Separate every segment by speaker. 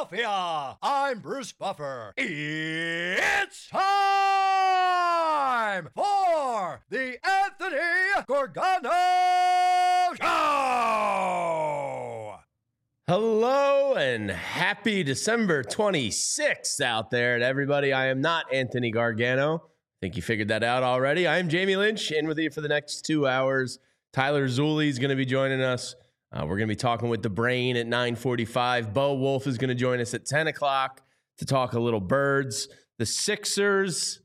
Speaker 1: Philadelphia. I'm Bruce Buffer. It's time for the Anthony Gargano Show.
Speaker 2: Hello and happy December 26th out there to everybody. I am not Anthony Gargano. I think you figured that out already. I am Jamie Lynch, in with you for the next 2 hours. Tyler Zulli is going to be joining us. We're going to be talking with the Brain at 9:45. Bo Wolf is going to join us at 10 o'clock to talk a little Birds. The Sixers,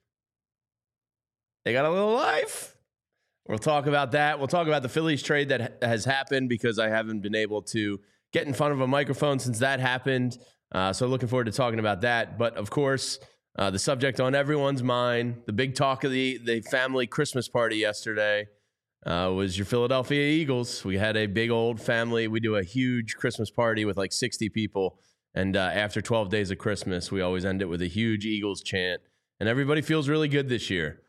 Speaker 2: they got a little life. We'll talk about that. We'll talk about the Phillies trade that has happened because I haven't been able to get in front of a microphone since that happened. So looking forward to talking about that. But, of course, the subject on everyone's mind, the big talk of the family Christmas party yesterday, was your Philadelphia Eagles. We had a big old family. We do a huge Christmas party with like 60 people. And after 12 days of Christmas, we always end it with a huge Eagles chant. And everybody feels really good this year.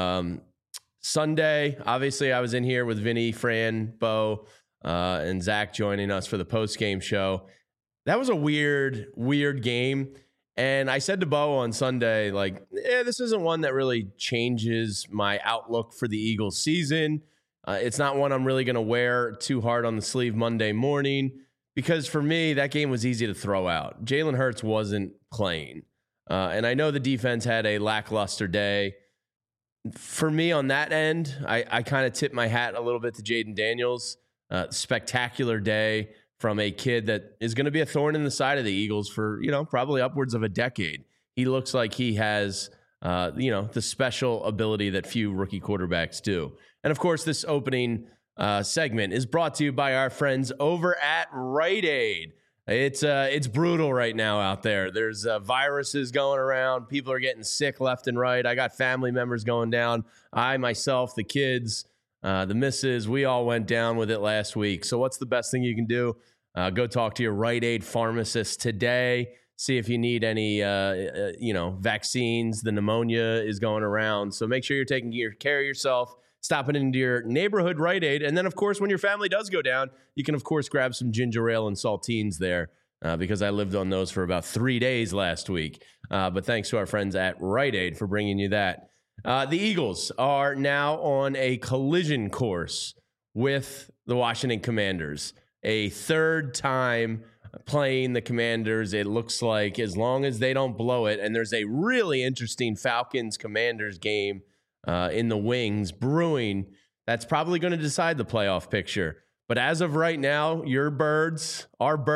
Speaker 2: Sunday, obviously, I was in here with Vinny, Fran, Bo, and Zach joining us for the post-game show. That was a weird game. And I said to Bo on Sunday, like, this isn't one that really changes my outlook for the Eagles season. It's not one I'm really going to wear too hard on the sleeve Monday morning because for me, that game was easy to throw out. Jalen Hurts wasn't playing. And I know the defense had a lackluster day. For me on that end, I kind of tip my hat a little bit to Jaden Daniels. Spectacular day from a kid that is going to be a thorn in the side of the Eagles for, probably upwards of a decade. He looks like he has, the special ability that few rookie quarterbacks do. And, of course, this opening segment is brought to you by our friends over at Rite Aid. It's brutal right now out there. There's viruses going around. People are getting sick left and right. I got family members going down. I, myself, the kids, the missus, we all went down with it last week. So what's the best thing you can do? Go talk to your Rite Aid pharmacist today. See if you need any, vaccines. The pneumonia is going around. So make sure you're taking care of yourself, stopping into your neighborhood Rite Aid. And then, of course, when your family does go down, you can, of course, grab some ginger ale and saltines there because I lived on those for about 3 days last week. But thanks to our friends at Rite Aid for bringing you that. The Eagles are now on a collision course with the Washington Commanders. A third time playing the Commanders, it looks like, as long as they don't blow it. And there's a really interesting Falcons-Commanders game in the wings brewing. That's probably going to decide the playoff picture. But as of right now, our birds,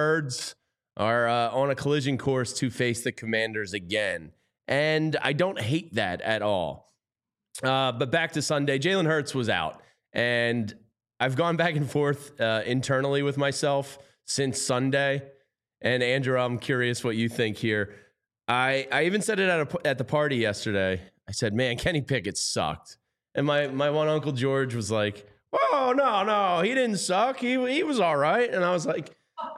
Speaker 2: are on a collision course to face the Commanders again. And I don't hate that at all. But back to Sunday, Jalen Hurts was out. And I've gone back and forth internally with myself since Sunday. And Andrew, I'm curious what you think here. I even said it at the party yesterday. I said, man, Kenny Pickett sucked. And my one Uncle George was like, oh, no, he didn't suck. He was all right. And I was like,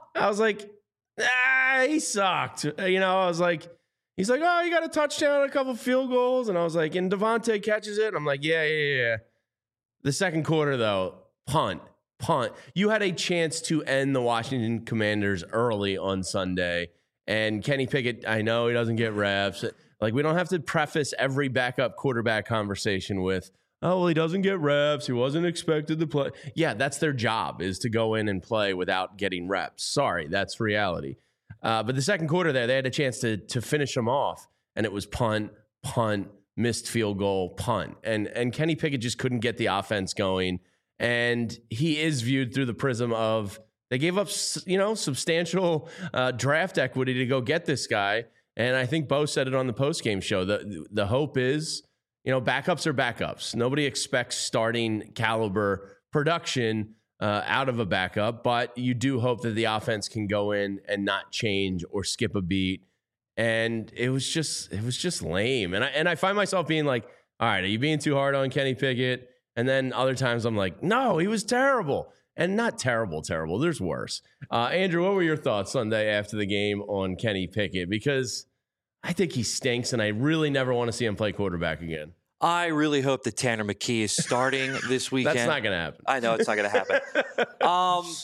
Speaker 2: he sucked. I was like, he's like, oh, you got a touchdown, a couple field goals. And I was like, and Devontae catches it. And I'm like, yeah. The second quarter, though, punt. You had a chance to end the Washington Commanders early on Sunday. And Kenny Pickett, I know he doesn't get reps. Like, we don't have to preface every backup quarterback conversation with, oh, well, he doesn't get reps. He wasn't expected to play. Yeah, that's their job, is to go in and play without getting reps. Sorry, that's reality. But the second quarter there, they had a chance to finish them off. And it was punt, missed field goal, punt. And Kenny Pickett just couldn't get the offense going. And he is viewed through the prism of they gave up, substantial draft equity to go get this guy. And I think Bo said it on the postgame show. The hope is, backups are backups. Nobody expects starting caliber production out of a backup, but you do hope that the offense can go in and not change or skip a beat. And it was just lame. And I find myself being like, all right, are you being too hard on Kenny Pickett? And then other times I'm like, no, he was terrible. And not terrible. There's worse. Andrew, what were your thoughts Sunday after the game on Kenny Pickett? Because I think he stinks, and I really never want to see him play quarterback again.
Speaker 3: I really hope that Tanner McKee is starting this weekend.
Speaker 2: That's not going to happen.
Speaker 3: I know it's not going to happen.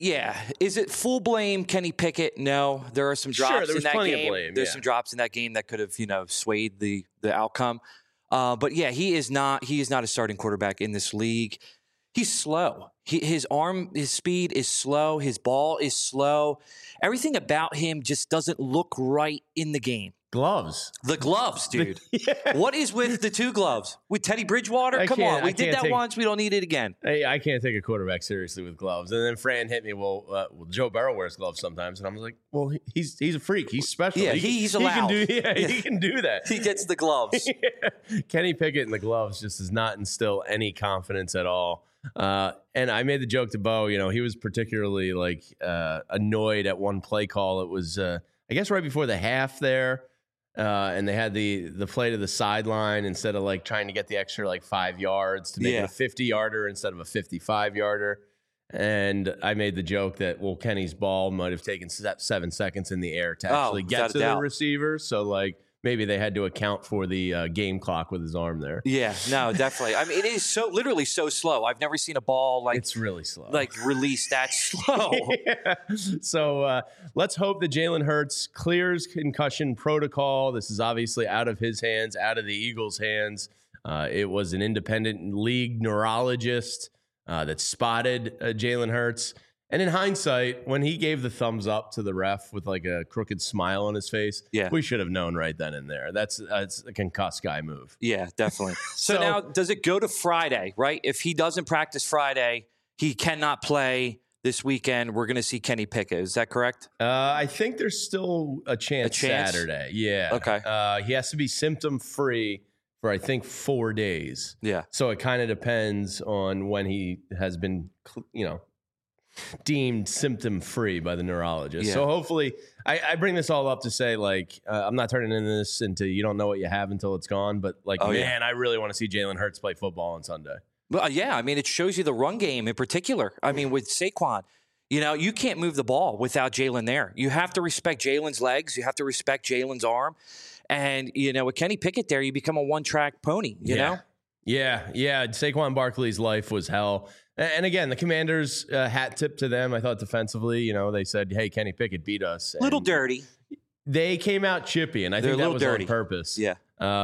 Speaker 3: Yeah. Is it full blame Kenny Pickett? No. There are some drops
Speaker 2: there
Speaker 3: in
Speaker 2: was
Speaker 3: that
Speaker 2: plenty of
Speaker 3: game.
Speaker 2: blame,
Speaker 3: There's
Speaker 2: yeah.
Speaker 3: some drops in that game that could have, swayed the outcome. But yeah, he is not a starting quarterback in this league. He's slow. His speed is slow. His ball is slow. Everything about him just doesn't look right in the game.
Speaker 2: Gloves.
Speaker 3: The gloves, dude.
Speaker 2: Yeah.
Speaker 3: What is with the two gloves? With Teddy Bridgewater? Come on. We did that once. We don't need it again.
Speaker 2: Hey, I can't take a quarterback seriously with gloves. And then Fran hit me, well, Joe Burrow wears gloves sometimes. And I was like, well, he's a freak. He's special.
Speaker 3: Yeah, he's allowed.
Speaker 2: He can do that.
Speaker 3: He gets the gloves.
Speaker 2: Yeah. Kenny Pickett in the gloves just does not instill any confidence at all. And I made the joke to Bo, he was particularly annoyed at one play call. It was, I guess right before the half there. And they had the play to the sideline instead of trying to get the extra 5 yards to make it a 50-yarder instead of a 55-yarder. And I made the joke that, Kenny's ball might have taken 7 seconds in the air to actually get to the receiver. So maybe they had to account for the game clock with his arm there.
Speaker 3: Yeah, no, definitely. I mean, it is literally so slow. I've never seen a ball
Speaker 2: it's really slow.
Speaker 3: Release that slow.
Speaker 2: Yeah. So let's hope that Jalen Hurts clears concussion protocol. This is obviously out of his hands, out of the Eagles' hands. It was an independent league neurologist that spotted Jalen Hurts. And in hindsight, when he gave the thumbs up to the ref with a crooked smile on his face, we should have known right then and there. That's a concussed guy move.
Speaker 3: Yeah, definitely. So now, does it go to Friday, right? If he doesn't practice Friday, he cannot play this weekend. We're going to see Kenny Pickett. Is that correct?
Speaker 2: I think there's still a chance Saturday. Yeah.
Speaker 3: Okay.
Speaker 2: He has to be symptom-free for, I think, 4 days.
Speaker 3: Yeah.
Speaker 2: So it kind of depends on when he has been, deemed symptom-free by the neurologist. Yeah. So hopefully, I bring this all up to say, I'm not turning this into you don't know what you have until it's gone, but I really want to see Jalen Hurts play football on Sunday.
Speaker 3: Well, yeah, I mean, it shows you the run game in particular. I mean, with Saquon, you can't move the ball without Jalen there. You have to respect Jalen's legs. You have to respect Jalen's arm. And, with Kenny Pickett there, you become a one-track pony, you know?
Speaker 2: Yeah. Saquon Barkley's life was hell. And again, the Commanders, hat tip to them. I thought defensively, they said, hey, Kenny Pickett beat us.
Speaker 3: Little dirty.
Speaker 2: They came out chippy, and I think that was
Speaker 3: dirty.
Speaker 2: on purpose.
Speaker 3: Yeah.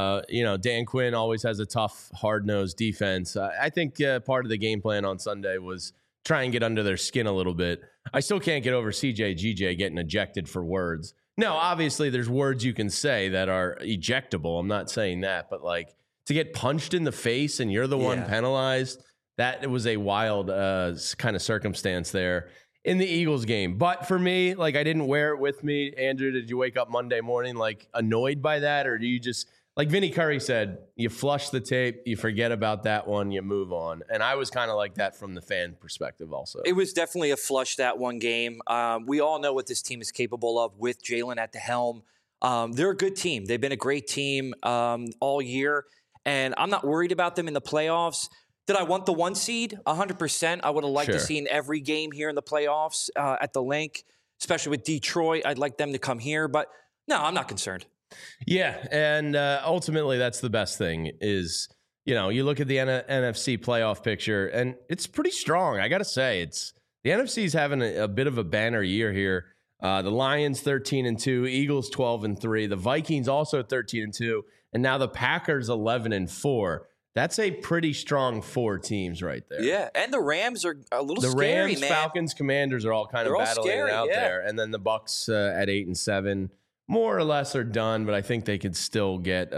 Speaker 2: Dan Quinn always has a tough, hard-nosed defense. I think part of the game plan on Sunday was try and get under their skin a little bit. I still can't get over CJ getting ejected for words. No, obviously there's words you can say that are ejectable. I'm not saying that, but to get punched in the face and you're the one penalized, that was a wild kind of circumstance there in the Eagles game. But for me, I didn't wear it with me. Andrew, did you wake up Monday morning annoyed by that? Or do you just, like Vinny Curry said, you flush the tape, you forget about that one, you move on? And I was kind of like that from the fan perspective also.
Speaker 3: It was definitely a flush that one game. We all know what this team is capable of with Jalen at the helm. They're a good team. They've been a great team all year. And I'm not worried about them in the playoffs. Did I want the 1 seed? 100%. I would have liked to see in every game here in the playoffs at the link, especially with Detroit. I'd like them to come here. But no, I'm not concerned.
Speaker 2: Yeah, and ultimately that's the best thing is, you look at the NFC playoff picture, and it's pretty strong. I got to say, the NFC's having a bit of a banner year here. The Lions 13-2, Eagles 12-3, the Vikings also 13-2, and now the Packers 11-4. That's a pretty strong 4 teams right there.
Speaker 3: Yeah, and the Rams are a little
Speaker 2: scary,
Speaker 3: man.
Speaker 2: The Rams, Falcons, Commanders are all kind of battling it out there. And then the Bucs at 8-7, more or less are done, but I think they could still get,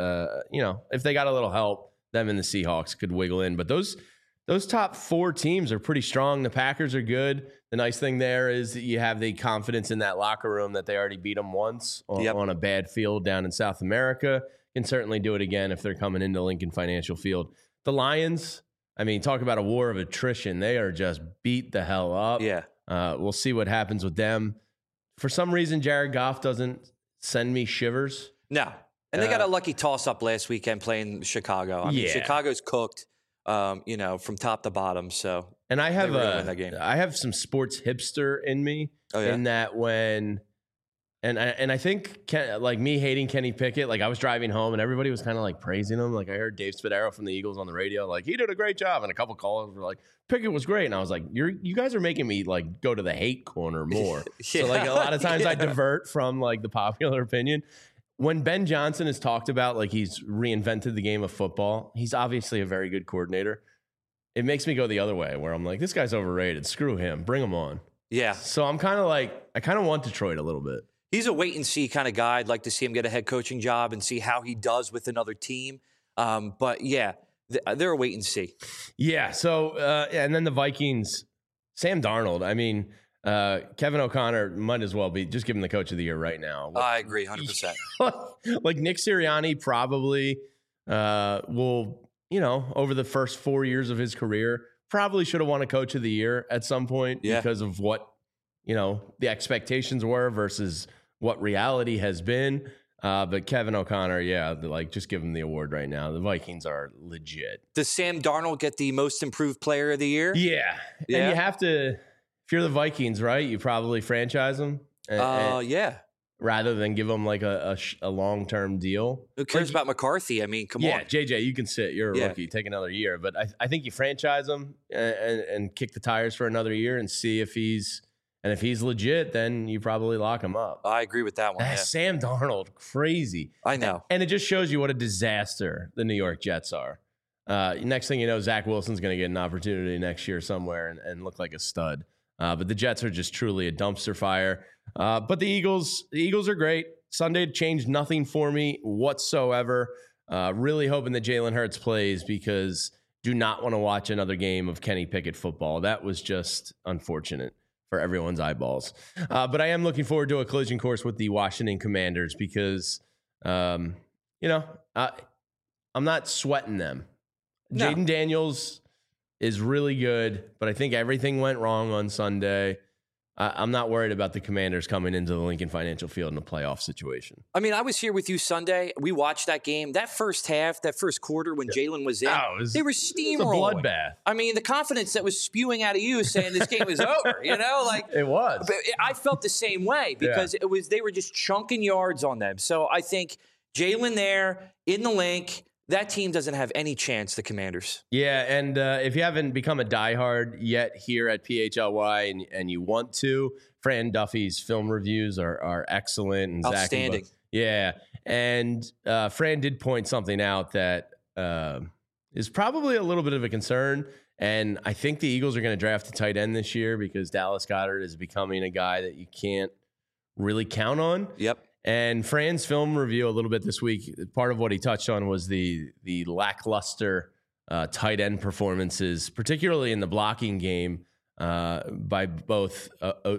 Speaker 2: if they got a little help, them and the Seahawks could wiggle in. But those top 4 teams are pretty strong. The Packers are good. The nice thing there is that you have the confidence in that locker room that they already beat them once on a bad field down in South America. Can certainly do it again if they're coming into Lincoln Financial Field. The Lions, talk about a war of attrition. They are just beat the hell up.
Speaker 3: Yeah.
Speaker 2: We'll see what happens with them. For some reason, Jared Goff doesn't send me shivers.
Speaker 3: No. And they got a lucky toss-up last weekend playing Chicago. Chicago's cooked, from top to bottom. So,
Speaker 2: and I have some sports hipster in me in that when And I think like me hating Kenny Pickett, like I was driving home and everybody was kind of like praising him. Like I heard Dave Spadaro from the Eagles on the radio, like he did a great job. And a couple callers were like, Pickett was great. And I was like, you guys are making me like go to the hate corner more. So like a lot of times I divert from like the popular opinion. When Ben Johnson is talked about, like he's reinvented the game of football, he's obviously a very good coordinator. It makes me go the other way where I'm like, this guy's overrated. Screw him. Bring him on.
Speaker 3: Yeah.
Speaker 2: So I'm kind of like, I kind of want Detroit a little bit.
Speaker 3: He's a wait and see kind of guy. I'd like to see him get a head coaching job and see how he does with another team. But yeah, they're a wait and see.
Speaker 2: Yeah. So, and then the Vikings, Sam Darnold. I mean, Kevin O'Connor might as well be just give him the coach of the year right now.
Speaker 3: I agree 100%.
Speaker 2: Like Nick Sirianni probably will, over the first 4 years of his career, probably should have won a coach of the year at some point because of what, the expectations were versus what reality has been. But Kevin O'Connor, just give him the award right now. The Vikings are legit.
Speaker 3: Does Sam Darnold get the most improved player of the year?
Speaker 2: Yeah. And you have to, if you're the Vikings, right, you probably franchise him.
Speaker 3: Yeah.
Speaker 2: Rather than give him like a long-term deal.
Speaker 3: Who cares about McCarthy? I mean, come on.
Speaker 2: Yeah, JJ, you can sit. You're a rookie. Take another year. But I think you franchise him and kick the tires for another year and see if he's legit, then you probably lock him up.
Speaker 3: I agree with that one. Yeah.
Speaker 2: Sam Darnold, crazy.
Speaker 3: I know.
Speaker 2: And it just shows you what a disaster the New York Jets are. Next thing you know, Zach Wilson's going to get an opportunity next year somewhere and look like a stud. But the Jets are just truly a dumpster fire. But the Eagles are great. Sunday changed nothing for me whatsoever. Really hoping that Jalen Hurts plays because do not want to watch another game of Kenny Pickett football. That was just unfortunate for everyone's eyeballs. But I am looking forward to a collision course with the Washington Commanders because, I'm not sweating them.
Speaker 3: No.
Speaker 2: Jaden Daniels is really good, but I think everything went wrong on Sunday. I'm not worried about the Commanders coming into the Lincoln Financial Field in a playoff situation.
Speaker 3: I mean, I was here with you Sunday. We watched that game. That first half, that first quarter when Jalen was in, they were steamrolling.
Speaker 2: It was a bloodbath.
Speaker 3: I mean, the confidence that was spewing out of you saying this game is over,
Speaker 2: It was.
Speaker 3: But I felt the same way because they were just chunking yards on them. So I think Jalen there in the link, that team doesn't have any chance, the Commanders.
Speaker 2: Yeah, and if you haven't become a diehard yet here at PHLY and you want to, Fran Duffy's film reviews are excellent. And
Speaker 3: outstanding.
Speaker 2: And Fran did point something out that is probably a little bit of a concern. And I think the Eagles are going to draft a tight end this year because Dallas Goedert is becoming a guy that you can't really count on.
Speaker 3: Yep.
Speaker 2: And Fran's film review a little bit this week, part of what he touched on was the lackluster tight end performances, particularly in the blocking game by both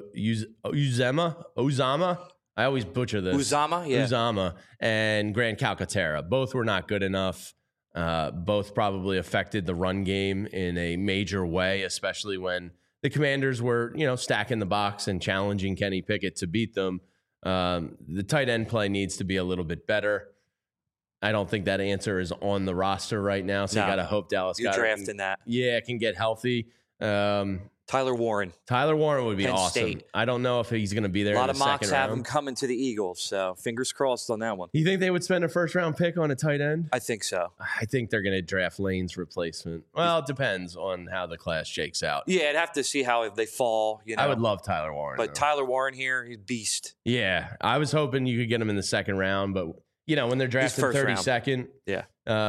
Speaker 2: Uzama. I always butcher this. Uzama and Grant Calcaterra. Both were not good enough. Both probably affected the run game in a major way, especially when the Commanders were, stacking the box and challenging Kenny Pickett to beat them. The tight end play needs to be a little bit better. I don't think that answer is on the roster right now, so you got to hope Dallas
Speaker 3: Goedert drafting that.
Speaker 2: Yeah, can get healthy.
Speaker 3: Tyler Warren
Speaker 2: would be
Speaker 3: Penn
Speaker 2: awesome.
Speaker 3: State.
Speaker 2: I don't know if he's going to be there.
Speaker 3: A lot
Speaker 2: in the
Speaker 3: of mocks
Speaker 2: second
Speaker 3: have
Speaker 2: round.
Speaker 3: him coming to the Eagles, so fingers crossed on that one.
Speaker 2: You think they would spend a first-round pick on a tight end?
Speaker 3: I think so.
Speaker 2: I think they're going to draft Lane's replacement. Well, it depends on how the class shakes out.
Speaker 3: Yeah, I'd have to see how they fall.
Speaker 2: I would love Tyler Warren.
Speaker 3: But
Speaker 2: though.
Speaker 3: Tyler Warren here, he's beast.
Speaker 2: Yeah, I was hoping you could get him in the second round, but when they're drafting 32nd,
Speaker 3: yeah.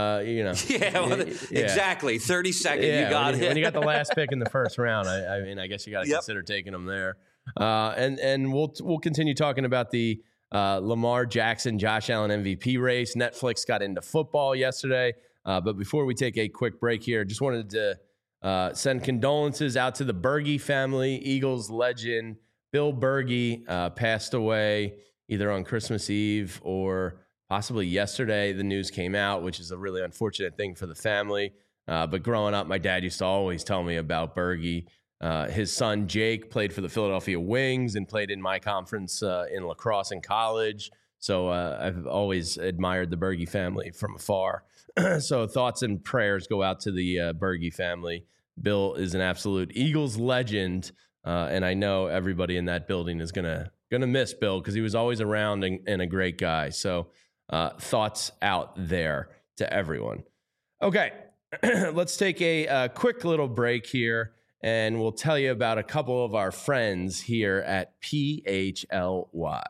Speaker 3: Exactly. 32nd, you got it.
Speaker 2: When you got the last pick in the first round, I guess you got to consider taking them there. And we'll continue talking about the Lamar Jackson, Josh Allen MVP race. Netflix got into football yesterday. But before we take a quick break here, just wanted to send condolences out to the Berge family. Eagles legend Bill Berge passed away either on Christmas Eve or possibly yesterday. The news came out, which is a really unfortunate thing for the family. But growing up, my dad used to always tell me about Berge. His son, Jake, played for the Philadelphia Wings and played in my conference in lacrosse in college. So I've always admired the Berge family from afar. So thoughts and prayers go out to the Berge family. Bill is an absolute Eagles legend. And I know everybody in that building is gonna miss Bill because he was always around and a great guy. So thoughts out there to everyone. Okay, let's take a quick little break here, and we'll tell you about a couple of our friends here at PHLY.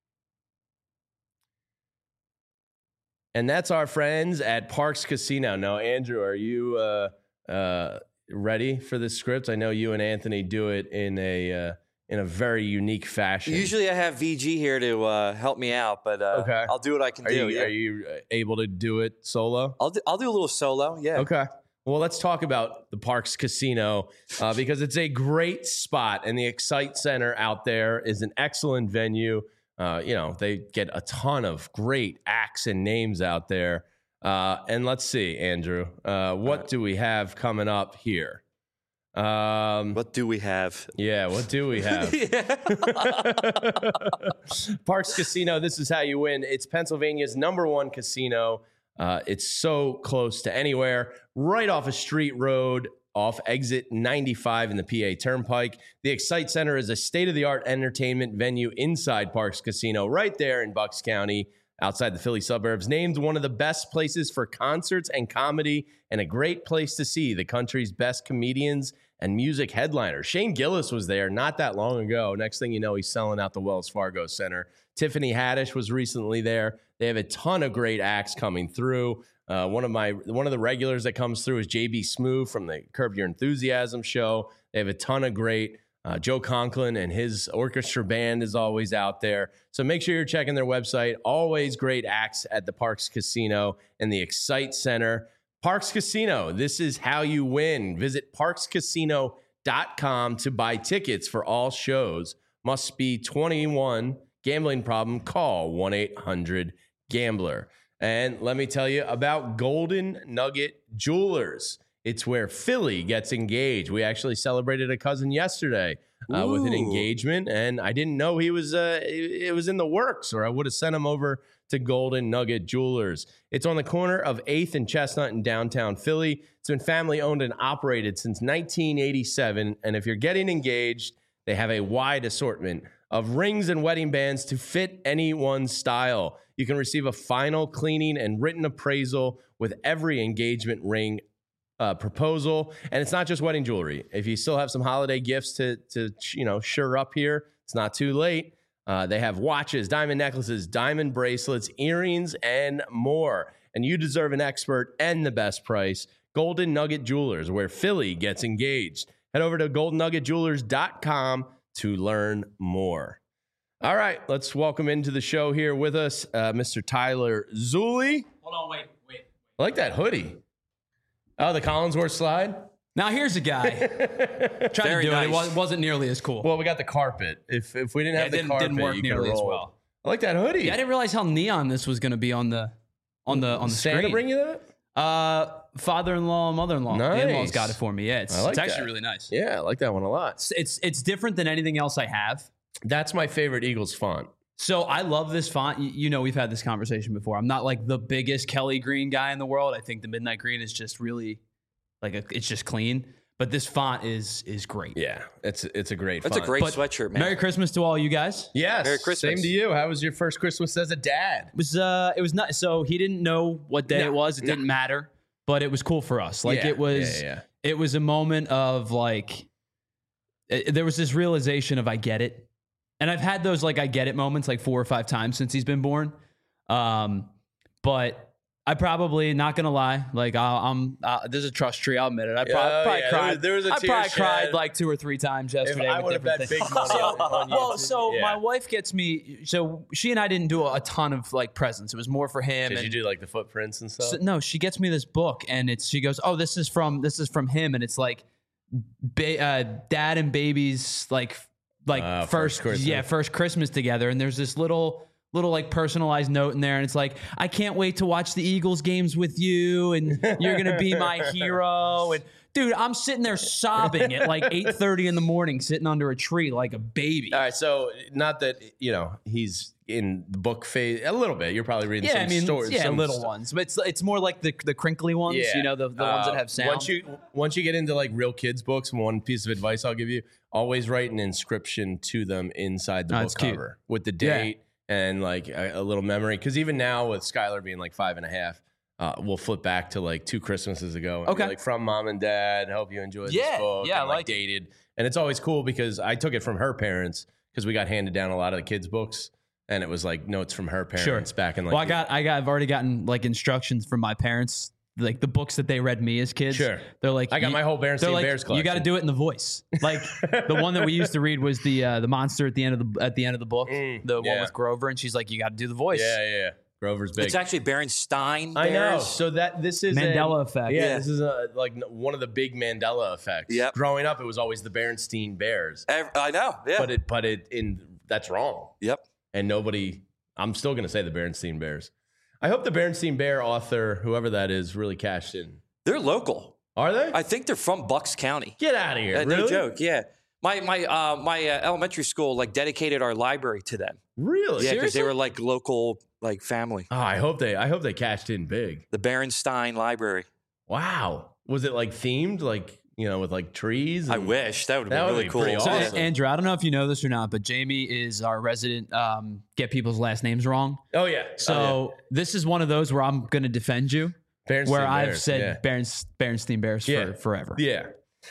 Speaker 2: And that's our friends at Parx Casino. Now, Andrew, are you ready for this script? I know you and Anthony do it in a very unique fashion.
Speaker 3: Usually I have VG here to help me out, but
Speaker 2: okay.
Speaker 3: I'll do what I can do.
Speaker 2: Are you able to do it solo?
Speaker 3: I'll do a little solo, yeah.
Speaker 2: Okay. Well, let's talk about the Parx Casino because it's a great spot, and the Excite Center out there is an excellent venue. They get a ton of great acts and names out there. And let's see, Andrew, what do we have coming up here?
Speaker 3: What do we have?
Speaker 2: Yeah, what do we have? Parx Casino, this is how you win. It's Pennsylvania's #1 casino. It's so close to anywhere, right off a street road, off exit 95 in the PA Turnpike. The Excite Center is a state-of-the-art entertainment venue inside Parx Casino, right there in Bucks County, outside the Philly suburbs. Named one of the best places for concerts and comedy, and a great place to see the country's best comedians and music headliners. Shane Gillis was there not that long ago. Next thing you know, he's selling out the Wells Fargo Center. Tiffany Haddish was recently there. They have a ton of great acts coming through. One of the regulars that comes through is JB Smoove from the Curb Your Enthusiasm show. They have a ton of great. Joe Conklin and his orchestra band is always out there. So make sure you're checking their website. Always great acts at the Parx Casino and the Excite Center. Parx Casino, this is how you win. Visit parxcasino.com to buy tickets for all shows. Must be 21. Gambling problem? Call 1-800-GAMBLER. And let me tell you about Golden Nugget Jewelers. It's where Philly gets engaged. We actually celebrated a cousin yesterday with an engagement, and I didn't know it was in the works, or I would have sent him over to Golden Nugget Jewelers. It's on the corner of 8th and Chestnut in downtown Philly. It's been family owned and operated since 1987, and if you're getting engaged, they have a wide assortment of rings and wedding bands to fit anyone's style. You can receive a final cleaning and written appraisal with every engagement ring proposal. And it's not just wedding jewelry. If you still have some holiday gifts to sure up here, it's not too late. They have watches, diamond necklaces, diamond bracelets, earrings, and more. And you deserve an expert and the best price. Golden Nugget Jewelers, where Philly gets engaged. Head over to goldennuggetjewelers.com to learn more. All right, let's welcome into the show here with us, Mr. Tyler Zulli.
Speaker 4: Hold on, wait.
Speaker 2: I like that hoodie. Oh, the Collinsworth slide?
Speaker 4: Now here's a guy. Tried to do it. It wasn't nearly as cool.
Speaker 2: Well, we got the carpet. If we didn't have the carpet,
Speaker 4: didn't work
Speaker 2: you
Speaker 4: nearly as well.
Speaker 2: I like that hoodie.
Speaker 4: Yeah, I didn't realize how neon this was going to be on the
Speaker 2: Santa
Speaker 4: screen.
Speaker 2: bring you that?
Speaker 4: Father-in-law, mother-in-law.
Speaker 2: Nice.
Speaker 4: The in-laws got it for me. Yeah, it's
Speaker 2: that.
Speaker 4: actually really nice.
Speaker 2: Yeah, I like that one a lot.
Speaker 4: It's different than anything else I have.
Speaker 2: That's my favorite Eagles font.
Speaker 4: So I love this font. You know, we've had this conversation before. I'm not like the biggest Kelly green guy in the world. I think the midnight green is just really it's just clean. But this font is great.
Speaker 2: Yeah, it's a great font.
Speaker 3: That's a great sweatshirt, man.
Speaker 4: Merry Christmas to all you guys.
Speaker 2: Yes.
Speaker 3: Merry Christmas.
Speaker 2: Same to you. How was your first Christmas as a dad?
Speaker 4: It was not. So he didn't know what day it was. It didn't matter, but it was cool for us. It was a moment of there was this realization of I get it. And I've had those I get it moments 4 or 5 times since he's been born. But I probably, not gonna lie, there's a trust tree. I'll admit it. I probably cried.
Speaker 2: There was a
Speaker 4: I
Speaker 2: tear
Speaker 4: probably
Speaker 2: shed.
Speaker 4: cried 2 or 3 times yesterday.
Speaker 2: If I would have bet big money on you.
Speaker 4: Well, so my wife gets me. So she and I didn't do a ton of presents. It was more for him.
Speaker 2: Did you do the footprints and stuff?
Speaker 4: So, no, she gets me this book, and she goes, "Oh, this is from him," and it's dad and baby's first Christmas. Yeah, first Christmas together, and there's this little personalized note in there, and it's I can't wait to watch the Eagles games with you, and you're gonna be my hero. And dude, I'm sitting there sobbing at 8:30 in the morning, sitting under a tree like a baby.
Speaker 2: All right, so not that he's in the book phase a little bit. You're probably reading some stories.
Speaker 4: Yeah,
Speaker 2: some
Speaker 4: little ones. But it's more like the crinkly ones, the ones that have sound.
Speaker 2: Once you get into like real kids books, one piece of advice I'll give you, always write an inscription to them inside the book cover with the date and like a little memory. Because even now with Skylar being like 5.5, we'll flip back to like 2 Christmases ago. And be like, from mom and dad, hope you enjoyed this book. Yeah, and like dated. And it's always cool because I took it from her parents because we got handed down a lot of the kids' books. And it was like notes from her parents back in like.
Speaker 4: Well, I've already gotten like instructions from my parents, like the books that they read me as kids.
Speaker 2: Sure.
Speaker 4: They're like,
Speaker 2: I got my whole Berenstain Bears collection.
Speaker 4: You got to do it in the voice. Like the one that we used to read was the monster at the end of the book, the one with Grover, and she's like, you got to do the voice.
Speaker 2: Yeah. Grover's big.
Speaker 3: It's actually Berenstain Bears.
Speaker 2: I know. So this is
Speaker 4: Mandela effect.
Speaker 2: Yeah, this is like one of the big Mandela effects.
Speaker 3: Yep.
Speaker 2: Growing up, it was always the Berenstain Bears.
Speaker 3: I know. Yeah.
Speaker 2: But that's wrong.
Speaker 3: Yep.
Speaker 2: And I'm still going to say the Berenstain Bears. I hope the Berenstain Bear author, whoever that is, really cashed in.
Speaker 3: They're local.
Speaker 2: Are they?
Speaker 3: I think they're from Bucks County.
Speaker 2: Get out of here. Really?
Speaker 3: No joke. Yeah. My elementary school like dedicated our library to them.
Speaker 2: Really?
Speaker 3: Yeah, because they were like local like family.
Speaker 2: Oh, I hope they cashed in big.
Speaker 3: The Berenstain Library.
Speaker 2: Wow. Was it like themed, like with like trees?
Speaker 3: I wish that would have been really cool.
Speaker 2: Awesome.
Speaker 4: So, Andrew, I don't know if you know this or not, but Jamie is our resident get people's last names wrong.
Speaker 2: Oh yeah.
Speaker 4: So this is one of those where I'm going to defend you. I've said Berenstain Bears for forever.
Speaker 2: Yeah.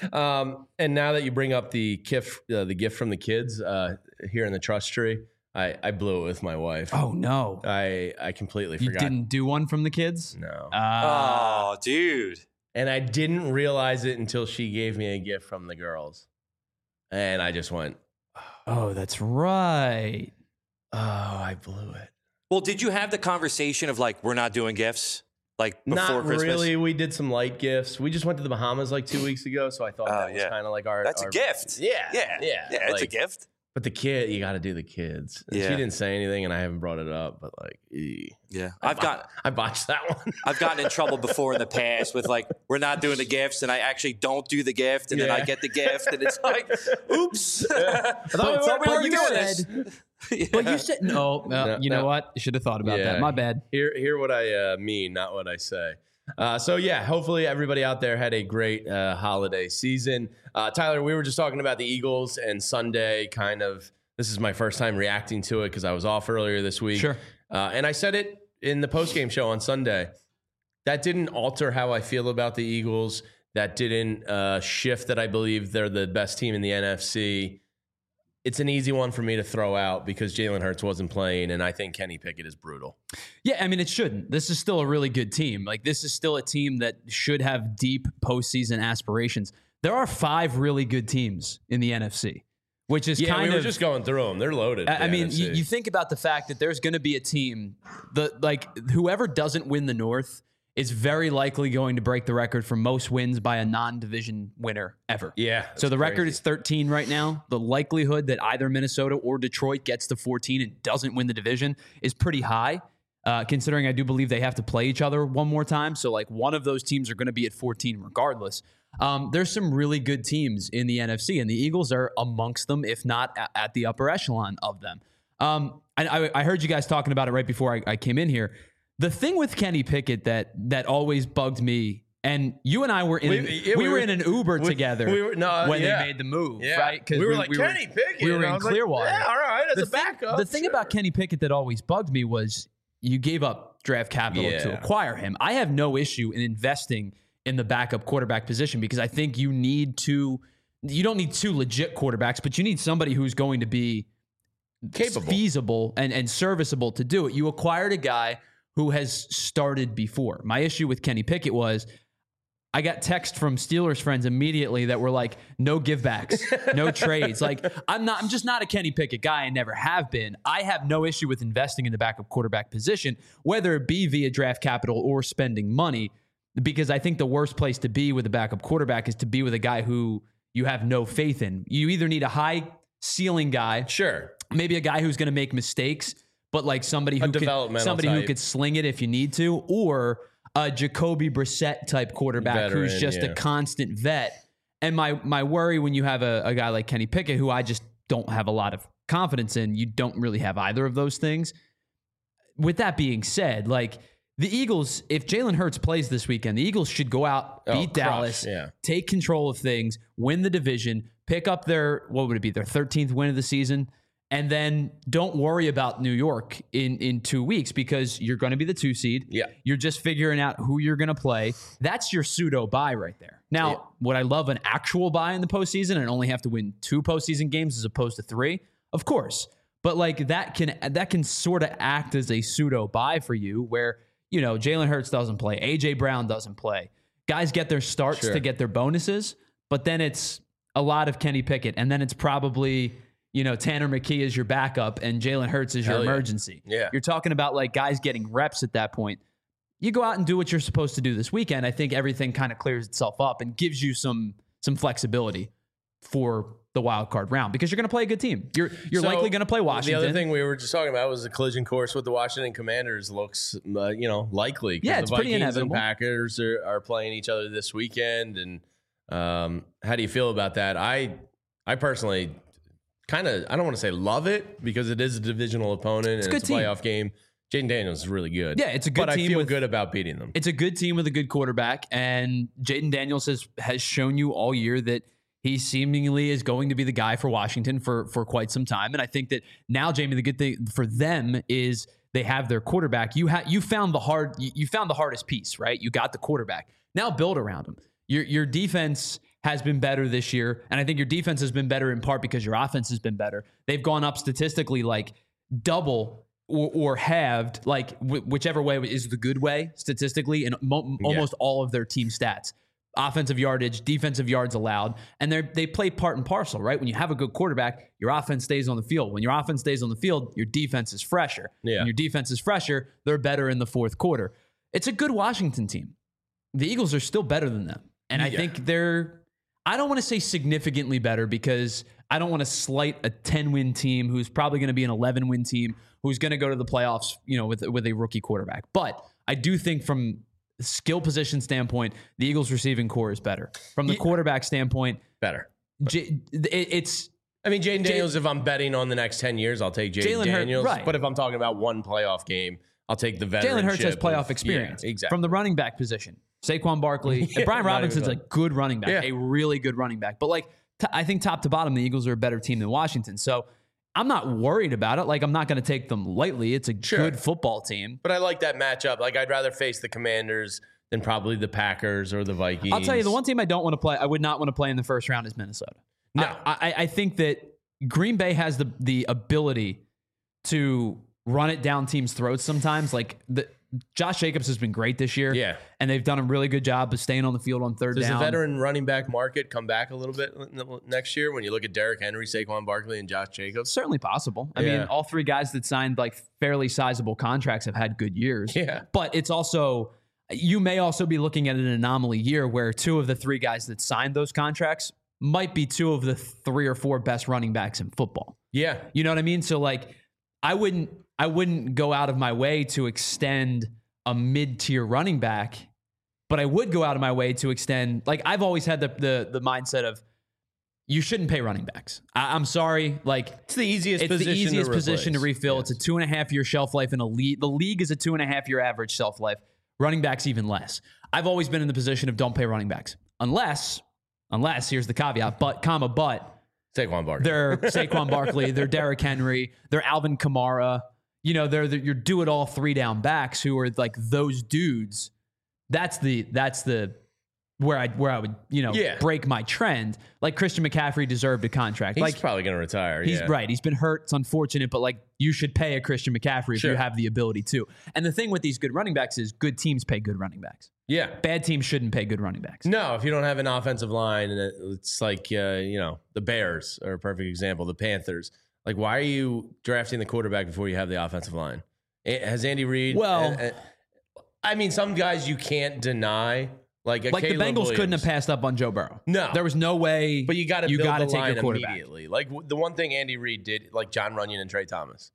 Speaker 2: And now that you bring up the gift from the kids here in the trust tree, I blew it with my wife.
Speaker 4: Oh no!
Speaker 2: I completely forgot.
Speaker 4: You didn't do one from the kids?
Speaker 2: No.
Speaker 3: Oh, dude.
Speaker 2: And I didn't realize it until she gave me a gift from the girls, and I just went,
Speaker 4: "Oh, that's right."
Speaker 2: Oh, I blew it.
Speaker 3: Well, did you have the conversation of like, we're not doing gifts? Like before Christmas?
Speaker 2: Not really. We did some light gifts. We just went to the Bahamas like 2 weeks ago, so I thought that was kind of like our.
Speaker 3: That's a gift. Yeah. It's a gift.
Speaker 2: But the kid, you got to do the kids. And she didn't say anything, and I haven't brought it up. But like,
Speaker 3: yeah,
Speaker 2: I botched that one.
Speaker 3: I've gotten in trouble before in the past with like, we're not doing the gifts, and I actually don't do the gift, and then I get the gift, and it's like, oops. I thought we were doing this.
Speaker 4: But you said no. You know what? You should have thought about that. My bad.
Speaker 2: Hear what I mean, not what I say. So hopefully everybody out there had a great holiday season. Tyler, we were just talking about the Eagles and Sunday. This is my first time reacting to it because I was off earlier this week.
Speaker 4: Sure.
Speaker 2: And I said it in the postgame show on Sunday. That didn't alter how I feel about the Eagles. That didn't shift that I believe they're the best team in the NFC. It's an easy one for me to throw out because Jalen Hurts wasn't playing, and I think Kenny Pickett is brutal.
Speaker 4: Yeah, I mean, it shouldn't. This is still a really good team. Like, this is still a team that should have deep postseason aspirations. There are 5 really good teams in the NFC, which is
Speaker 2: we were just going through them. They're loaded.
Speaker 4: I mean, you think about the fact that there's going to be a team whoever doesn't win the North is very likely going to break the record for most wins by a non-division winner ever.
Speaker 2: Yeah.
Speaker 4: So the record is 13 right now. The likelihood that either Minnesota or Detroit gets to 14 and doesn't win the division is pretty high, considering I do believe they have to play each other one more time. So like one of those teams are going to be at 14 regardless. There's some really good teams in the NFC, and the Eagles are amongst them, if not at the upper echelon of them. And I heard you guys talking about it right before I came in here. The thing with Kenny Pickett that always bugged me, and you and I were in we were in an Uber together when they made the move, right?
Speaker 2: Because we were like, Kenny Pickett.
Speaker 4: We were in Clearwater.
Speaker 2: Like, all right, as a backup.
Speaker 4: The thing about Kenny Pickett that always bugged me was you gave up draft capital to acquire him. I have no issue in investing in the backup quarterback position because I think you don't need 2 legit quarterbacks, but you need somebody who's going to be
Speaker 2: capable,
Speaker 4: feasible, and serviceable to do it. You acquired a guy who has started before. My issue with Kenny Pickett was I got text from Steelers friends immediately that were like, no givebacks, no trades. Like, I'm just not a Kenny Pickett guy. I never have been. I have no issue with investing in the backup quarterback position, whether it be via draft capital or spending money, because I think the worst place to be with a backup quarterback is to be with a guy who you have no faith in. You either need a high ceiling guy.
Speaker 2: Sure.
Speaker 4: Maybe a guy who's going to make mistakes, but like somebody who could sling it if you need to, or a Jacoby Brissett type quarterback who's just a constant vet. And my worry when you have a guy like Kenny Pickett, who I just don't have a lot of confidence in, you don't really have either of those things. With that being said, like the Eagles, if Jalen Hurts plays this weekend, the Eagles should go out, beat Dallas, take control of things, win the division, pick up their 13th win of the season, and then don't worry about New York in 2 weeks because you're going to be the 2 seed.
Speaker 2: Yeah.
Speaker 4: You're just figuring out who you're going to play. That's your pseudo bye right there. Now, would I love an actual bye in the postseason and only have to win 2 postseason games as opposed to 3? Of course. But like that can sort of act as a pseudo bye for you where, you know, Jalen Hurts doesn't play. A.J. Brown doesn't play. Guys get their starts to get their bonuses, but then it's a lot of Kenny Pickett. And then it's probably, you know, Tanner McKee is your backup and Jalen Hurts is your emergency.
Speaker 2: Yeah.
Speaker 4: You're talking about like guys getting reps at that point. You go out and do what you're supposed to do this weekend. I think everything kind of clears itself up and gives you some flexibility for the wild card round because you're going to play a good team. You're likely going to play Washington.
Speaker 2: The other thing we were just talking about was the collision course with the Washington Commanders looks, likely.
Speaker 4: Yeah, it's pretty inevitable.
Speaker 2: The Packers are playing each other this weekend. And how do you feel about that? I personally kind of, I don't want to say love it because it is a divisional opponent and it's a playoff game. Jaden Daniels is really good.
Speaker 4: Yeah, it's a good team.
Speaker 2: But I feel good about beating them.
Speaker 4: It's a good team with a good quarterback. And Jaden Daniels has shown you all year that he seemingly is going to be the guy for Washington for quite some time. And I think that now, Jamie, the good thing for them is they have their quarterback. You found the hardest piece, right? You got the quarterback. Now build around him. Your defense has been better this year. And I think your defense has been better in part because your offense has been better. They've gone up statistically like double or halved, like whichever way is the good way statistically in almost all of their team stats. Offensive yardage, defensive yards allowed, and they play part and parcel, right? When you have a good quarterback, your offense stays on the field. When your offense stays on the field, your defense is fresher.
Speaker 2: Yeah.
Speaker 4: When your defense is fresher, they're better in the fourth quarter. It's a good Washington team. The Eagles are still better than them. And I think I don't want to say significantly better because I don't want to slight a 10-win team who's probably going to be an 11-win team who's going to go to the playoffs, you know, with a rookie quarterback. But I do think from skill position standpoint, the Eagles receiving core is better. From the quarterback standpoint,
Speaker 2: better.
Speaker 4: It's.
Speaker 2: I mean, Jaden Daniels, if I'm betting on the next 10 years, I'll take Jaden Daniels.
Speaker 4: Right.
Speaker 2: But if I'm talking about one playoff game, I'll take the veteranship.
Speaker 4: Jalen Hurts has playoff experience.
Speaker 2: Yeah, exactly.
Speaker 4: From the running back position. Saquon Barkley. And Brian Robinson's a good running back, a really good running back. But like, I think top to bottom, the Eagles are a better team than Washington. So I'm not worried about it. Like, I'm not going to take them lightly. It's a good football team.
Speaker 2: But I like that matchup. Like, I'd rather face the Commanders than probably the Packers or the Vikings.
Speaker 4: I'll tell you, the one team I don't want to play, I would not want to play in the first round is Minnesota.
Speaker 2: No.
Speaker 4: I think that Green Bay has the ability to run it down teams' throats sometimes. Like, Josh Jacobs has been great this year.
Speaker 2: Yeah.
Speaker 4: And they've done a really good job of staying on the field on third down.
Speaker 2: Does the veteran running back market come back a little bit next year when you look at Derrick Henry, Saquon Barkley, and Josh Jacobs?
Speaker 4: Certainly possible. I mean, all three guys that signed like fairly sizable contracts have had good years.
Speaker 2: Yeah.
Speaker 4: But it's also, you may also be looking at an anomaly year where 2 of the 3 guys that signed those contracts might be 2 of the 3 or 4 best running backs in football.
Speaker 2: Yeah.
Speaker 4: You know what I mean? So like, I wouldn't go out of my way to extend a mid-tier running back, but I would go out of my way to extend, like, I've always had the mindset of you shouldn't pay running backs. I'm sorry. Like,
Speaker 2: it's the easiest
Speaker 4: position to refill. Yes. It's a 2.5-year shelf life in a league. The league is a 2.5-year average shelf life. Running backs even less. I've always been in the position of don't pay running backs unless here's the caveat, but
Speaker 2: Saquon Barkley.
Speaker 4: They're Saquon Barkley. They're Derrick Henry. They're Alvin Kamara. You know, they're your do-it-all 3-down backs who are like those dudes. That's the where I would, you know, break my trend. Like Christian McCaffrey deserved a contract.
Speaker 2: He's probably going to retire.
Speaker 4: He's right. He's been hurt. It's unfortunate, but like you should pay a Christian McCaffrey if you have the ability to. And the thing with these good running backs is good teams pay good running backs.
Speaker 2: Yeah.
Speaker 4: Bad teams shouldn't pay good running backs.
Speaker 2: No, if you don't have an offensive line, and it's like, you know, the Bears are a perfect example, the Panthers. Like, why are you drafting the quarterback before you have the offensive line? Has Andy Reid?
Speaker 4: Well,
Speaker 2: I mean, some guys you can't deny. Like the
Speaker 4: Bengals
Speaker 2: Williams
Speaker 4: couldn't have passed up on Joe Burrow.
Speaker 2: No.
Speaker 4: There was no way.
Speaker 2: But you got to
Speaker 4: take
Speaker 2: line
Speaker 4: your quarterback
Speaker 2: immediately. Like the one thing Andy Reid did, like John Runyon and Trey Thomas.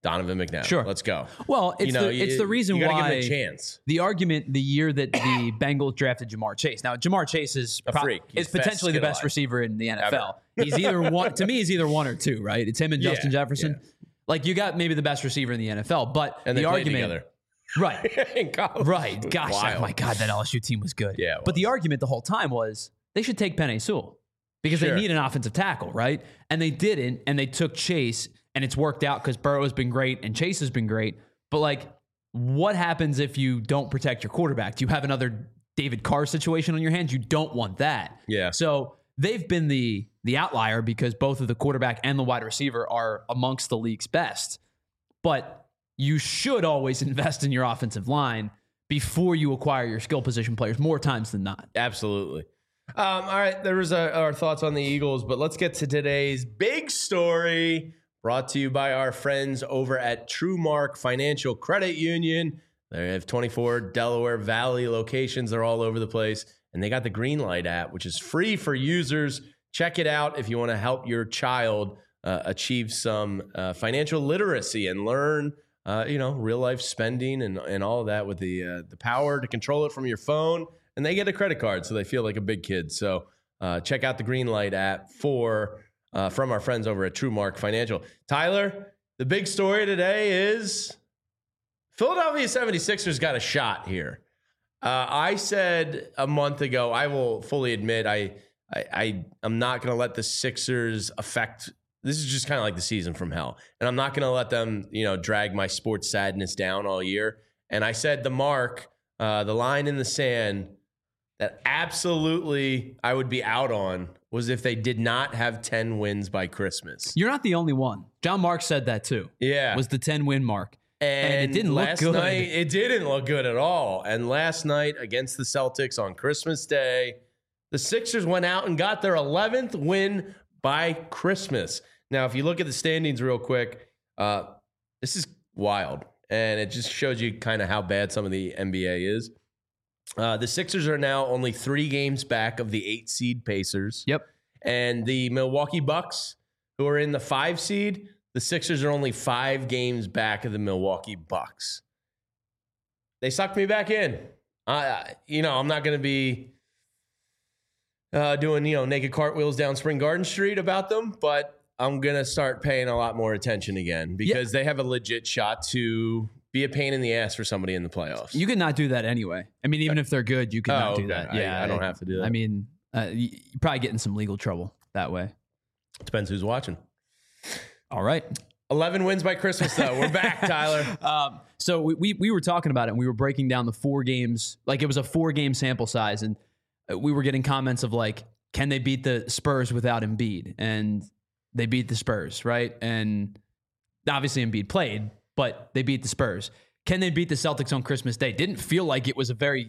Speaker 2: Donovan McNabb.
Speaker 4: Sure.
Speaker 2: Let's go.
Speaker 4: Well, it's the reason
Speaker 2: you
Speaker 4: why
Speaker 2: give him a chance.
Speaker 4: The argument the year that the Bengals drafted Jamar Chase. Now, Jamar Chase is
Speaker 2: a freak.
Speaker 4: Is potentially the best receiver in the NFL. Ever. He's either one. To me, he's either one or two. Right? It's him and Justin Jefferson. Yeah. Like you got maybe the best receiver in the NFL, but
Speaker 2: and
Speaker 4: the argument
Speaker 2: together.
Speaker 4: Right.
Speaker 2: In college.
Speaker 4: Right. Gosh, oh my God, that LSU team was good.
Speaker 2: Yeah.
Speaker 4: But the argument the whole time was they should take Penei Sewell because they need an offensive tackle, right? And they didn't, and they took Chase, and it's worked out because Burrow has been great and Chase has been great. But like, what happens if you don't protect your quarterback? Do you have another David Carr situation on your hands? You don't want that.
Speaker 2: Yeah.
Speaker 4: So they've been the outlier because both of the quarterback and the wide receiver are amongst the league's best. But you should always invest in your offensive line before you acquire your skill position players more times than not.
Speaker 2: Absolutely. All right, there was our thoughts on the Eagles, but let's get to today's big story brought to you by our friends over at TrueMark Financial Credit Union. They have 24 Delaware Valley locations. They're all over the place, and they got the Greenlight app, which is free for users. Check it out if you want to help your child achieve some financial literacy and learn real life spending and all of that with the power to control it from your phone. And they get a credit card, so they feel like a big kid. So check out the Greenlight app from our friends over at TrueMark Financial. Tyler, the big story today is Philadelphia 76ers got a shot here. I said a month ago, I will fully admit I'm not going to let the Sixers affect. This is just kind of like the season from hell. And I'm not going to let them, drag my sports sadness down all year. And I said the line in the sand that absolutely I would be out on was if they did not have 10 wins by Christmas.
Speaker 4: You're not the only one. John Marks said that too.
Speaker 2: Yeah.
Speaker 4: Was the 10-win mark. And it didn't look good.
Speaker 2: It didn't look good at all. And last night against the Celtics on Christmas Day, the Sixers went out and got their 11th win by Christmas. Now, if you look at the standings real quick, this is wild. And it just shows you kind of how bad some of the NBA is. The Sixers are now only 3 games back of the 8-seed Pacers.
Speaker 4: Yep.
Speaker 2: And the Milwaukee Bucks, who are in the 5 seed, the Sixers are only 5 games back of the Milwaukee Bucks. They sucked me back in. I'm not going to be doing, naked cartwheels down Spring Garden Street about them, but I'm going to start paying a lot more attention again because they have a legit shot to be a pain in the ass for somebody in the playoffs.
Speaker 4: You could not do that anyway. I mean, even if they're good, you could not do that.
Speaker 2: Yeah, I don't have to do that.
Speaker 4: I mean, you're probably getting some legal trouble that way.
Speaker 2: Depends who's watching.
Speaker 4: All right.
Speaker 2: 11 wins by Christmas, though. We're back, Tyler.
Speaker 4: So we were talking about it, and we were breaking down the 4 games. Like, it was a 4-game sample size, and we were getting comments of, like, can they beat the Spurs without Embiid? And they beat the Spurs, right? And obviously Embiid played, but they beat the Spurs. Can they beat the Celtics on Christmas Day? Didn't feel like it was a very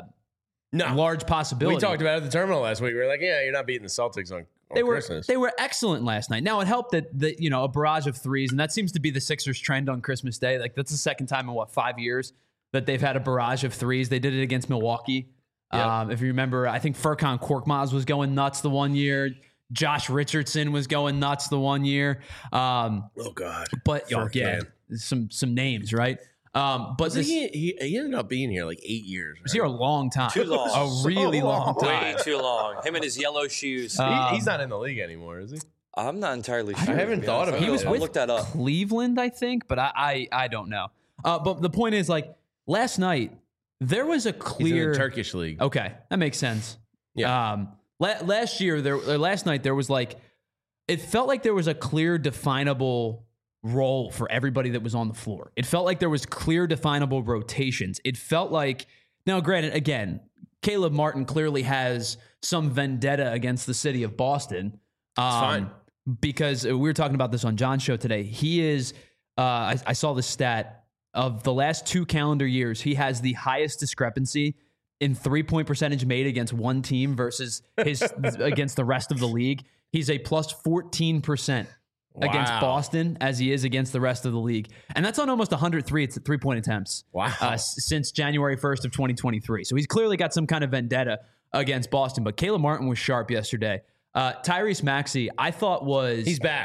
Speaker 4: large possibility.
Speaker 2: We talked about it at the terminal last week. We were like, yeah, you're not beating the Celtics on Christmas.
Speaker 4: They were excellent last night. Now, it helped that a barrage of threes, and that seems to be the Sixers' trend on Christmas Day. Like, that's the second time in, 5 years that they've had a barrage of threes. They did it against Milwaukee. Yep. If you remember, I think Furkan Korkmaz was going nuts the one year. Josh Richardson was going nuts the one year.
Speaker 2: Oh, God.
Speaker 4: But, some names, right? But
Speaker 2: he ended up being here like 8 years. Right?
Speaker 4: He was here a long time.
Speaker 3: Too long.
Speaker 4: A really long time.
Speaker 3: Way too long. Him and his yellow shoes.
Speaker 2: He's not in the league anymore, is he?
Speaker 3: I'm not entirely sure.
Speaker 2: I haven't thought about it.
Speaker 4: He was with
Speaker 3: look that up.
Speaker 4: Cleveland, I think, but I don't know. But the point is, like, last night, there was a clear...
Speaker 2: He's in the Turkish league.
Speaker 4: Okay, that makes sense.
Speaker 2: Yeah.
Speaker 4: Last night, there was like... It felt like there was a clear, definable role for everybody that was on the floor. It felt like there was clear, definable rotations. It felt like... Now, granted, again, Caleb Martin clearly has some vendetta against the city of Boston.
Speaker 2: It's fine.
Speaker 4: Because we were talking about this on John's show today. He is... I saw the stat... Of the last 2 calendar years, he has the highest discrepancy in 3-point percentage made against one team versus his against the rest of the league. He's a plus 14% against Boston as he is against the rest of the league. And that's on almost 103 3-point attempts since January 1st of 2023. So he's clearly got some kind of vendetta against Boston. But Caleb Martin was sharp yesterday. Tyrese Maxey, I thought was...
Speaker 2: He's back.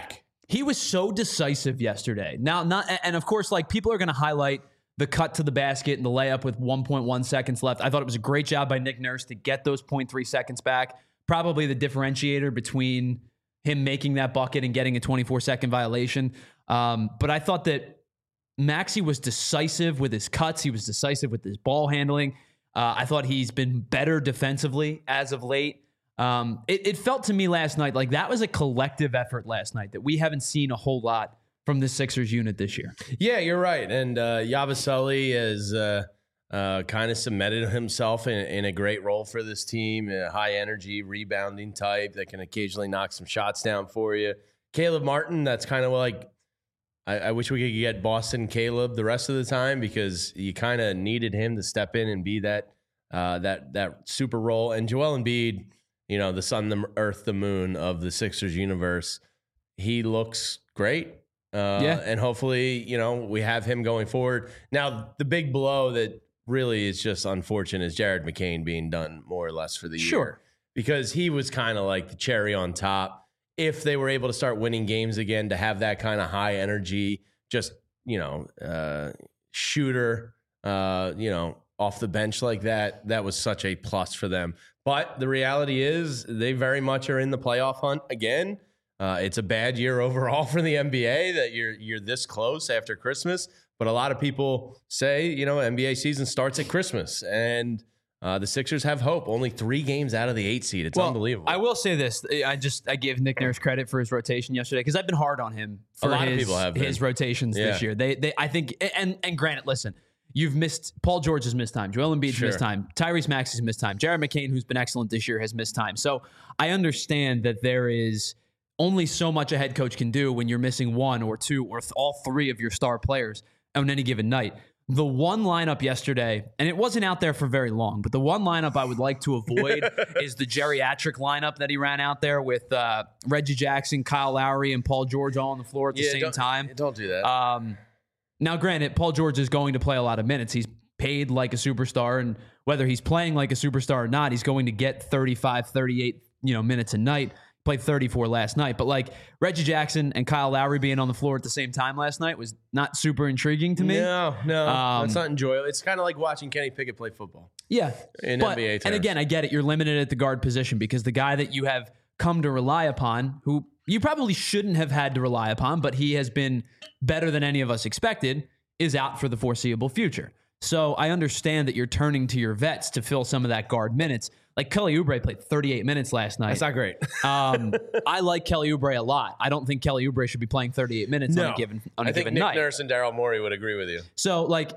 Speaker 4: He was so decisive yesterday. And of course, like, people are going to highlight the cut to the basket and the layup with 1.1 seconds left. I thought it was a great job by Nick Nurse to get those 0.3 seconds back. Probably the differentiator between him making that bucket and getting a 24-second violation. But I thought that Maxey was decisive with his cuts. He was decisive with his ball handling. I thought he's been better defensively as of late. It felt to me last night like that was a collective effort last night that we haven't seen a whole lot from the Sixers unit this year.
Speaker 2: Yeah, you're right. And Yabusele has kind of cemented himself in a great role for this team, a high-energy, rebounding type that can occasionally knock some shots down for you. Caleb Martin, that's kind of like, I wish we could get Boston Caleb the rest of the time, because you kind of needed him to step in and be that super role. And Joel Embiid, the sun, the earth, the moon of the Sixers universe, he looks great. And hopefully, we have him going forward. Now, the big blow that really is just unfortunate is Jared McCain being done more or less for the year. Because he was kind of like the cherry on top. If they were able to start winning games again, to have that kind of high energy, just, shooter, off the bench like that, that was such a plus for them. But the reality is they very much are in the playoff hunt again. It's a bad year overall for the NBA that you're this close after Christmas. But a lot of people say, NBA season starts at Christmas, and the Sixers have hope. Only 3 games out of the 8 seed. It's unbelievable.
Speaker 4: I will say this. I give Nick Nurse credit for his rotation yesterday, because I've been hard on him for
Speaker 2: a lot of people have
Speaker 4: his rotations this year. I think, and granted, listen, you've missed, Paul George has missed time. Joel Embiid's missed time. Tyrese Maxey's missed time. Jared McCain, who's been excellent this year, has missed time. So I understand that there is only so much a head coach can do when you're missing 1 or 2 or all 3 of your star players on any given night. The one lineup yesterday, and it wasn't out there for very long, but the one lineup I would like to avoid is the geriatric lineup that he ran out there with Reggie Jackson, Kyle Lowry, and Paul George all on the floor at the same time.
Speaker 2: Don't do that.
Speaker 4: Now, granted, Paul George is going to play a lot of minutes. He's paid like a superstar, and whether he's playing like a superstar or not, he's going to get 35, 38 minutes a night. Played 34 last night. But like Reggie Jackson and Kyle Lowry being on the floor at the same time last night was not super intriguing to me.
Speaker 2: No, that's not enjoyable. It's kind of like watching Kenny Pickett play football.
Speaker 4: Yeah.
Speaker 2: In NBA terms.
Speaker 4: And again, I get it. You're limited at the guard position because the guy that you have come to rely upon, who you probably shouldn't have had to rely upon, but he has been better than any of us expected, is out for the foreseeable future. So I understand that you're turning to your vets to fill some of that guard minutes. Like Kelly Oubre played 38 minutes last night.
Speaker 2: That's not great.
Speaker 4: I like Kelly Oubre a lot. I don't think Kelly Oubre should be playing 38 minutes on a given night.
Speaker 2: I think Nick Nurse and Daryl Morey would agree with you.
Speaker 4: So like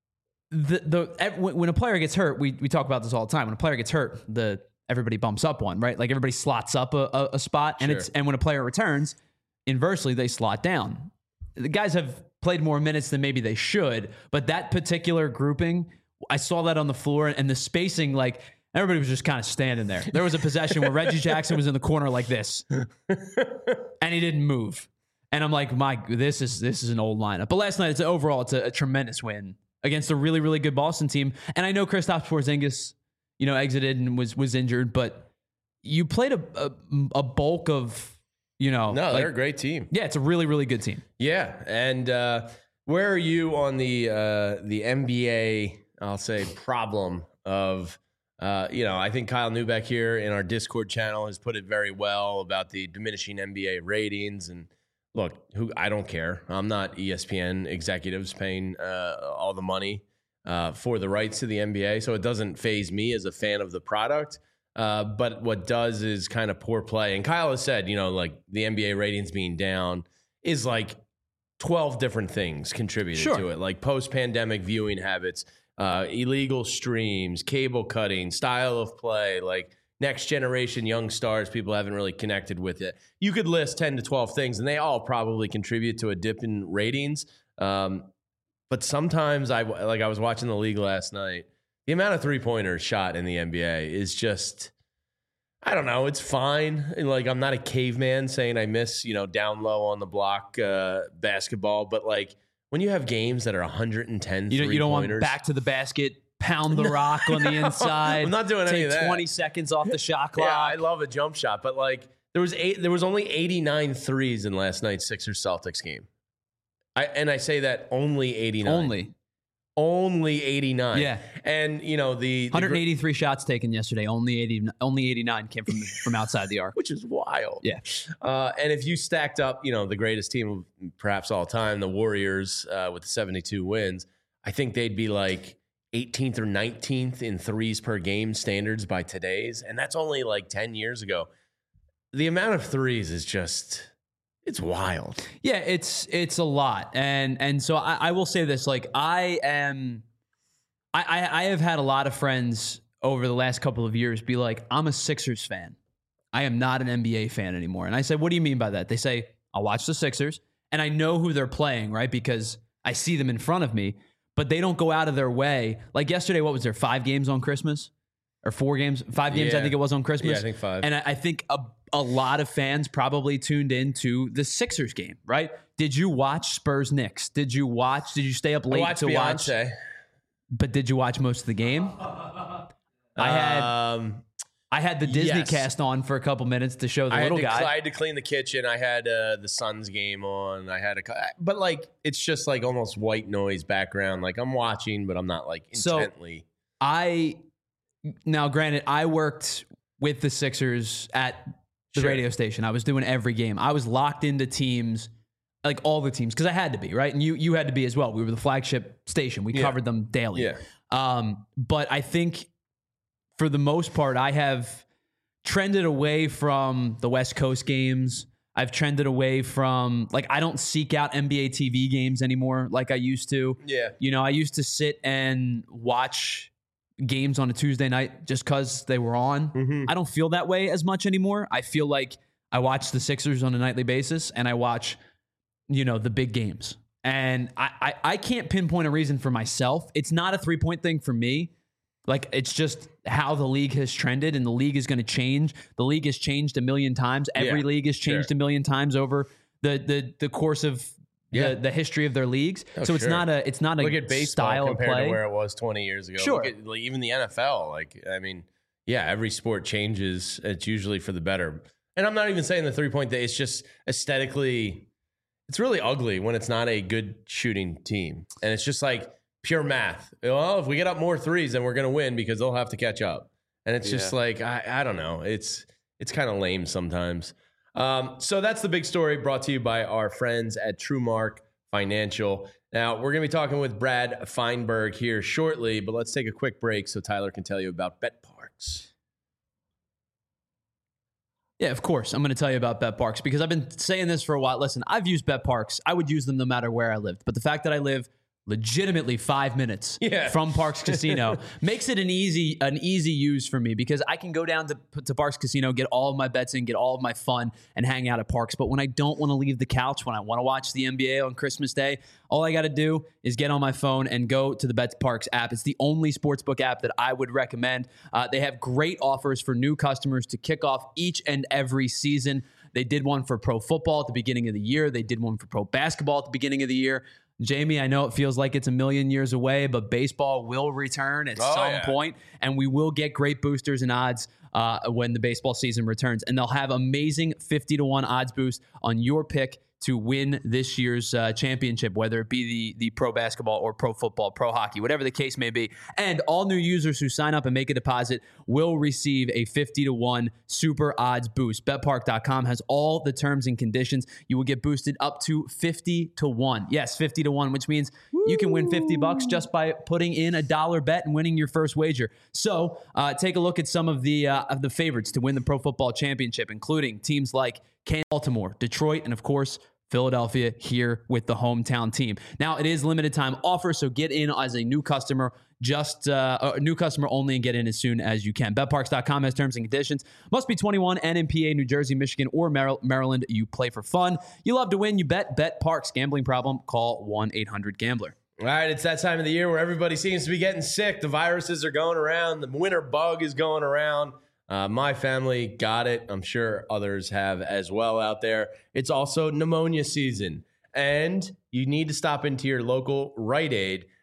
Speaker 4: when a player gets hurt, we talk about this all the time. When a player gets hurt, everybody bumps up one, right? Like everybody slots up a spot, and when a player returns, inversely they slot down. The guys have played more minutes than maybe they should, but that particular grouping, I saw that on the floor, and the spacing, like everybody was just kind of standing there. There was a possession where Reggie Jackson was in the corner like this, and he didn't move. And I'm like, this is an old lineup. But last night, it's a tremendous win against a really, really good Boston team. And I know Kristaps Porzingis, exited and was injured, but you played a bulk of.
Speaker 2: They're a great team.
Speaker 4: Yeah, it's a really, really good team.
Speaker 2: Yeah, and where are you on the NBA? I'll say problem of I think Kyle Neubeck here in our Discord channel has put it very well about the diminishing NBA ratings. And look, I don't care. I'm not ESPN executives paying all the money for the rights to the NBA, so it doesn't faze me as a fan of the product. But what does is kind of poor play. And Kyle has said, like the NBA ratings being down is like 12 different things contributed to it, like post-pandemic viewing habits, illegal streams, cable cutting, style of play, like next generation young stars, people haven't really connected with it. You could list 10 to 12 things, and they all probably contribute to a dip in ratings. But sometimes I was watching the league last night. The amount of three-pointers shot in the NBA is just, I don't know, it's fine. And like, I'm not a caveman saying I miss, down low on the block basketball, but like when you have games that are 110 three-pointers. You don't want
Speaker 4: back to the basket, pound the rock on the inside.
Speaker 2: I'm not doing any of that.
Speaker 4: Take 20 seconds off the shot clock.
Speaker 2: Yeah, I love a jump shot, but like There was only 89 threes in last night's Sixers Celtics game. I say that only 89. Only 89.
Speaker 4: Yeah.
Speaker 2: And, the
Speaker 4: 183 shots taken yesterday. Only 89 came from outside the arc.
Speaker 2: Which is wild.
Speaker 4: Yeah.
Speaker 2: And if you stacked up, the greatest team of perhaps all time, the Warriors, with 72 wins, I think they'd be like 18th or 19th in threes per game standards by today's. And that's only like 10 years ago. The amount of threes is just... It's wild.
Speaker 4: Yeah, it's a lot. And so I will say this, like I have had a lot of friends over the last couple of years be like, I'm a Sixers fan. I am not an NBA fan anymore. And I said, what do you mean by that? They say, I'll watch the Sixers and I know who they're playing, right? Because I see them in front of me, but they don't go out of their way. Like yesterday, what was there? 5 games on Christmas? Or 4 games? 5 games, I think it was on Christmas.
Speaker 2: Yeah, I think 5.
Speaker 4: And I think a lot of fans probably tuned into the Sixers game, right? Did you watch Spurs Knicks? Did you stay up late to
Speaker 2: Beyonce.
Speaker 4: watch? But did you watch most of the game? I had the Disney cast on for a couple minutes to show the little guy.
Speaker 2: I had to clean the kitchen. I had the Suns game on. But like it's just like almost white noise background. Like I'm watching, but I'm not like intently.
Speaker 4: Now, granted, I worked with the Sixers at the radio station. I was doing every game. I was locked into teams, like all the teams, because I had to be, right? And you had to be as well. We were the flagship station. We covered them daily.
Speaker 2: Yeah.
Speaker 4: But I think for the most part, I have trended away from the West Coast games. I've trended away from, like, I don't seek out NBA TV games anymore like I used to.
Speaker 2: Yeah.
Speaker 4: I used to sit and watch games on a Tuesday night just because they were on.
Speaker 2: Mm-hmm.
Speaker 4: I don't feel that way as much anymore. I feel like I watch the Sixers on a nightly basis and I watch, the big games. And I can't pinpoint a reason for myself. It's not a 3-point thing for me. Like, it's just how the league has trended, and the league is going to change. The league has changed a million times. Every league has changed a million times over the course of the history of their leagues. So it's not a
Speaker 2: look at baseball
Speaker 4: style
Speaker 2: compared
Speaker 4: of play
Speaker 2: to where it was 20 years ago.
Speaker 4: Sure.
Speaker 2: Look at, like, even the NFL. Like, I mean, every sport changes. It's usually for the better. And I'm not even saying the 3-point thing. It's just aesthetically, it's really ugly when it's not a good shooting team. And it's just like pure math. Well, if we get up more threes, then we're going to win because they'll have to catch up. And it's just like, I don't know. It's kind of lame sometimes. So that's the big story, brought to you by our friends at TrueMark Financial. Now, we're going to be talking with Brad Feinberg here shortly, but let's take a quick break so Tyler can tell you about BetParks.
Speaker 4: Yeah, of course. I'm going to tell you about BetParks because I've been saying this for a while. Listen, I've used BetParks. I would use them no matter where I lived. But the fact that I live legitimately 5 minutes from Parks Casino makes it an easy use for me because I can go down to Parks Casino, get all of my bets in, get all of my fun, and hang out at Parks. But when I don't want to leave the couch, when I want to watch the NBA on Christmas Day, all I got to do is get on my phone and go to the BetParks app. It's the only sportsbook app that I would recommend. They have great offers for new customers to kick off each and every season. They did one for pro football at the beginning of the year. They did one for pro basketball at the beginning of the year. Jamie, I know it feels like it's a million years away, but baseball will return at some point, and we will get great boosters and odds when the baseball season returns. And they'll have amazing 50-1 odds boost on your pick to win this year's championship, whether it be the pro basketball or pro football, pro hockey, whatever the case may be. And all new users who sign up and make a deposit will receive a 50-1 super odds boost. BetPark.com has all the terms and conditions. You will get boosted up to 50-1. Yes, 50-1, which means you can win $50 just by putting in a $1 bet and winning your first wager. So take a look at some of the favorites to win the pro football championship, including teams like Baltimore, Detroit, and of course, Philadelphia here with the hometown team. Now, it is limited time offer, so get in as a new customer, just a new customer only, and get in as soon as you can. BetParks.com has terms and conditions. Must be 21 and in PA, New Jersey, Michigan, or Maryland. You play for fun. You love to win. You bet. BetParks. Gambling problem? Call 1-800-GAMBLER.
Speaker 2: All right, it's that time of the year where everybody seems to be getting sick. The viruses are going around. The winter bug is going around. My family got it. I'm sure others have as well out there. It's also pneumonia season, and you need to stop into your local Rite Aid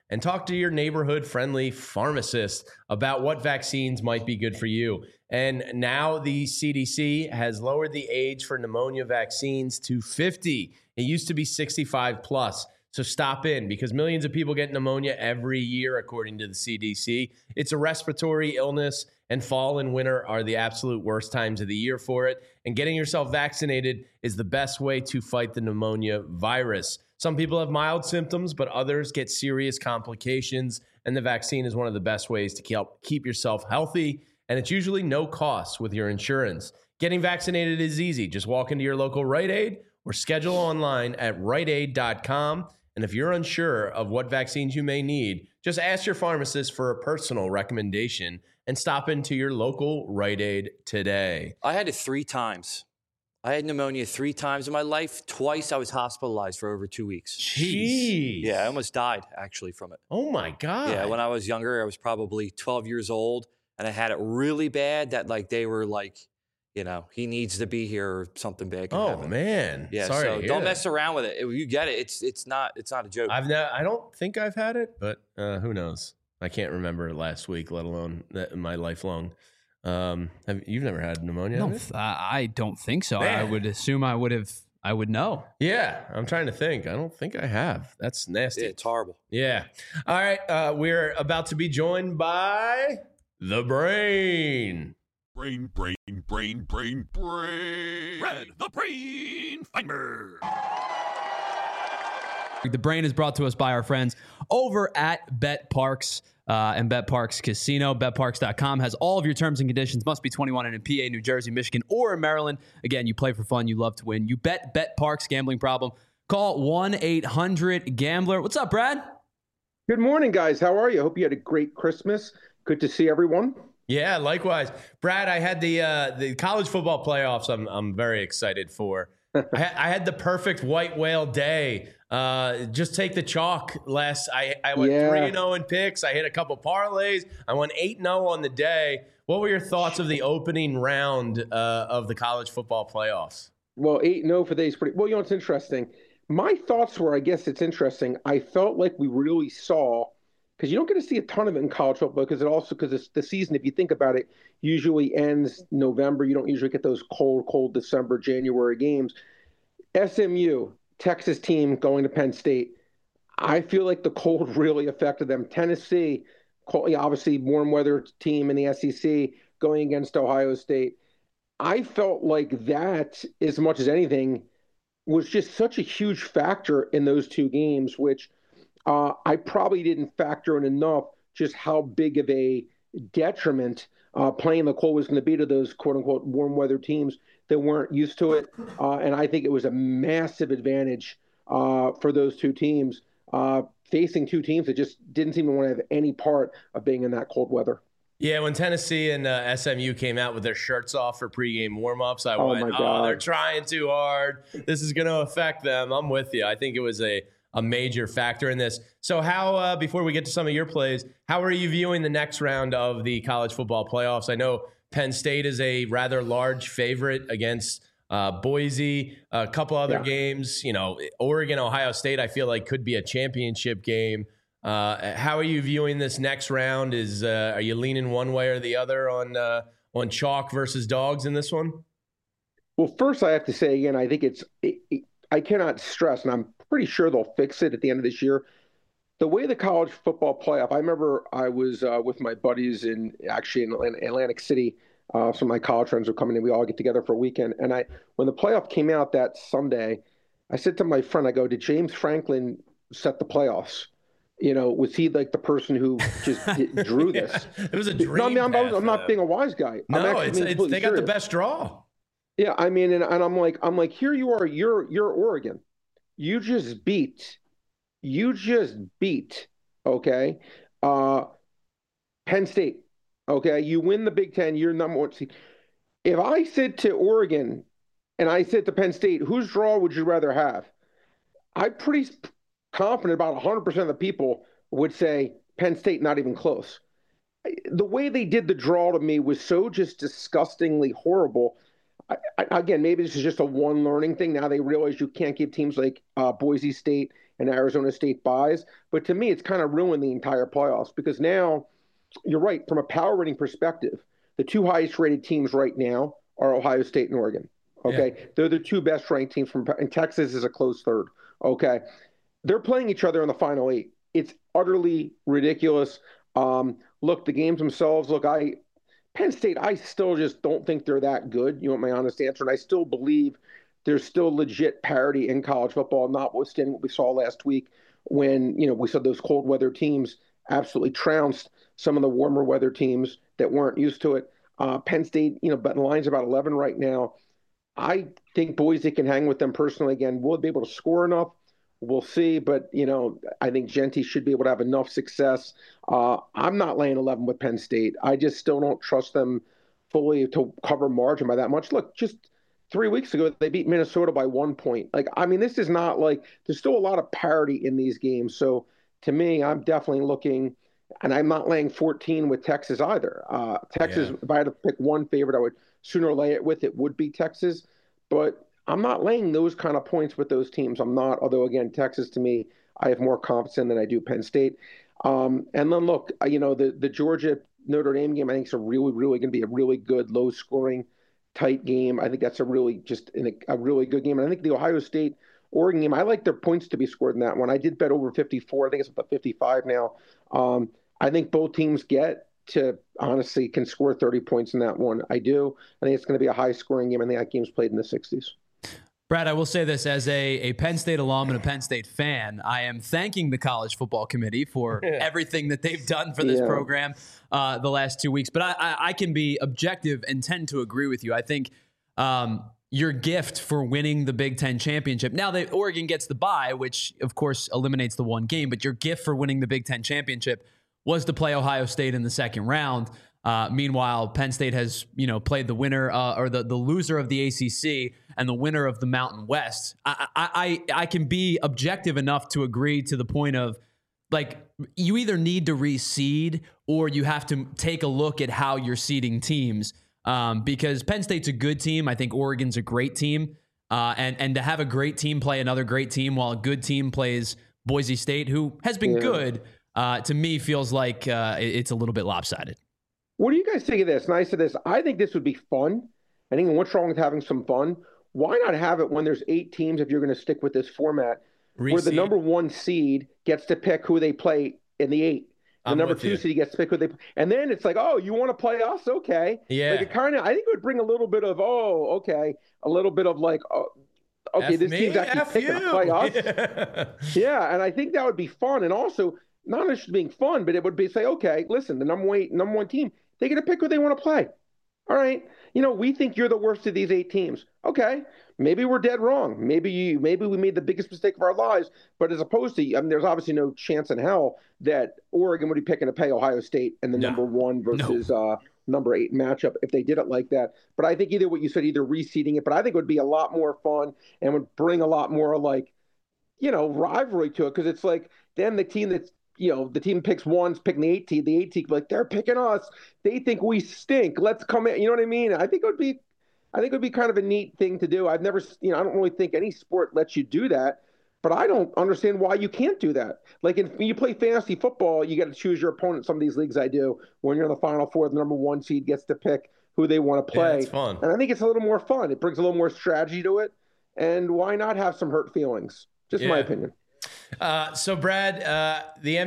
Speaker 2: and talk to your neighborhood-friendly pharmacist about what vaccines might be good for you. And now the CDC has lowered the age for pneumonia vaccines to 50. It used to be 65 plus. So stop in, because millions of people get pneumonia every year, according to the CDC. It's a respiratory illness, and fall and winter are the absolute worst times of the year for it. And getting yourself vaccinated is the best way to fight the pneumonia virus. Some people have mild symptoms, but others get serious complications, and the vaccine is one of the best ways to keep yourself healthy, and it's usually no cost with your insurance. Getting vaccinated is easy. Just walk into your local Rite Aid or schedule online at riteaid.com. And if you're unsure of what vaccines you may need, just ask your pharmacist for a personal recommendation and stop into your local Rite Aid today.
Speaker 3: I had it 3 times. I had pneumonia 3 times in my life. Twice I was hospitalized for over 2 weeks.
Speaker 2: Jeez.
Speaker 3: Yeah, I almost died, actually, from it.
Speaker 2: Oh, my God.
Speaker 3: Yeah, when I was younger, I was probably 12 years old, and I had it really bad that, like, they were like, you know, he needs to be here or something bad can happen.
Speaker 2: Man.
Speaker 3: Yeah,
Speaker 2: sorry
Speaker 3: so don't mess around with it. If you get it, it's not a joke.
Speaker 2: I don't think I've had it, but who knows? I can't remember last week, let alone my lifelong. You've never had pneumonia?
Speaker 4: I don't think so.
Speaker 2: Man.
Speaker 4: I would assume I would know.
Speaker 2: Yeah, I'm trying to think. I don't think I have. That's nasty.
Speaker 3: Yeah, it's horrible.
Speaker 2: Yeah. All right. We're about to be joined by the Brain.
Speaker 1: Brain. Red, the Brain Finder.
Speaker 4: The Brain is brought to us by our friends over at BetParks and BetParks Casino. BetParks.com has all of your terms and conditions. Must be 21 and in PA, New Jersey, Michigan, or in Maryland. Again, you play for fun. You love to win. You bet BetParks. Gambling problem? Call 1-800-GAMBLER. What's up, Brad?
Speaker 5: Good morning, guys. How are you? Hope you had a great Christmas. Good to see everyone.
Speaker 2: Yeah, likewise. Brad, I had the college football playoffs I'm very excited for. I had the perfect white whale day. Just take the chalk. I went 3-0 in picks. I hit a couple parlays. I went 8-0 on the day. What were your thoughts of the opening round of the college football playoffs?
Speaker 5: Well, 8-0 for days. Well, you know, it's interesting. My thoughts were, I guess it's interesting. I felt like we really saw, because you don't get to see a ton of it in college football, because the season, if you think about it, usually ends November. You don't usually get those cold December, January games. SMU, Texas team going to Penn State. I feel like the cold really affected them. Tennessee, obviously warm weather team in the SEC going against Ohio State. I felt like that, as much as anything, was just such a huge factor in those two games, which I probably didn't factor in enough just how big of a detriment playing the cold was going to be to those quote-unquote warm weather teams that weren't used to it. And I think it was a massive advantage for those two teams, facing two teams that just didn't seem to want to have any part of being in that cold weather.
Speaker 2: Yeah, when Tennessee and SMU came out with their shirts off for pregame warm-ups, I went,
Speaker 5: my God.
Speaker 2: They're trying too hard. This is going to affect them. I'm with you. I think it was a major factor in this. So how, before we get to some of your plays, how are you viewing the next round of the college football playoffs? I know Penn State is a rather large favorite against Boise, a couple other games. You know, Oregon, Ohio State, I feel like could be a championship game. How are you viewing this next round? Are you leaning one way or the other on chalk versus dogs in this one?
Speaker 5: Well, first I have to say again, I think I cannot stress, and I'm pretty sure they'll fix it at the end of this year. The way the college football playoff, I remember I was with my buddies in Atlantic City. Some of my college friends were coming in. We all get together for a weekend. And when the playoff came out that Sunday, I said to my friend, I go, did James Franklin set the playoffs? You know, was he like the person who just drew this?
Speaker 2: It was a dream.
Speaker 5: No, I mean, I'm not being a wise guy.
Speaker 2: No, they got the best draw.
Speaker 5: Yeah, I mean, and I'm like, here you are, you're Oregon. You just beat, okay, Penn State, okay? You win the Big Ten, you're number one seed. If I said to Oregon and I said to Penn State, whose draw would you rather have? I'm pretty confident about 100% of the people would say Penn State, not even close. The way they did the draw to me was so just disgustingly horrible. Again, maybe this is just a one learning thing. Now they realize you can't give teams like Boise State and Arizona State buys. But to me, it's kind of ruined the entire playoffs because now, you're right, from a power rating perspective, the two highest rated teams right now are Ohio State and Oregon. Okay. Yeah. They're the two best ranked teams and Texas is a close third. Okay. They're playing each other in the final 8. It's utterly ridiculous. Look, the games themselves, Penn State, I still just don't think they're that good. You want my honest answer? And I still believe there's still legit parity in college football, notwithstanding what we saw last week when, we saw those cold weather teams absolutely trounced some of the warmer weather teams that weren't used to it. Penn State, but the line's about 11 right now. I think Boise can hang with them personally. Again, will they be able to score enough? We'll see. But, I think Genty should be able to have enough success. I'm not laying 11 with Penn State. I just still don't trust them fully to cover margin by that much. Look, just 3 weeks ago, they beat Minnesota by 1 point. This is not there's still a lot of parity in these games. So to me, I'm definitely looking, and I'm not laying 14 with Texas either. Texas, if I had to pick one favorite, I would sooner lay it with, it would be Texas. But I'm not laying those kind of points with those teams. I'm not, although again, Texas to me, I have more confidence in than I do Penn State. And then look, the Georgia Notre Dame game, I think is really going to be a really good, low scoring, tight game. I think that's a really good game. And I think the Ohio State Oregon game, I like their points to be scored in that one. I did bet over 54. I think it's about 55 now. I think both teams honestly can score 30 points in that one. I do. I think it's going to be a high scoring game. I think that game's played in the 60s.
Speaker 4: Brad, I will say this as a Penn State alum and a Penn State fan, I am thanking the College Football Committee for everything that they've done for this program the last 2 weeks. But I can be objective and tend to agree with you. I think your gift for winning the Big Ten championship, now that Oregon gets the bye, which of course eliminates the one game, but your gift for winning the Big Ten championship was to play Ohio State in the second round. Meanwhile, Penn State has, played the winner or the loser of the ACC and the winner of the Mountain West. I can be objective enough to agree to the point of you either need to reseed or you have to take a look at how you're seeding teams because Penn State's a good team. I think Oregon's a great team. And to have a great team play another great team while a good team plays Boise State, who has been good, to me feels like it's a little bit lopsided.
Speaker 5: What do you guys think of this? And I said this, I think this would be fun. I think what's wrong with having some fun? Why not have it when there's 8 teams, if you're going to stick with this format, where the number 1 seed gets to pick who they play in the 8. The number 2 seed gets to pick who they play. And then it's oh, you want to play us? Okay.
Speaker 2: Yeah.
Speaker 5: I think it would bring a little bit of, a little bit of okay, this team's actually picking to play us. Yeah. And I think that would be fun. And also, not just being fun, but it would be okay, listen, the number one team, they get to pick who they want to play. All right. We think you're the worst of these 8 teams. Okay. Maybe we're dead wrong. Maybe we made the biggest mistake of our lives. But as opposed to, there's obviously no chance in hell that Oregon would be picking to pay Ohio State in the number 1 versus number 8 matchup if they did it like that. But I think either what you said, either reseeding it, but I think it would be a lot more fun and would bring a lot more rivalry to it. Because it's then the team that's, the team picks one's picking the 8 team. The 8 team they're picking us. They think we stink. Let's come in. You know what I mean? I think it would be kind of a neat thing to do. I've never, I don't really think any sport lets you do that, but I don't understand why you can't do that. When you play fantasy football, you got to choose your opponent. Some of these leagues I do. When you're in the Final Four, the number 1 seed gets to pick who they want to play.
Speaker 2: Yeah, it's fun.
Speaker 5: And I think it's a little more fun. It brings a little more strategy to it. And why not have some hurt feelings? Just my opinion.
Speaker 2: So Brad, the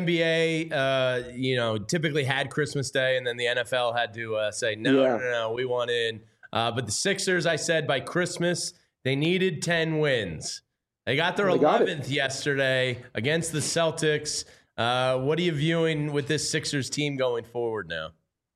Speaker 2: NBA, typically had Christmas Day, and then the NFL had to say, no, we want in. But the Sixers, I said by Christmas, they needed 10 wins. They got their 11th yesterday against the Celtics. What are you viewing with this Sixers team going forward now?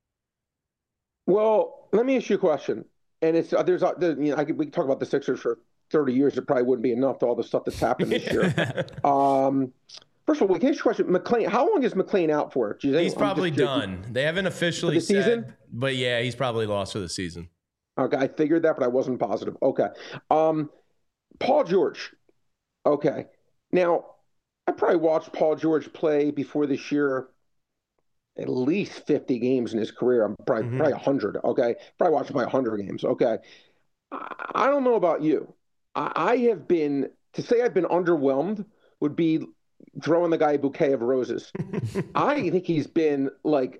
Speaker 5: Well, let me ask you a question. And we can talk about the Sixers for 30 years. It probably wouldn't be enough to all the stuff that's happened this year. First of all, can I ask you a question? McClain, how long is McClain out for?
Speaker 2: He's probably done. They haven't officially said, season? But yeah, he's probably lost for the season.
Speaker 5: Okay, I figured that, but I wasn't positive. Okay. Paul George. Okay. Now, I probably watched Paul George play before this year at least 50 games in his career. I'm probably 100. Okay. Probably watched probably 100 games. Okay. I don't know about you. I've been underwhelmed would be throwing the guy a bouquet of roses. I think he's been like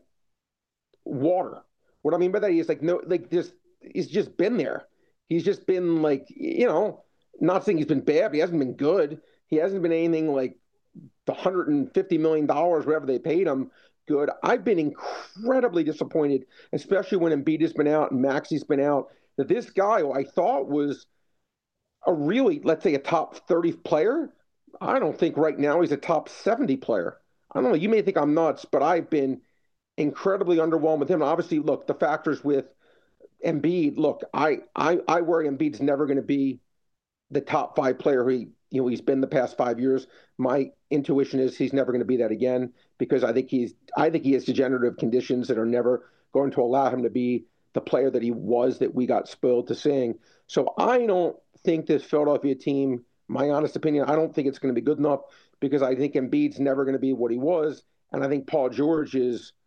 Speaker 5: water. What I mean by that is he's just been there. He's just been like, not saying he's been bad, but he hasn't been good. He hasn't been anything like the $150 million, whatever they paid him, good. I've been incredibly disappointed, especially when Embiid has been out and Maxi's been out, that this guy who I thought was a really, let's say, a top 30 player, I don't think right now he's a top 70 player. I don't know. You may think I'm nuts, but I've been incredibly underwhelmed with him. Obviously, look, the factors with Embiid, look, I worry Embiid's never going to be the top 5 player he's been the past 5 years. My intuition is he's never going to be that again, because I think he has degenerative conditions that are never going to allow him to be the player that he was, that we got spoiled to seeing. So I don't think this Philadelphia team, my honest opinion, I don't think it's going to be good enough, because I think Embiid's never going to be what he was. And I think Paul George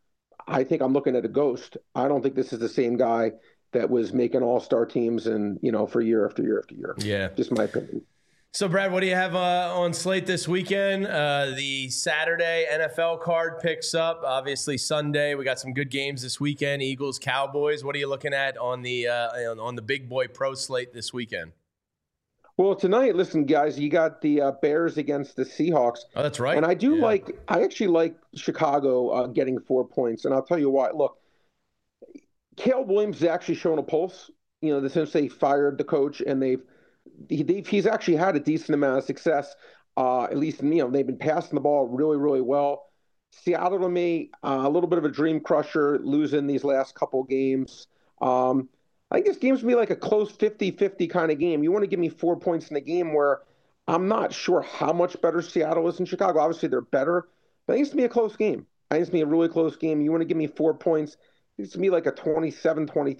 Speaker 5: I think I'm looking at a ghost. I don't think this is the same guy that was making all-star teams and, for year after year after year.
Speaker 2: Yeah.
Speaker 5: Just my opinion.
Speaker 2: So, Brad, what do you have on slate this weekend? The Saturday NFL card picks up. Obviously, Sunday, we got some good games this weekend. Eagles, Cowboys. What are you looking at on the big boy pro slate this weekend?
Speaker 5: Well, tonight, listen, guys, you got the Bears against the Seahawks.
Speaker 2: Oh, that's right.
Speaker 5: And I actually like Chicago getting 4 points. And I'll tell you why. Look, Caleb Williams has actually shown a pulse, since they fired the coach, and he's actually had a decent amount of success. At least, they've been passing the ball really, really well. Seattle, to me, a little bit of a dream crusher, losing these last couple games. I think this game's going to be like a close 50-50 kind of game. You want to give me 4 points in a game where I'm not sure how much better Seattle is than Chicago. Obviously, they're better, but I think it's going to be a close game. I think it's going to be a really close game. You want to give me 4 points. It's going to be like a 27-23,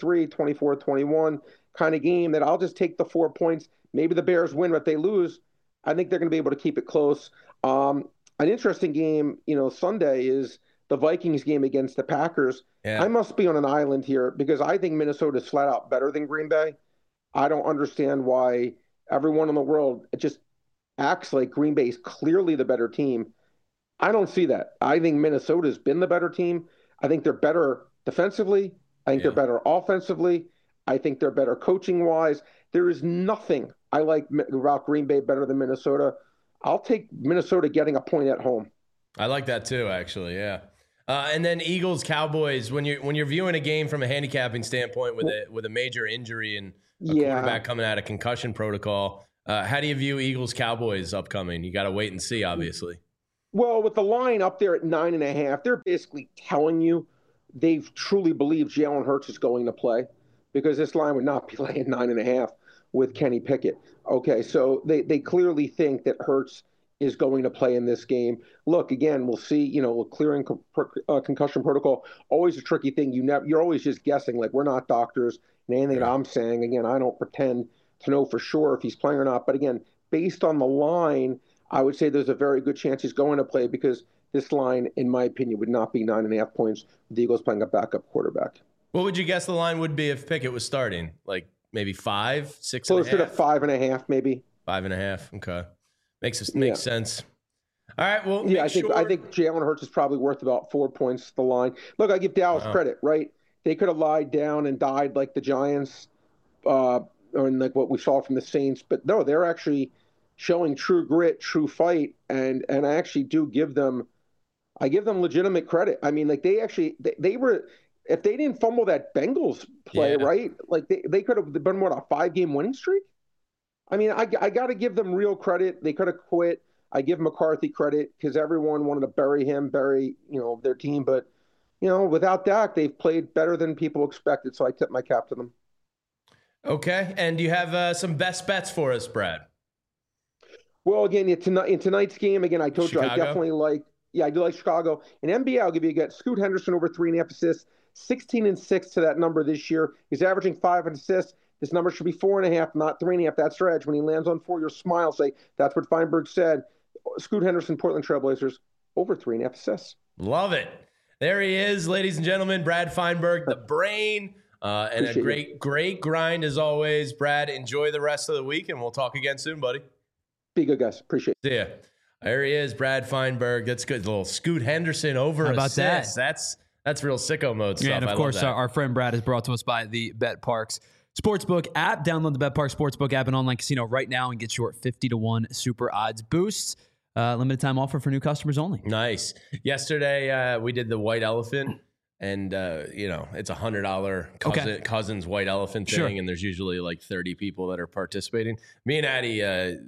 Speaker 5: 24-21 kind of game that I'll just take the 4 points. Maybe the Bears win, but if they lose, I think they're going to be able to keep it close. An interesting game, Sunday is the Vikings game against the Packers. Yeah. I must be on an island here, because I think Minnesota is flat out better than Green Bay. I don't understand why everyone in the world just acts like Green Bay is clearly the better team. I don't see that. I think Minnesota's been the better team. I think they're better defensively. I think they're better offensively. I think they're better coaching-wise. There is nothing I like about Green Bay better than Minnesota. I'll take Minnesota getting a point at home.
Speaker 2: I like that too, actually, yeah. And then Eagles, Cowboys, when you're viewing a game from a handicapping standpoint with a major injury and a quarterback coming out of concussion protocol, how do you view Eagles, Cowboys upcoming? You got to wait and see, obviously.
Speaker 5: Well, with the line up there at 9.5, they're basically telling you they truly believe Jalen Hurts is going to play, because this line would not be laying 9.5 with Kenny Pickett. Okay, so they clearly think that Hurts is going to play in this game. Look, again, we'll see, clearing concussion protocol, always a tricky thing. You're always just guessing. Like, we're not doctors, and anything that I'm saying, again, I don't pretend to know for sure if he's playing or not. But again, based on the line, I would say there's a very good chance he's going to play, because this line, in my opinion, would not be 9.5 points with the Eagles playing a backup quarterback.
Speaker 2: What would you guess the line would be if Pickett was starting? Like maybe 5, 6
Speaker 5: Closer to 5.5, maybe.
Speaker 2: 5.5. Okay. Makes sense. All right. Well,
Speaker 5: I think Jalen Hurts is probably worth about 4 points to the line. Look, I give Dallas credit, right? They could have lied down and died like the Giants, or like what we saw from the Saints. But no, they're actually showing true grit, true fight, and I actually do give them legitimate credit. I mean, like they were. If they didn't fumble that Bengals play, right? Like they could have been a 5-game winning streak. I mean, I got to give them real credit. They could have quit. I give McCarthy credit, because everyone wanted to bury their team. But, without Dak, they've played better than people expected. So I tip my cap to them.
Speaker 2: Okay. And do you have some best bets for us, Brad?
Speaker 5: Well, again, in tonight's game, again, I told
Speaker 2: Chicago?
Speaker 5: You I definitely like. Yeah, I do like Chicago. In NBA, I'll give you a get. Scoot Henderson over 3.5 assists, 16-6 to that number this year. He's averaging 5 assists. This number should be 4.5, not 3.5. That's their edge. When he lands on 4, your smile say, that's what Feinberg said. Scoot Henderson, Portland Trailblazers, over 3.5 assists.
Speaker 2: Love it. There he is, ladies and gentlemen, Brad Feinberg, the brain, and a great grind as always. Brad, enjoy the rest of the week, and we'll talk again soon, buddy.
Speaker 5: Be good, guys. Appreciate it.
Speaker 2: See ya. There he is, Brad Feinberg. That's good. A little Scoot Henderson over
Speaker 4: How about
Speaker 2: assist.
Speaker 4: that?
Speaker 2: That's real sicko mode stuff.
Speaker 4: Yeah, and of course, our friend Brad is brought to us by the BetParx Sportsbook app. Download the BetParx Sportsbook app and online casino right now and get your 50-1 super odds boosts. Limited time offer for new customers only.
Speaker 2: Nice. Yesterday, we did the white elephant, and it's $100 Cousins white elephant thing,
Speaker 4: Sure.
Speaker 2: and there's usually like 30 people that are participating. Me and Addie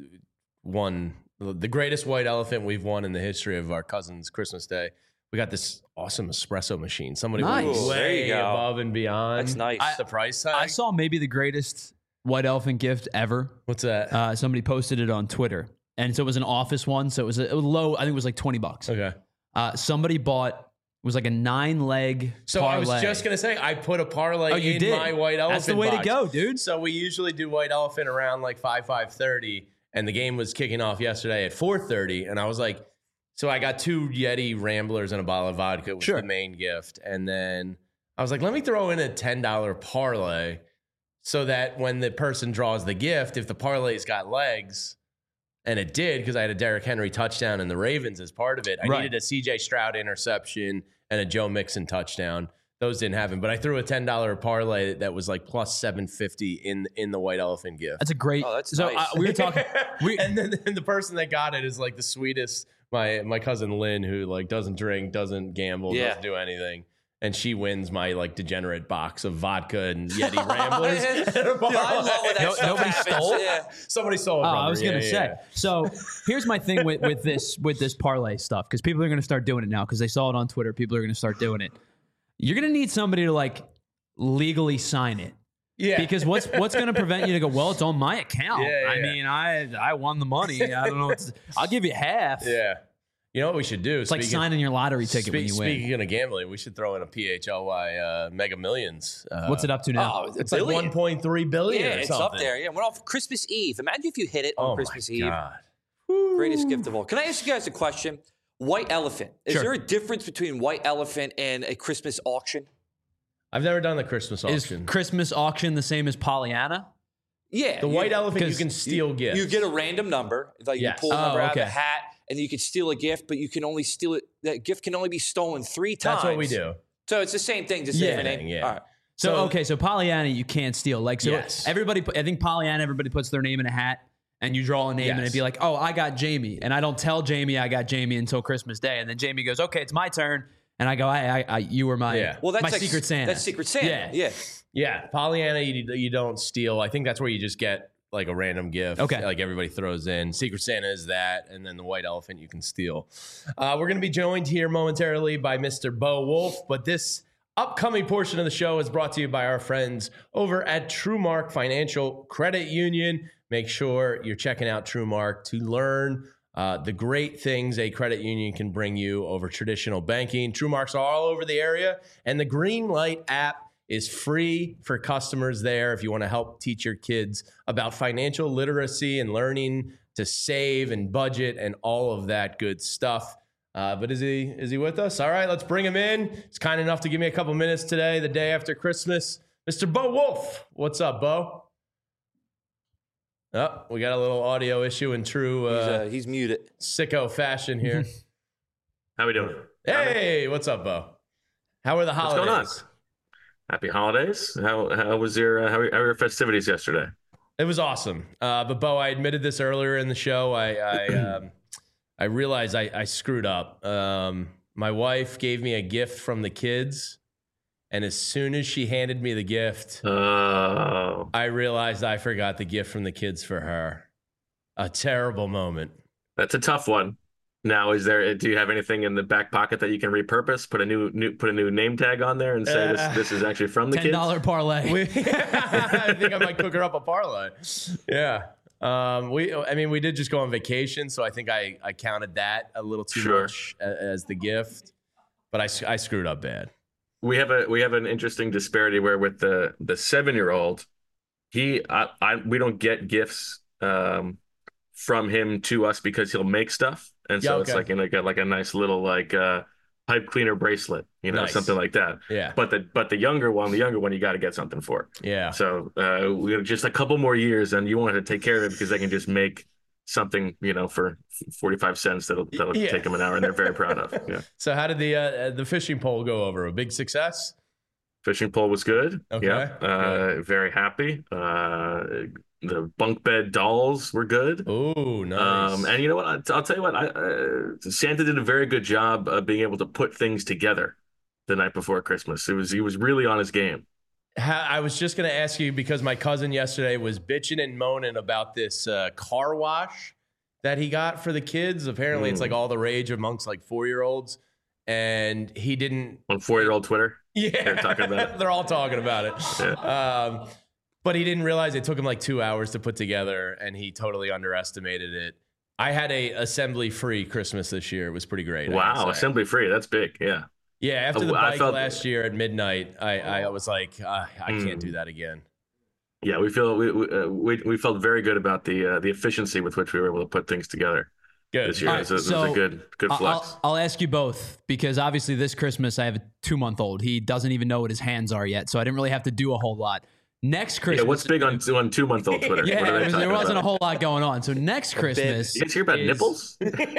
Speaker 2: won the greatest white elephant we've won in the history of our Cousins Christmas Day. We got this awesome espresso machine. Somebody went
Speaker 3: Nice. There
Speaker 2: way
Speaker 3: you go.
Speaker 2: above and beyond.
Speaker 3: That's nice.
Speaker 2: The price tag.
Speaker 4: I saw maybe the greatest white elephant gift ever.
Speaker 2: What's that?
Speaker 4: Somebody posted it on Twitter. And so it was an office one. So it was low. I think it was like $20.
Speaker 2: Okay.
Speaker 4: Somebody bought, it was like a 9-leg
Speaker 2: So
Speaker 4: parlay.
Speaker 2: I was just going to say, I put a parlay
Speaker 4: you
Speaker 2: in
Speaker 4: did.
Speaker 2: my white elephant
Speaker 4: That's the way
Speaker 2: box.
Speaker 4: to go, dude.
Speaker 2: So we usually do white elephant around like 5:30, and the game was kicking off yesterday at 4:30, and I was like, so I got 2 Yeti Ramblers and a bottle of vodka was the main gift, and then I was like, let me throw in a $10 parlay so that when the person draws the gift, if the parlay's got legs, and it did because I had a Derrick Henry touchdown and the Ravens as part of it, I needed a CJ Stroud interception and a Joe Mixon touchdown. Those didn't happen, but I threw a $10 parlay that was like plus 750 in the white elephant gift.
Speaker 4: That's a great.
Speaker 3: Oh, that's
Speaker 4: so
Speaker 3: nice.
Speaker 4: we were talking.
Speaker 2: And then the person that got it is like the sweetest. My cousin Lynn, who like doesn't drink, doesn't gamble, doesn't do anything, and she wins my like degenerate box of vodka and Yeti Ramblers.
Speaker 3: I love when that stuff
Speaker 4: Nobody
Speaker 3: happens.
Speaker 4: stole?
Speaker 3: Yeah.
Speaker 2: Somebody stole it.
Speaker 4: Oh,
Speaker 2: From
Speaker 4: I was
Speaker 2: her.
Speaker 4: gonna
Speaker 2: Yeah,
Speaker 4: say.
Speaker 2: yeah.
Speaker 4: So here's my thing with this parlay stuff, because people are gonna start doing it now because they saw it on Twitter. People are gonna start doing it. You're gonna need somebody to like legally sign it.
Speaker 2: Yeah.
Speaker 4: Because what's going to prevent you to go, well, it's on my account.
Speaker 2: Yeah,
Speaker 4: I
Speaker 2: yeah.
Speaker 4: mean, I won the money. I don't know. I'll give you half.
Speaker 2: Yeah. You know what we should do?
Speaker 4: It's like signing your lottery ticket when you win.
Speaker 2: Speaking of gambling, we should throw in a PHLY Mega Millions.
Speaker 4: What's it up to now?
Speaker 3: Oh,
Speaker 2: It's
Speaker 3: billion.
Speaker 2: like 1.3 billion.
Speaker 3: Yeah,
Speaker 2: or
Speaker 3: it's
Speaker 2: something.
Speaker 3: up there. Yeah, went off Christmas Eve. Imagine if you hit it on
Speaker 2: Oh
Speaker 3: Christmas
Speaker 2: my
Speaker 3: Eve.
Speaker 2: God.
Speaker 3: Greatest gift of all. Can I ask you guys a question? White elephant. Is
Speaker 2: Sure.
Speaker 3: there a difference between white elephant and a Christmas auction?
Speaker 2: I've never done the Christmas
Speaker 4: Is
Speaker 2: auction.
Speaker 4: Christmas auction the same as Pollyanna?
Speaker 3: Yeah.
Speaker 2: The white elephant, you
Speaker 4: 'cause
Speaker 2: can steal gifts.
Speaker 3: You get a random number. Like
Speaker 2: Yes.
Speaker 3: you pull a number
Speaker 4: Oh,
Speaker 3: out of
Speaker 4: okay.
Speaker 3: the hat, and you can steal a gift, but you can only steal it. That gift can only be stolen 3 times.
Speaker 2: That's what we do.
Speaker 3: So it's the same thing, just
Speaker 2: Yeah,
Speaker 3: different name.
Speaker 2: yeah.
Speaker 3: All right.
Speaker 4: So Pollyanna you can't steal. Like so
Speaker 2: Yes.
Speaker 4: everybody, I think Pollyanna, everybody puts their name in a hat and you draw a name and it'd be like, oh, I got Jamie. And I don't tell Jamie I got Jamie until Christmas Day. And then Jamie goes, okay, it's my turn. And I go, I you were my,
Speaker 2: Yeah.
Speaker 3: Well, that's
Speaker 4: my
Speaker 3: like,
Speaker 4: Secret Santa.
Speaker 3: That's Secret Santa.
Speaker 4: Yeah.
Speaker 3: Yeah.
Speaker 2: Yeah, Pollyanna, you don't steal. I think that's where you just get like a random gift.
Speaker 4: Okay.
Speaker 2: Like everybody throws in. Secret Santa is that, and then the white elephant you can steal. We're going to be joined here momentarily by Mr. Bo Wolf, but this upcoming portion of the show is brought to you by our friends over at TrueMark Financial Credit Union. Make sure you're checking out TrueMark to learn the great things a credit union can bring you over traditional banking. TrueMarks are all over the area, and the Greenlight app is free for customers there if you want to help teach your kids about financial literacy and learning to save and budget and all of that good stuff. But is he with us? All right, let's bring him in. He's kind enough to give me a couple minutes today, the day after Christmas. Mr. Bo Wolf. What's up, Bo? Oh, we got a little audio issue in true
Speaker 3: He's muted.
Speaker 2: sicko fashion here.
Speaker 6: How we doing?
Speaker 2: Hey, what's up, Bo? How are the
Speaker 6: What's
Speaker 2: holidays?
Speaker 6: going on? Happy holidays. How was your how were your festivities yesterday?
Speaker 2: It was awesome. But Bo, I admitted this earlier in the show. I realized I screwed up. My wife gave me a gift from the kids, and as soon as she handed me the gift,
Speaker 6: Oh,
Speaker 2: I realized I forgot the gift from the kids for her. A terrible moment.
Speaker 6: that's a tough one. Now, do you have anything in the back pocket that you can repurpose? Put a new name tag on there and say this is actually from the kids.
Speaker 4: $10 parlay.
Speaker 2: I think I might cook her up a parlay. Yeah. We did just go on vacation, so I think I counted that a little too
Speaker 6: Sure.
Speaker 2: much as the gift, but I screwed up bad.
Speaker 6: We have an interesting disparity where with the 7-year-old, we don't get gifts from him to us because he'll make stuff, and so
Speaker 2: Yeah,
Speaker 6: it's
Speaker 2: okay.
Speaker 6: like a nice little pipe cleaner bracelet,
Speaker 2: Nice.
Speaker 6: something like that.
Speaker 2: Yeah.
Speaker 6: But the younger one you got to get something for.
Speaker 2: Yeah.
Speaker 6: So we have just a couple more years, and you won't have to take care of it because they can just make something, for 45 cents that'll take them an hour, and they're very proud of. Yeah.
Speaker 2: So how did the fishing pole go over? A big success?
Speaker 6: Fishing pole was good.
Speaker 2: Okay.
Speaker 6: Yeah. Very happy. The bunk bed dolls were good.
Speaker 2: Oh, nice.
Speaker 6: And you know what? I'll tell you what. Santa did a very good job of being able to put things together the night before Christmas. He was really on his game.
Speaker 2: I was just going to ask you, because my cousin yesterday was bitching and moaning about this car wash that he got for the kids. Apparently, it's like all the rage amongst like 4-year-olds, and he didn't.
Speaker 6: On 4-year-old Twitter,
Speaker 2: yeah,
Speaker 6: they're talking about it.
Speaker 2: They're all talking about it.
Speaker 6: Yeah.
Speaker 2: But he didn't realize it took him like 2 hours to put together, and he totally underestimated it. I had a assembly-free Christmas this year. It was pretty great.
Speaker 6: Wow, assembly-free. That's big. Yeah.
Speaker 2: Yeah, after the bike last year at midnight, I was like, I can't do that again.
Speaker 6: Yeah, we felt very good about the efficiency with which we were able to put things together.
Speaker 2: Good.
Speaker 6: This year. It was a good flex.
Speaker 4: I'll ask you both, because obviously this Christmas I have a 2-month-old. He doesn't even know what his hands are yet, so I didn't really have to do a whole lot. Next Christmas.
Speaker 6: Yeah, what's big on 2-month-old Twitter?
Speaker 4: Yeah, there wasn't a whole lot going on. So next Christmas,
Speaker 6: you guys hear about nipples?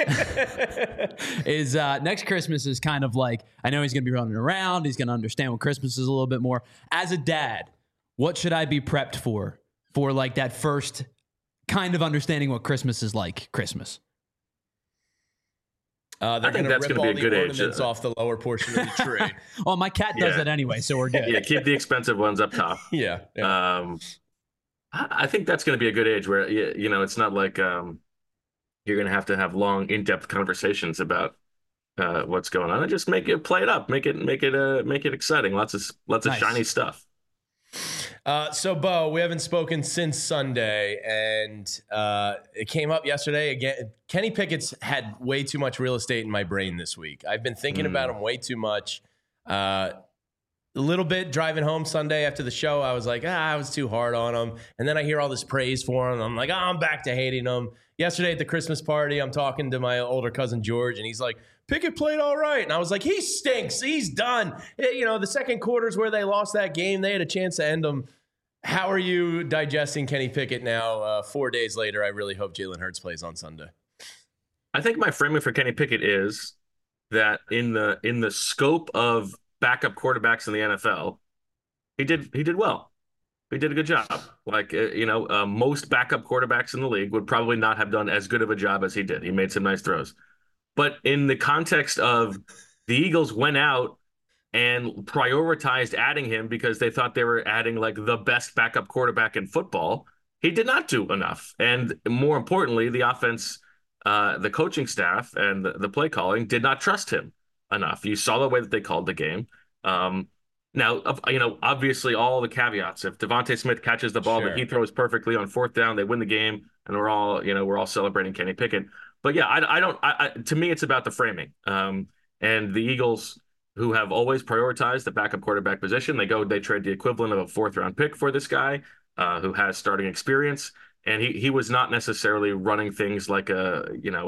Speaker 4: Next Christmas is kind of like, I know he's going to be running around. He's going to understand what Christmas is a little bit more. As a dad, what should I be prepped for like that first kind of understanding what Christmas is like? Christmas.
Speaker 2: They're going to rip all the ornaments off the lower portion of the tree.
Speaker 4: Well, my cat does that anyway, so we're good.
Speaker 6: Yeah, keep the expensive ones up top.
Speaker 2: Yeah.
Speaker 6: I think that's going to be a good age where, it's not like you're going to have long, in-depth conversations about what's going on. And just play it up, make it exciting. Lots of shiny stuff.
Speaker 2: So, Bo, we haven't spoken since Sunday, and it came up yesterday again. Kenny Pickett's had way too much real estate in my brain this week. I've been thinking about him way too much. A little bit driving home Sunday after the show, I was like, I was too hard on him. And then I hear all this praise for him. I'm like, I'm back to hating him. Yesterday at the Christmas party, I'm talking to my older cousin George, and he's like, Pickett played all right. And I was like, he stinks. He's done. The second quarters where they lost that game, they had a chance to end them. How are you digesting Kenny Pickett now? 4 days later, I really hope Jalen Hurts plays on Sunday.
Speaker 6: I think my framing for Kenny Pickett is that in the scope of backup quarterbacks in the NFL, he did well. He did a good job. Like, most backup quarterbacks in the league would probably not have done as good of a job as he did. He made some nice throws. But in the context of the Eagles went out and prioritized adding him because they thought they were adding like the best backup quarterback in football, he did not do enough. And more importantly, the offense, the coaching staff and the play calling did not trust him enough. You saw the way that they called the game. Now, obviously all the caveats. If Devontae Smith catches the ball that he throws perfectly on 4th down, they win the game, and we're all celebrating Kenny Pickett. But yeah, to me, it's about the framing. And the Eagles, who have always prioritized the backup quarterback position, they trade the equivalent of a 4th-round pick for this guy who has starting experience. And he was not necessarily running things like a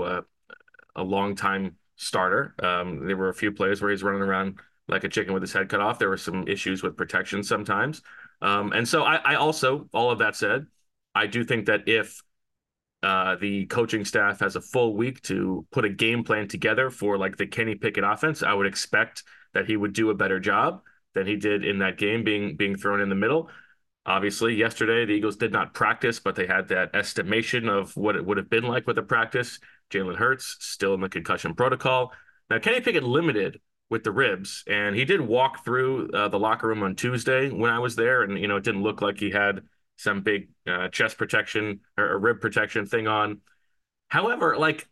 Speaker 6: long-time starter. There were a few plays where he's running around like a chicken with his head cut off. There were some issues with protection sometimes. And so I also, all of that said, I do think that if the coaching staff has a full week to put a game plan together for like the Kenny Pickett offense, I would expect that he would do a better job than he did in that game being thrown in the middle. Obviously, yesterday, the Eagles did not practice, but they had that estimation of what it would have been like with a practice. Jalen Hurts still in the concussion protocol. Now, Kenny Pickett limited with the ribs, and he did walk through the locker room on Tuesday when I was there, and, it didn't look like he had some big chest protection or rib protection thing on. However, like,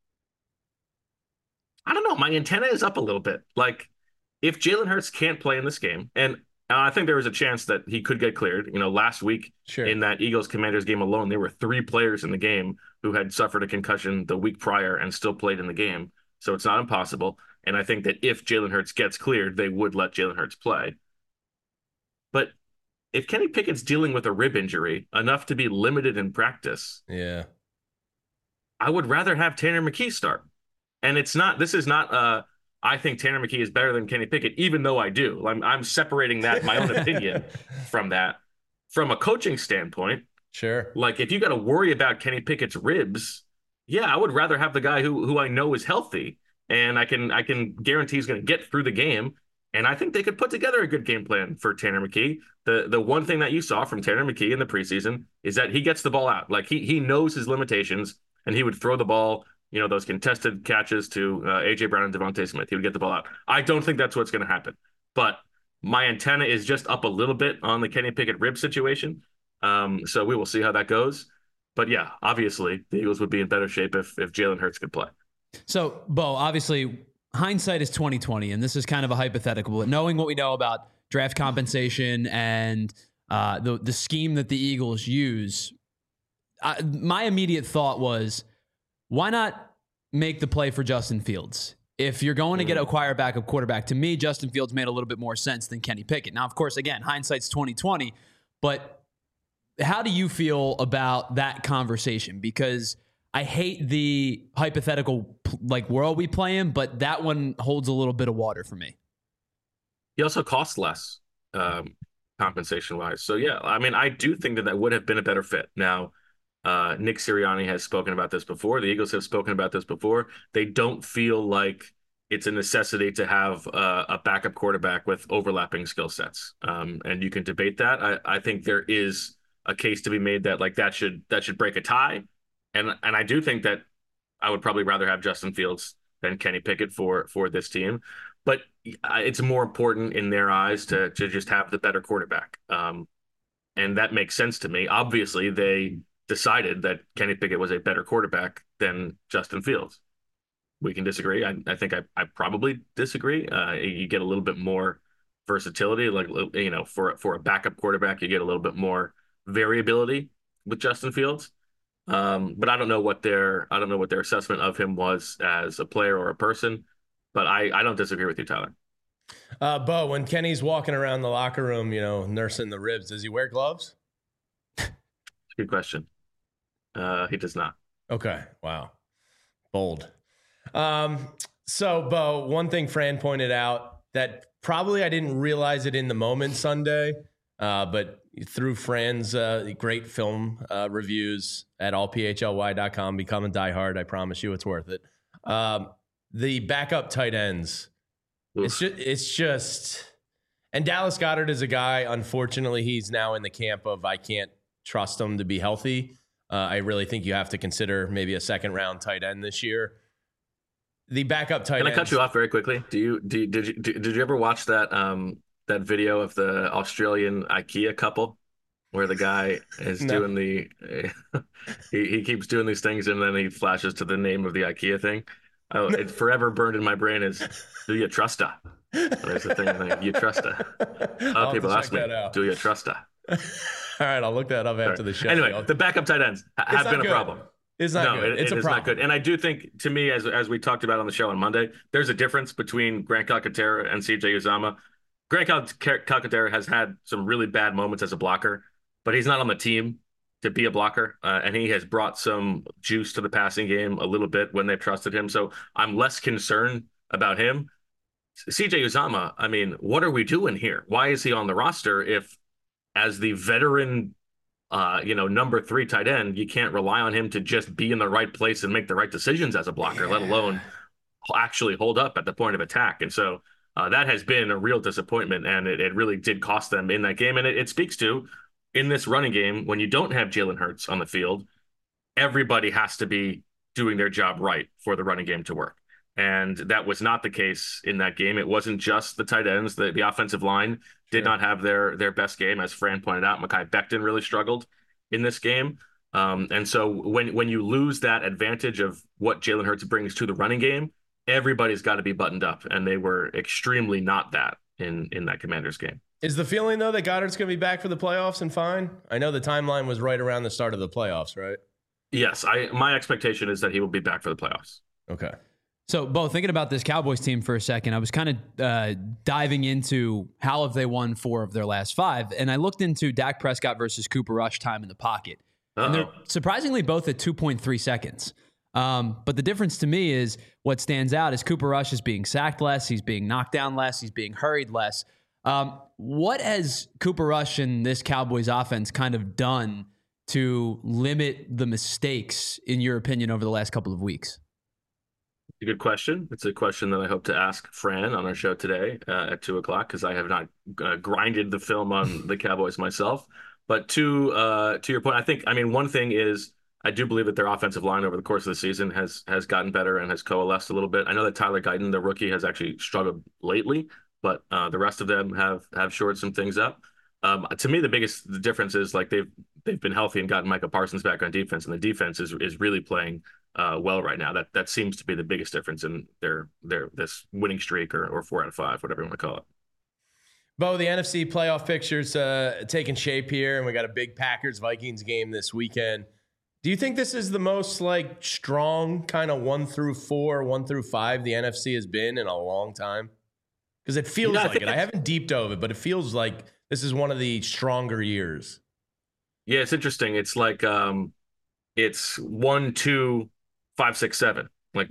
Speaker 6: I don't know, my antenna is up a little bit. Like, if Jalen Hurts can't play in this game, and I think there was a chance that he could get cleared. Last week in that Eagles-Commanders game alone, there were 3 players in the game who had suffered a concussion the week prior and still played in the game. So it's not impossible. And I think that if Jalen Hurts gets cleared, they would let Jalen Hurts play. But if Kenny Pickett's dealing with a rib injury enough to be limited in practice, I would rather have Tanner McKee start. And this is not I think Tanner McKee is better than Kenny Pickett, even though I do. I'm separating that, my own opinion from that. From a coaching standpoint,
Speaker 2: sure.
Speaker 6: Like, if you got to worry about Kenny Pickett's ribs, I would rather have the guy who I know is healthy and I can guarantee he's going to get through the game. And I think they could put together a good game plan for Tanner McKee. The one thing that you saw from Tanner McKee in the preseason is that he gets the ball out. Like he knows his limitations, and he would throw the ball, those contested catches to A.J. Brown and Devontae Smith. He would get the ball out. I don't think that's what's going to happen. But my antenna is just up a little bit on the Kenny Pickett rib situation. So we will see how that goes. But yeah, obviously the Eagles would be in better shape if Jalen Hurts could play. So,
Speaker 4: Bo, obviously hindsight is 2020, and this is kind of a hypothetical, but knowing what we know about draft compensation and the scheme that the Eagles use, my immediate thought was, why not make the play for Justin Fields? If you're going to get acquire backup quarterback, to me, Justin Fields made a little bit more sense than Kenny Pickett. Now, of course, again, hindsight's 2020, but how do you feel about that conversation? Because I hate the hypothetical world we play in, but that one holds a little bit of water for me.
Speaker 6: He also costs less compensation wise. So yeah, I mean, I do think that would have been a better fit. Now, Nick Sirianni has spoken about this before. The Eagles have spoken about this before. They don't feel like it's a necessity to have a backup quarterback with overlapping skill sets. And you can debate that. I think there is a case to be made that that should break a tie. And I do think that I would probably rather have Justin Fields than Kenny Pickett for this team. But it's more important in their eyes to just have the better quarterback. And that makes sense to me. Obviously, they decided that Kenny Pickett was a better quarterback than Justin Fields. We can disagree. I think I probably disagree. You get a little bit more versatility. For a backup quarterback, you get a little bit more variability with Justin Fields. But I don't know what their assessment of him was as a player or a person. But I don't disagree with you, Tyler.
Speaker 2: Bo, when Kenny's walking around the locker room, nursing the ribs, does he wear gloves?
Speaker 6: Good question. He does not.
Speaker 2: Okay. Wow. Bold. So, Bo, one thing Fran pointed out that probably I didn't realize it in the moment Sunday, but through Fran's great film reviews at allphly.com, become a diehard. I promise you it's worth it. The backup tight ends. It's just, and Dallas Goedert is a guy, unfortunately, he's now in the camp of I can't trust him to be healthy. I really think you have to consider maybe a second round tight end this year. The backup tight end.
Speaker 6: Can I cut you off very quickly? Did you ever watch that that video of the Australian IKEA couple where the guy is doing he keeps doing these things and then he flashes to the name of the IKEA thing? Oh, it's forever burned in my brain is, do you trust her? There's the thing, you trust her. People ask me, do you trust her?
Speaker 2: All right, I'll look that up after the show.
Speaker 6: Anyway, the backup tight ends have been a problem.
Speaker 2: It's not good. It's a problem.
Speaker 6: Not good. And I do think, to me, as we talked about on the show on Monday, there's a difference between Grant Calcaterra and CJ Uzomah. Grant Calcaterra has had some really bad moments as a blocker, but he's not on the team to be a blocker, and he has brought some juice to the passing game a little bit when they've trusted him. So I'm less concerned about him. CJ Uzomah, I mean, what are we doing here? Why is he on the roster if, as the veteran, number 3 tight end, you can't rely on him to just be in the right place and make the right decisions as a blocker, let alone actually hold up at the point of attack. And so that has been a real disappointment, and it really did cost them in that game. And it speaks to, in this running game, when you don't have Jalen Hurts on the field, everybody has to be doing their job right for the running game to work. And that was not the case in that game. It wasn't just the tight ends. The offensive line did not have their best game. As Fran pointed out, Mekhi Becton really struggled in this game. And so when you lose that advantage of what Jalen Hurts brings to the running game, everybody's got to be buttoned up. And they were extremely not that in that Commanders game.
Speaker 2: Is the feeling, though, that Goddard's going to be back for the playoffs and fine? I know the timeline was right around the start of the playoffs, right?
Speaker 6: Yes. My expectation is that he will be back for the playoffs.
Speaker 2: Okay.
Speaker 4: So, Bo, thinking about this Cowboys team for a second, I was kind of diving into how have they won 4 of their last 5, and I looked into Dak Prescott versus Cooper Rush time in the pocket. And they're surprisingly both at 2.3 seconds. But the difference to me is what stands out is Cooper Rush is being sacked less, he's being knocked down less, he's being hurried less. What has Cooper Rush and this Cowboys offense kind of done to limit the mistakes, in your opinion, over the last couple of weeks?
Speaker 6: A good question. It's a question that I hope to ask Fran on our show today at 2:00, because I have not grinded the film on the Cowboys myself. But to your point, one thing is I do believe that their offensive line over the course of the season has gotten better and has coalesced a little bit. I know that Tyler Guyton, the rookie, has actually struggled lately, but the rest of them have shored some things up. To me, the difference is like they've been healthy and gotten Micah Parsons back on defense, and the defense is really playing well right now. That seems to be the biggest difference in their this winning streak or 4 out of 5, whatever you want to call it.
Speaker 2: Bo, the NFC playoff picture's taking shape here, and we got a big Packers-Vikings game this weekend. Do you think this is the most like strong kind of 1 through 4, 1 through 5 the NFC has been in a long time? Because it feels like it. I haven't deep dove it, but it feels like this is one of the stronger years.
Speaker 6: Yeah, it's interesting. It's like it's 1, 2, 5, 6, 7. Like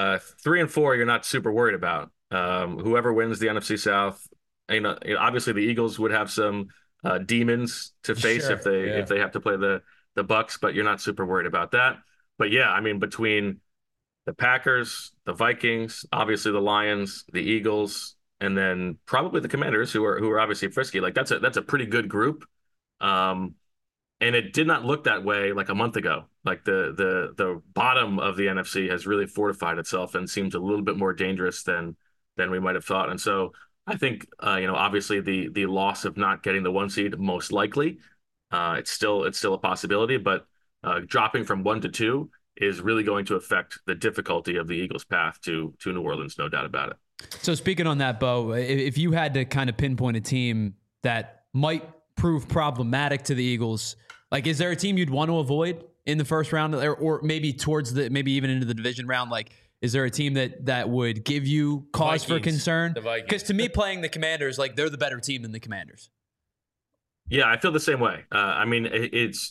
Speaker 6: 3 and 4, you're not super worried about. Whoever wins the NFC South, obviously the Eagles would have some demons to face if they have to play the Bucs, but you're not super worried about that. But yeah, I mean, between the Packers, the Vikings, obviously the Lions, the Eagles, and then probably the Commanders, who are obviously frisky. Like that's a pretty good group. And it did not look that way like a month ago. Like the bottom of the NFC has really fortified itself and seems a little bit more dangerous than we might have thought. And so I think obviously the loss of not getting the 1 seed, most likely, it's still a possibility, but dropping from 1 to 2 is really going to affect the difficulty of the Eagles' path to New Orleans, no doubt about it.
Speaker 4: So speaking on that, Bo, if you had to kind of pinpoint a team that might prove problematic to the Eagles, like is there a team you'd want to avoid in the first round, or maybe maybe even into the division round? Like, is there a team that would give you cause for concern? Because to me, playing the Commanders, like they're the better team than the Commanders.
Speaker 6: Yeah, I feel the same way. I mean, it's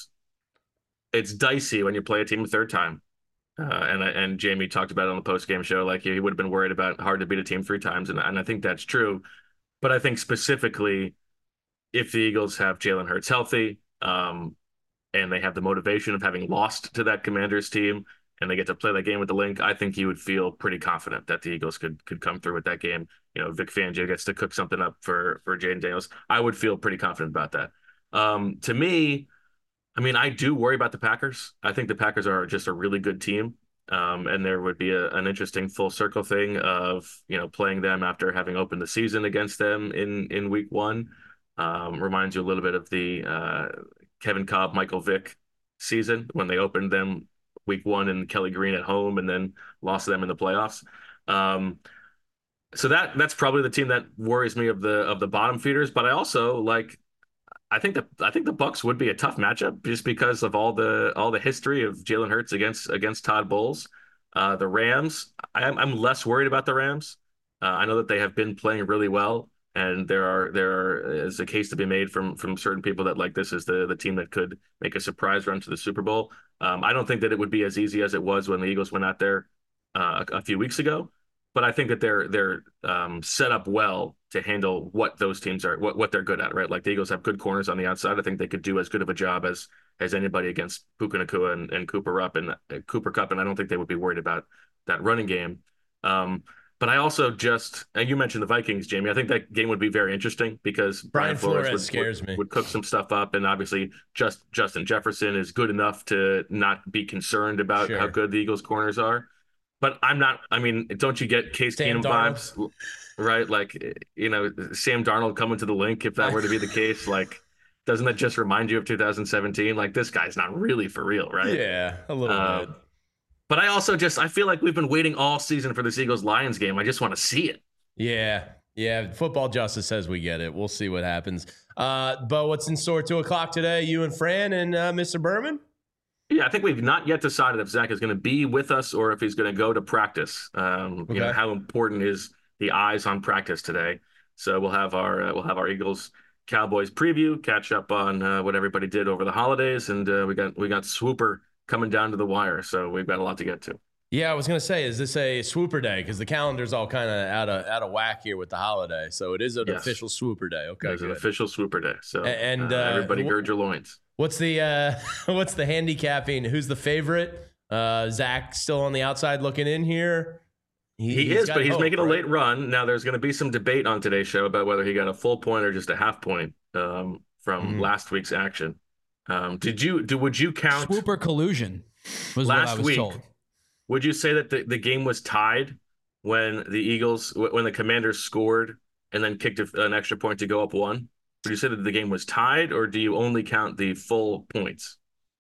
Speaker 6: dicey when you play a team a third time. And Jamie talked about it on the post-game show. Like he would have been worried about hard to beat a team 3 times, and I think that's true. But I think specifically, if the Eagles have Jalen Hurts healthy, and they have the motivation of having lost to that Commanders team, and they get to play that game with the Link, I think you would feel pretty confident that the Eagles could come through with that game. Vic Fangio gets to cook something up for Jayden Daniels. I would feel pretty confident about that. To me, I mean, I do worry about the Packers. I think the Packers are just a really good team. And there would be an interesting full circle thing of, playing them after having opened the season against them in week 1. Reminds you a little bit of the Kevin Kolb, Michael Vick season when they opened them week 1 in Kelly Green at home and then lost to them in the playoffs. So that's probably the team that worries me of the bottom feeders. But I also I think the Bucs would be a tough matchup just because of all the history of Jalen Hurts against Todd Bowles. The Rams, I'm less worried about the Rams. I know that they have been playing really well, and there is a case to be made from certain people that this is the team that could make a surprise run to the Super Bowl. I don't think that it would be as easy as it was when the Eagles went out there a few weeks ago, but I think that they're set up well to handle what those teams are, what they're good at, right? Like the Eagles have good corners on the outside. I think they could do as good of a job as anybody against Puka Nacua and Cooper Kupp, and I don't think they would be worried about that running game. But I also and you mentioned the Vikings, Jamie. I think that game would be very interesting because Brian Flores would cook some stuff up, and obviously Justin Jefferson is good enough to not be concerned about how good the Eagles corners are. But I'm not. I mean, don't you get Case Keenum vibes, right? Like, Sam Darnold coming to the Link, if that were to be the case, doesn't that just remind you of 2017? Like, this guy's not really for real, right?
Speaker 2: Yeah, a little bit.
Speaker 6: But I also I feel like we've been waiting all season for this Eagles-Lions game. I just want to see it.
Speaker 2: Yeah. Football justice says we get it. We'll see what happens. Bo, what's in store 2:00 today? You and Fran and Mr. Berman?
Speaker 6: Yeah, I think we've not yet decided if Zach is going to be with us or if he's going to go to practice. How important is the eyes on practice today? So we'll have our Eagles Cowboys preview, catch up on what everybody did over the holidays, and we got Swooper coming down to the wire, so we've got a lot to get to.
Speaker 2: Yeah, I was going to say, is this a swooper day? Because the calendar's all kind of out of whack here with the holiday. So it is an official swooper day. Okay,
Speaker 6: it's an official swooper day. So everybody gird your loins.
Speaker 2: What's the handicapping? Who's the favorite? Zach still on the outside looking in here.
Speaker 6: He is, but he's making a late run. Now there's going to be some debate on today's show about whether he got a full point or just a half point from last week's action. Would you count
Speaker 4: Swooper collusion was
Speaker 6: last
Speaker 4: what I was
Speaker 6: week?
Speaker 4: told.
Speaker 6: Would you say that the game was tied when the Commanders scored and then kicked an extra point to go up one? Would you say that the game was tied, or do you only count the full points?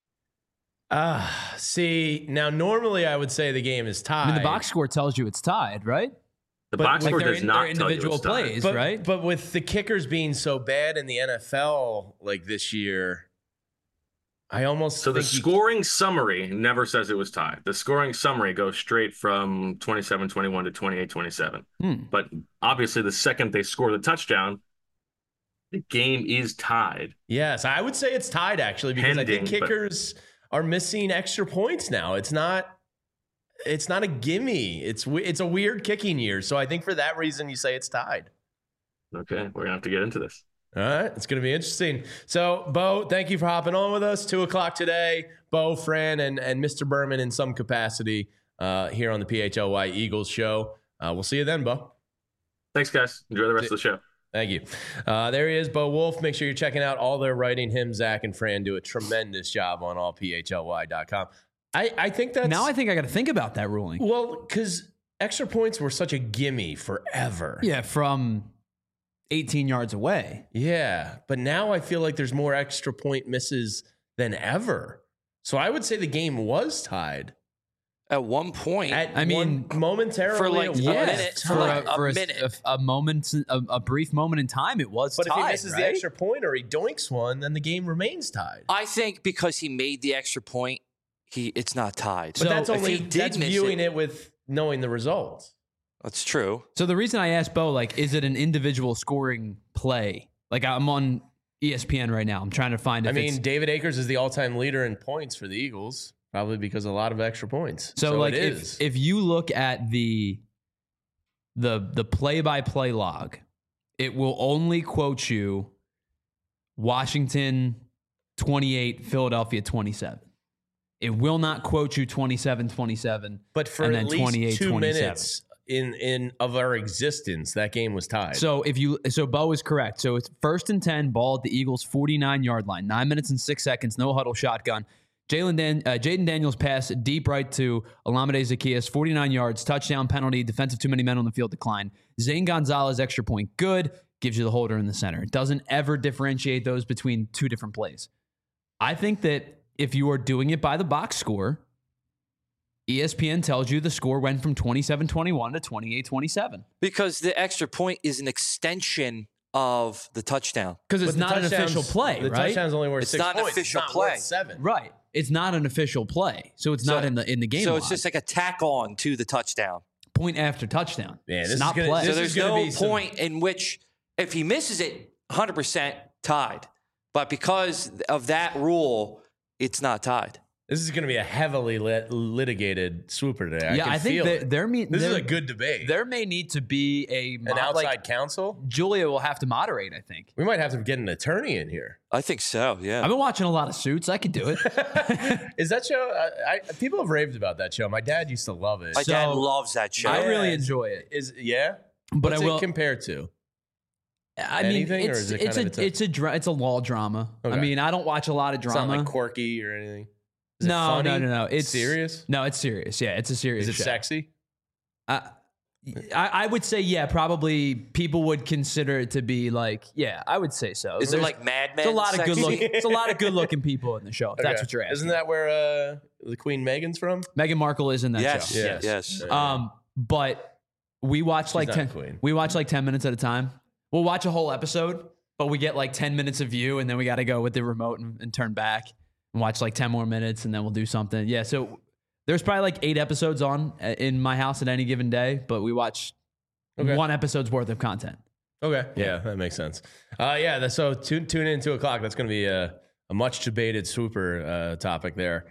Speaker 2: See, now normally I would say the game is tied.
Speaker 4: I mean, the box score tells you it's tied, right?
Speaker 6: The box score does not tell you
Speaker 4: individual
Speaker 6: it's tied.
Speaker 4: plays, right?
Speaker 2: But with the kickers being so bad in the NFL like this year, I almost
Speaker 6: the scoring summary never says it was tied. The scoring summary goes straight from 27-21 to 28-27. But obviously, the second they score the touchdown, the game is tied.
Speaker 2: Yes, I would say it's tied actually because I think kickers are missing extra points now. It's not a gimme. It's a weird kicking year. So I think for that reason you say it's tied.
Speaker 6: Okay, we're gonna have to get into this.
Speaker 2: All right, it's going to be interesting. So, Bo, thank you for hopping on with us. 2:00 today. Bo, Fran, and Mr. Berman in some capacity here on the PHLY Eagles show. We'll see you then, Bo.
Speaker 6: Thanks, guys. Enjoy the rest of the show.
Speaker 2: Thank you. There he is, Bo Wolf. Make sure you're checking out all their writing. Him, Zach, and Fran do a tremendous job on allphly.com. I think that's...
Speaker 4: Now I think I got to think about that ruling.
Speaker 2: Well, because extra points were such a gimme forever.
Speaker 4: Yeah, from 18 yards away.
Speaker 2: Yeah, but now I feel like there's more extra point misses than ever. So I would say the game was tied.
Speaker 3: At one point,
Speaker 2: momentarily
Speaker 3: for like
Speaker 4: a moment, a brief moment in time, it was
Speaker 2: but
Speaker 4: tied.
Speaker 2: But if he misses the extra point or he doinks one, then the game remains tied.
Speaker 3: I think because he made the extra point, it's not tied.
Speaker 2: But so that's viewing it with knowing the results.
Speaker 3: That's true.
Speaker 4: So the reason I asked Bo, like, is it an individual scoring play? Like, I'm on ESPN right now. I'm trying to find.
Speaker 2: David Akers is the all-time leader in points for the Eagles. Probably because of a lot of extra points.
Speaker 4: So like if you look at the play-by-play log, it will only quote you Washington 28, Philadelphia 27. It will not quote you 27-27.
Speaker 2: But for at least 2 minutes in of our existence, that game was tied.
Speaker 4: So Bo is correct. So it's 1st and 10, ball at the Eagles 49-yard line, 9 minutes and 6 seconds, no huddle shotgun. Jaden Daniels pass deep right to Olamide Zaccheaus, 49 yards, touchdown, penalty, defensive too many men on the field, decline. Zane Gonzalez, extra point, good, gives you the holder in the center. It doesn't ever differentiate those between two different plays. I think that if you are doing it by the box score, ESPN tells you the score went from 27-21 to 28-27.
Speaker 3: Because the extra point is an extension of the touchdown.
Speaker 4: Because it's not an official play, right?
Speaker 2: The touchdown's only worth 6 points.
Speaker 3: It's not an official play.
Speaker 2: 7.
Speaker 4: Right. It's not an official play. So it's not in the game.
Speaker 3: So it's just like a tack on to the touchdown.
Speaker 4: Point after touchdown.
Speaker 2: Yeah,
Speaker 4: it's not play.
Speaker 3: So there's no point in which if he misses it, 100% tied. But because of that rule, it's not tied.
Speaker 2: This is going to be a heavily litigated swooper today.
Speaker 4: I think
Speaker 2: this is a good debate.
Speaker 4: There may need to be
Speaker 2: an outside counsel.
Speaker 4: Julia will have to moderate, I think.
Speaker 2: We might have to get an attorney in here.
Speaker 3: I think so, yeah.
Speaker 4: I've been watching a lot of Suits. I could do it.
Speaker 2: Is that show? People have raved about that show. My dad used to love it.
Speaker 3: My dad loves that show.
Speaker 4: I really enjoy it.
Speaker 2: But what's it compared to? Anything, or is it
Speaker 4: it's a law drama. Okay. I mean, I don't watch a lot of drama.
Speaker 2: It's not like quirky or anything.
Speaker 4: No. It's
Speaker 2: serious.
Speaker 4: No, it's serious. Yeah, it's a serious.
Speaker 2: Is it sexy?
Speaker 4: I would say, yeah, probably people would consider it to be like, yeah, I would say so.
Speaker 3: Is it like Mad Men?
Speaker 4: It's a lot of good looking. It's a lot of good looking people in the show. If that's what you're asking.
Speaker 2: Isn't that where the Queen Meghan's from?
Speaker 4: Meghan Markle is in that show.
Speaker 3: Yes.
Speaker 4: But we watch like 10. We watch like 10 minutes at a time. We'll watch a whole episode, but we get like 10 minutes of view, and then we got to go with the remote and turn back and watch like 10 more minutes, and then we'll do something. Yeah, so there's probably like 8 episodes on in my house at any given day, but we watch 1 episode's worth of content.
Speaker 2: Okay. Yeah, that makes sense. So tune in 2 o'clock. That's going to be a much debated swooper topic there.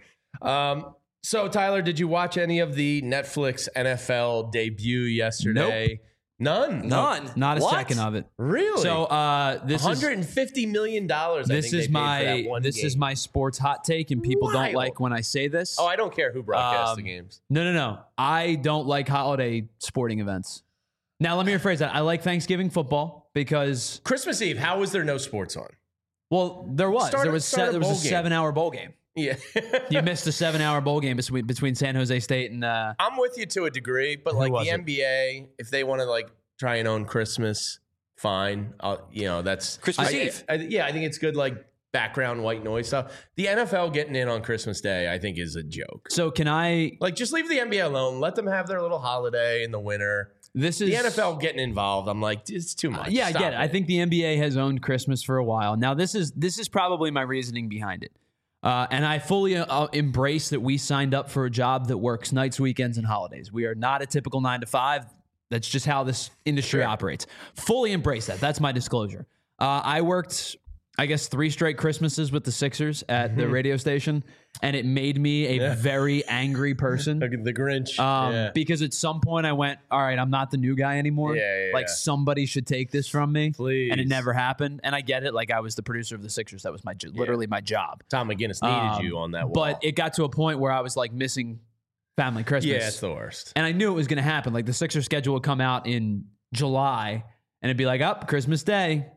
Speaker 2: So, Tyler, did you watch any of the Netflix NFL debut yesterday?
Speaker 4: Nope.
Speaker 2: None.
Speaker 4: Not a second of it.
Speaker 2: Really?
Speaker 4: So this
Speaker 2: $150 million.
Speaker 4: This is my sports hot take, and people don't like when I say this.
Speaker 2: Oh, I don't care who broadcasts the games.
Speaker 4: No. I don't like holiday sporting events. Now, let me rephrase that. I like Thanksgiving football because
Speaker 2: Christmas Eve. How was there no sports on?
Speaker 4: Well, there was. There was a 7-hour bowl game.
Speaker 2: Yeah.
Speaker 4: You missed a 7-hour bowl game between San Jose State and.
Speaker 2: I'm with you to a degree, but like the NBA, if they want to like try and own Christmas, fine. That's
Speaker 3: Christmas Eve.
Speaker 2: I think it's good, like background white noise stuff. The NFL getting in on Christmas Day, I think, is a joke.
Speaker 4: So can I
Speaker 2: just leave the NBA alone? Let them have their little holiday in the winter.
Speaker 4: This is
Speaker 2: the NFL getting involved. I'm like, it's too much.
Speaker 4: Yeah, I get it. I think the NBA has owned Christmas for a while. Now, this is probably my reasoning behind it. And I fully embrace that we signed up for a job that works nights, weekends, and holidays. We are not a typical 9-to-5. That's just how this industry operates. Fully embrace that. That's my disclosure. I worked, I guess, 3 straight Christmases with the Sixers at the radio station, and it made me a very angry person.
Speaker 2: The Grinch.
Speaker 4: Because at some point I went, all right, I'm not the new guy anymore. Somebody should take this from me.
Speaker 2: Please.
Speaker 4: And it never happened. And I get it. Like, I was the producer of the Sixers. That was literally my job.
Speaker 2: Tom McGinnis needed you on that wall.
Speaker 4: But it got to a point where I was like missing family Christmas.
Speaker 2: Yeah, it's the worst.
Speaker 4: And I knew it was going to happen. Like, the Sixers schedule would come out in July, and it'd be like, Christmas Day.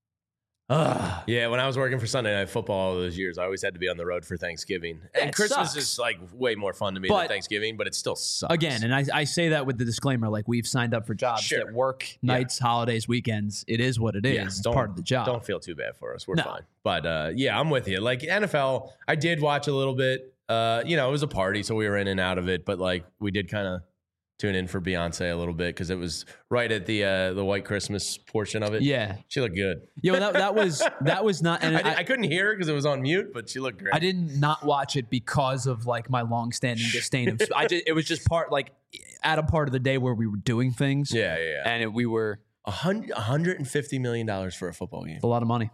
Speaker 2: Yeah, when I was working for Sunday Night Football all those years, I always had to be on the road for Thanksgiving. And Christmas is like way more fun to me than Thanksgiving, but it still sucks.
Speaker 4: Again, and I say that with the disclaimer, like, we've signed up for jobs that work nights, holidays, weekends. It is what it is. It's part of the job.
Speaker 2: Don't feel too bad for us. We're fine. But I'm with you. Like, NFL, I did watch a little bit. It was a party, so we were in and out of it. But like, we did kind of tune in for Beyonce a little bit because it was right at the White Christmas portion of it.
Speaker 4: Yeah,
Speaker 2: she looked good.
Speaker 4: Yeah, that was not. And
Speaker 2: I couldn't hear her because it was on mute, but she looked great.
Speaker 4: I didn't not watch it because of like my long-standing disdain of. It was just part a part of the day where we were doing things.
Speaker 2: Yeah.
Speaker 4: And we were
Speaker 2: $150 million for a football game.
Speaker 4: It's a lot of money.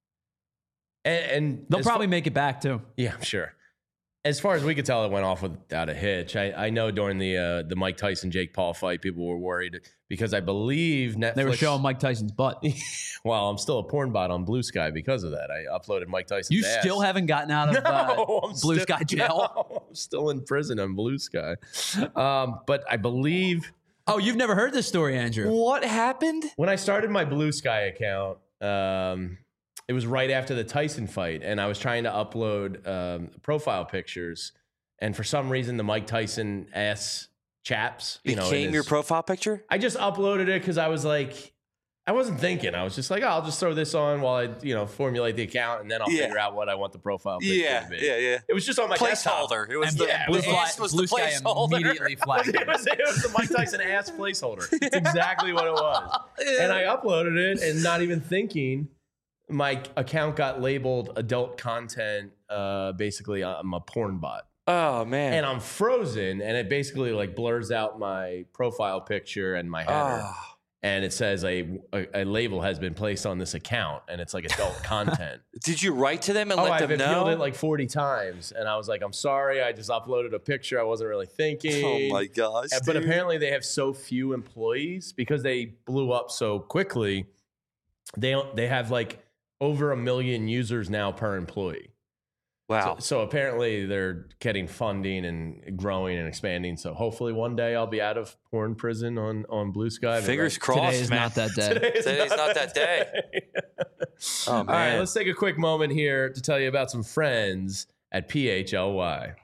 Speaker 2: And
Speaker 4: they'll probably make it back too.
Speaker 2: Yeah, I'm sure. As far as we could tell, it went off without a hitch. I know during the Mike Tyson Jake Paul fight, people were worried because I believe Netflix.
Speaker 4: They were showing Mike Tyson's butt.
Speaker 2: Well, I'm still a porn bot on Blue Sky because of that. I uploaded Mike Tyson's ass.
Speaker 4: You still haven't gotten out of Blue Sky jail?
Speaker 2: No, I'm still in prison on Blue Sky. But I believe.
Speaker 4: Oh, you've never heard this story, Andrew?
Speaker 3: What happened?
Speaker 2: When I started my Blue Sky account, it was right after the Tyson fight, and I was trying to upload profile pictures, and for some reason, the Mike Tyson ass chaps
Speaker 3: became your profile picture.
Speaker 2: I just uploaded it because I was like, I wasn't thinking. I was just like, I'll just throw this on while I formulate the account, and then I'll figure out what I want the profile picture to be.
Speaker 3: Yeah.
Speaker 2: It was just on my
Speaker 3: placeholder. It was
Speaker 4: Blue Sky immediately flagged
Speaker 2: it was the Mike Tyson ass placeholder. It's exactly what it was, and I uploaded it, and not even thinking. My account got labeled adult content. Basically, I'm a porn bot.
Speaker 3: Oh, man.
Speaker 2: And I'm frozen, and it basically like blurs out my profile picture and my header. And it says a label has been placed on this account, and it's like adult content.
Speaker 3: Did you write to them and let them know?
Speaker 2: I've appealed it like 40 times, and I was like, I'm sorry, I just uploaded a picture. I wasn't really thinking.
Speaker 3: Oh, my gosh,
Speaker 2: But apparently they have so few employees because they blew up so quickly. They have like over 1 million users now per employee.
Speaker 3: Wow.
Speaker 2: So apparently they're getting funding and growing and expanding. So hopefully one day I'll be out of porn prison on Blue Sky.
Speaker 3: Fingers crossed,
Speaker 4: Today is not that day.
Speaker 3: Today's not that day. Oh, man.
Speaker 2: All right, let's take a quick moment here to tell you about some friends at PHLY.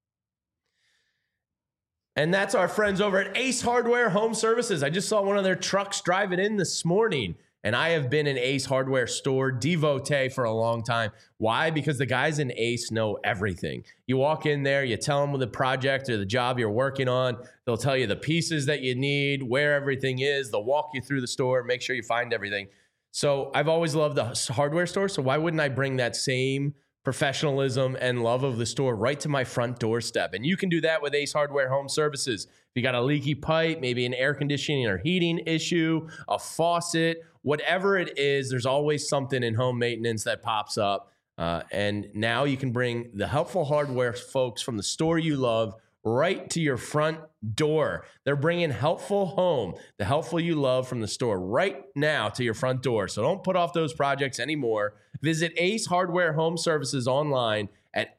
Speaker 2: And that's our friends over at Ace Hardware Home Services. I just saw one of their trucks driving in this morning. And I have been an Ace Hardware store devotee for a long time. Why? Because the guys in Ace know everything. You walk in there, you tell them the project or the job you're working on. They'll tell you the pieces that you need, where everything is. They'll walk you through the store, make sure you find everything. So I've always loved the hardware store. So why wouldn't I bring that same professionalism and love of the store right to my front doorstep? And you can do that with Ace Hardware Home Services. If you got a leaky pipe, maybe an air conditioning or heating issue, a faucet, whatever it is, there's always something in home maintenance that pops up. And now you can bring the helpful hardware folks from the store you love right to your front door. They're bringing Helpful Home, the helpful you love from the store, right now to your front door. So don't put off those projects anymore. Visit Ace Hardware Home Services online at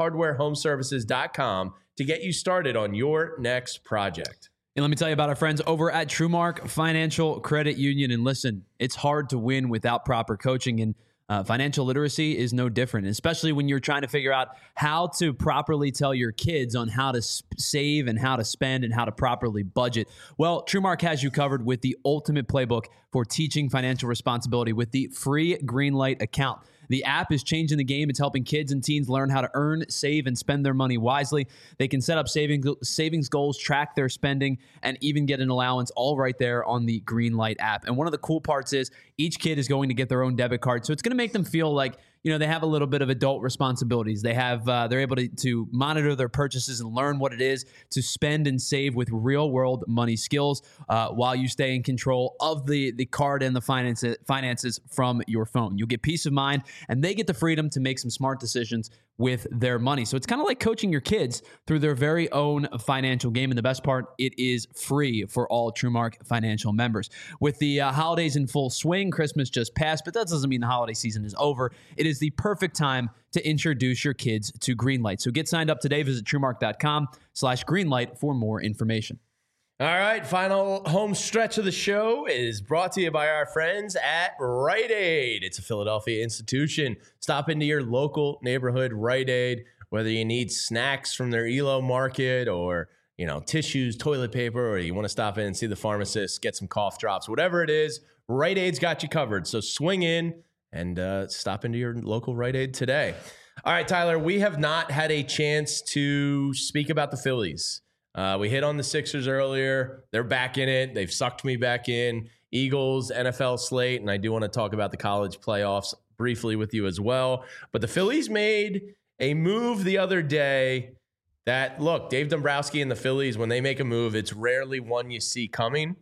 Speaker 2: acehardwarehomeservices.com to get you started on your next project.
Speaker 4: And let me tell you about our friends over at TrueMark Financial Credit Union. And listen, it's hard to win without proper coaching, and financial literacy is no different, especially when you're trying to figure out how to properly tell your kids on how to save and how to spend and how to properly budget. Well, TrueMark has you covered with the ultimate playbook for teaching financial responsibility with the free Greenlight account. The app is changing the game. It's helping kids and teens learn how to earn, save, and spend their money wisely. They can set up savings goals, track their spending, and even get an allowance all right there on the Greenlight app. And one of the cool parts is each kid is going to get their own debit card. So it's going to make them feel like, you know, they have a little bit of adult responsibilities. They have, they're able to monitor their purchases and learn what it is to spend and save with real world money skills while you stay in control of the card and the finances from your phone. You'll get peace of mind, and they get the freedom to make some smart decisions with their money. So it's kind of like coaching your kids through their very own financial game. And the best part, it is free for all TrueMark financial members. With the holidays in full swing, Christmas just passed, but that doesn't mean the holiday season is over. It is the perfect time to introduce your kids to Greenlight. So get signed up today. Visit TrueMark.com/Greenlight for more information.
Speaker 2: All right, final home stretch of the show is brought to you by our friends at Rite Aid. It's a Philadelphia institution. Stop into your local neighborhood Rite Aid, whether you need snacks from their ELO market or, you know, tissues, toilet paper, or you want to stop in and see the pharmacist, get some cough drops, whatever it is, Rite Aid's got you covered. So swing in and stop into your local Rite Aid today. All right, Tyler, we have not had a chance to speak about the Phillies. We hit on the Sixers earlier. They're back in it. They've sucked me back in. Eagles, NFL slate, and I do want to talk about the college playoffs briefly with you as well. But the Phillies made a move the other day that, look, Dave Dombrowski and the Phillies, when they make a move, it's rarely one you see coming.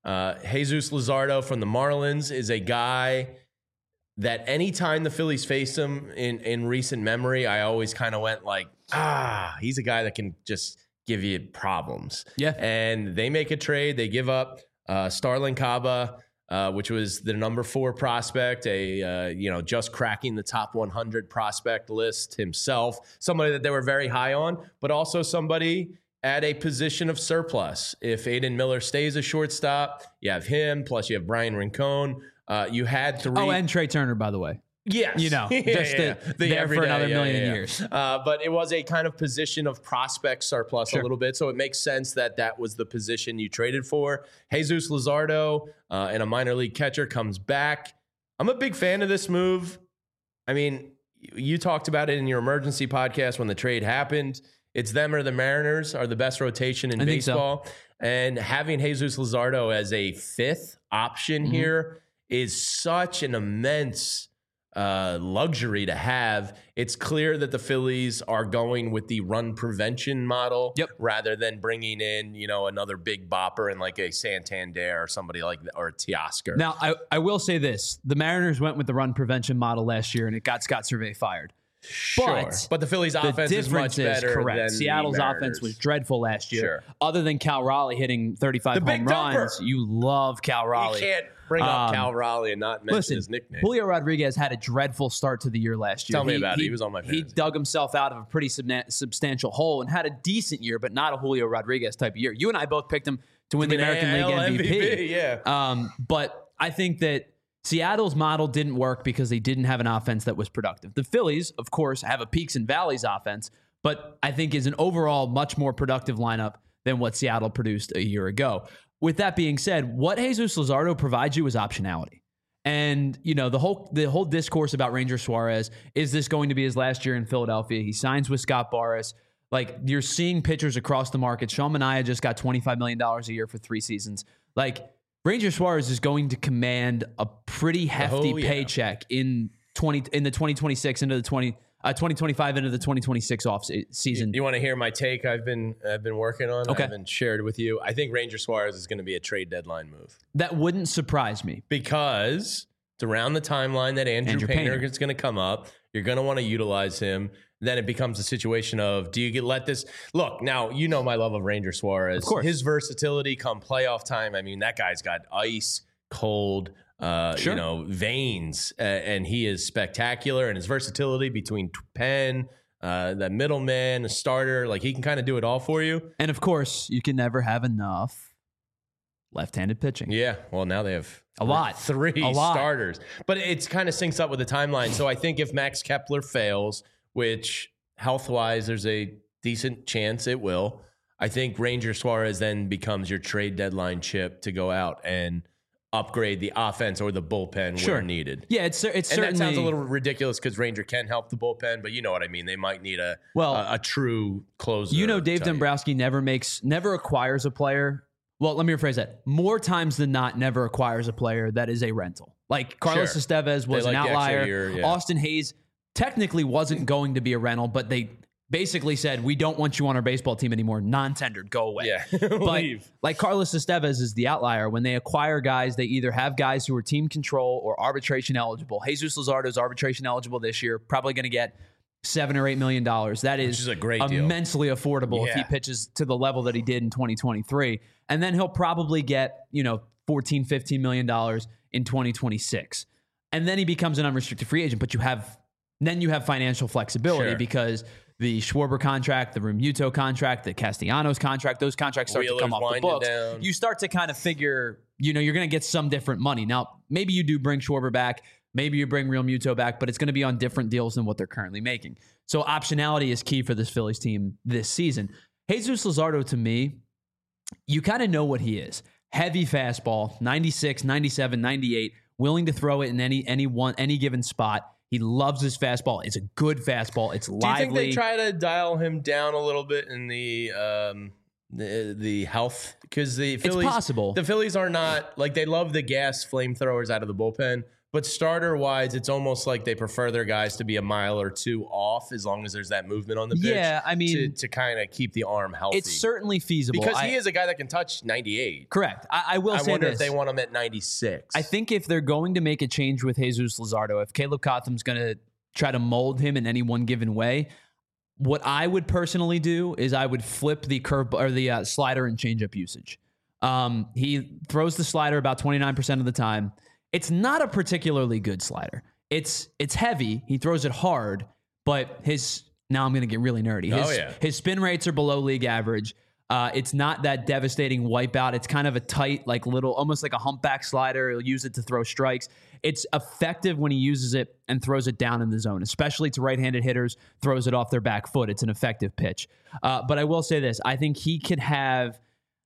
Speaker 2: Jesus Luzardo from the Marlins is a guy that anytime the Phillies faced him in recent memory, I always kind of went like, he's a guy that can just give you problems.
Speaker 4: Yeah.
Speaker 2: And they make a trade. They give up Starlin Caba, which was the number 4 prospect, just cracking the top 100 prospect list himself, somebody that they were very high on, but also somebody at a position of surplus. If Aiden Miller stays a shortstop, you have him, plus you have Brian Rincon. You had 3.
Speaker 4: Oh, and Trey Turner, by the way.
Speaker 2: Yes.
Speaker 4: You know, just there for another million years.
Speaker 2: But it was a kind of position of prospect surplus a little bit. So it makes sense that was the position you traded for. Jesus Luzardo and a minor league catcher comes back. I'm a big fan of this move. I mean, you talked about it in your emergency podcast when the trade happened. It's them or the Mariners are the best rotation in baseball. So. And having Jesus Luzardo as a 5th option here is such an immense luxury to have. It's clear that the Phillies are going with the run prevention model rather than bringing in, another big bopper and like a Santander or somebody like that, or a Teoscar.
Speaker 4: Now, I will say this. The Mariners went with the run prevention model last year, and it got Scott Survey fired.
Speaker 2: Sure. But the Phillies' offense is much better.
Speaker 4: Correct.
Speaker 2: Than
Speaker 4: Seattle's offense was dreadful last year. Sure. Other than Cal Raleigh hitting 35 home runs, you love Cal Raleigh.
Speaker 2: You can't bring up Cal Raleigh and not mention his nickname.
Speaker 4: Julio Rodriguez had a dreadful start to the year last year.
Speaker 2: Tell me about it. He was on my fantasy.
Speaker 4: He dug himself out of a pretty substantial hole and had a decent year, but not a Julio Rodriguez type of year. You and I both picked him to win the American League MVP.
Speaker 2: Yeah.
Speaker 4: But I think that Seattle's model didn't work because they didn't have an offense that was productive. The Phillies, of course, have a peaks and valleys offense, but I think is an overall much more productive lineup than what Seattle produced a year ago. With that being said, what Jesus Luzardo provides you is optionality. And, the whole discourse about Ranger Suarez, is this going to be his last year in Philadelphia? He signs with Scott Boras. Like, you're seeing pitchers across the market. Sean Manaea just got $25 million a year for 3 seasons. Like, Ranger Suarez is going to command a pretty hefty paycheck in the 2026 into the 2025 into the 2026 off season.
Speaker 2: You want to hear my take? I've been working on.
Speaker 4: Okay.
Speaker 2: I haven't shared with you. I think Ranger Suarez is going to be a trade deadline move.
Speaker 4: That wouldn't surprise me
Speaker 2: because it's around the timeline that Andrew Painter is going to come up. You're going to want to utilize him. Then it becomes a situation of, do you let this look? Now, you know my love of Ranger Suarez.
Speaker 4: Of course.
Speaker 2: His versatility come playoff time. I mean, that guy's got ice cold, veins, and he is spectacular. And his versatility between pen, that middleman, a starter, like he can kind of do it all for you.
Speaker 4: And of course, you can never have enough left-handed pitching.
Speaker 2: Yeah, well, now they have
Speaker 4: three
Speaker 2: starters, but it's kind of syncs up with the timeline. So I think if Max Kepler fails, which health-wise there's a decent chance it will, I think Ranger Suarez then becomes your trade deadline chip to go out and upgrade the offense or the bullpen where needed.
Speaker 4: Yeah, it's certainly.
Speaker 2: That sounds a little ridiculous because Ranger can help the bullpen, but you know what I mean. They might need a true closer.
Speaker 4: You know, Dave Dombrowski never acquires a player. Well, let me rephrase that. More times than not, never acquires a player that is a rental. Like Carlos Estevez was an outlier. Austin Hayes technically wasn't going to be a rental, but they basically said, we don't want you on our baseball team anymore. Non-tendered, go away.
Speaker 2: Yeah,
Speaker 4: but
Speaker 2: leave.
Speaker 4: Like Carlos Estevez is the outlier. When they acquire guys, they either have guys who are team control or arbitration eligible. Jesus Luzardo is arbitration eligible this year, probably going to get $7 or $8 million. That is
Speaker 2: a great deal.
Speaker 4: Immensely affordable if he pitches to the level that he did in 2023. And then he'll probably get, $14, $15 million in 2026. And then he becomes an unrestricted free agent, but you have financial flexibility because the Schwarber contract, the Realmuto contract, the Castellanos contract, those contracts start to come off the books.
Speaker 2: Down.
Speaker 4: You start to kind of figure, you're going to get some different money. Now, maybe you do bring Schwarber back. Maybe you bring Realmuto back, but it's going to be on different deals than what they're currently making. So optionality is key for this Phillies team this season. Jesus Luzardo, to me, you kind of know what he is. Heavy fastball, 96, 97, 98, willing to throw it in any given spot. He loves his fastball. It's a good fastball. It's lively.
Speaker 2: Do you think they try to dial him down a little bit in the health? Because it's
Speaker 4: possible.
Speaker 2: The Phillies are not like, they love the gas flamethrowers out of the bullpen, but starter wise, it's almost like they prefer their guys to be a mile or two off as long as there's that movement on the pitch.
Speaker 4: Yeah, I mean,
Speaker 2: to kind of keep the arm healthy.
Speaker 4: It's certainly feasible
Speaker 2: because he is a guy that can touch 98.
Speaker 4: Correct. I wonder
Speaker 2: if they want him at 96.
Speaker 4: I think if they're going to make a change with Jesus Luzardo, if Caleb Cotham's going to try to mold him in any one given way, what I would personally do is I would flip the curve or the slider and changeup usage. He throws the slider about 29% of the time. It's not a particularly good slider. It's heavy. He throws it hard, but now I'm going to get really nerdy. His spin rates are below league average. It's not that devastating wipeout. It's kind of a tight, like little, almost like a humpback slider. He'll use it to throw strikes. It's effective when he uses it and throws it down in the zone, especially to right-handed hitters, throws it off their back foot. It's an effective pitch. But I will say this. I think he could have,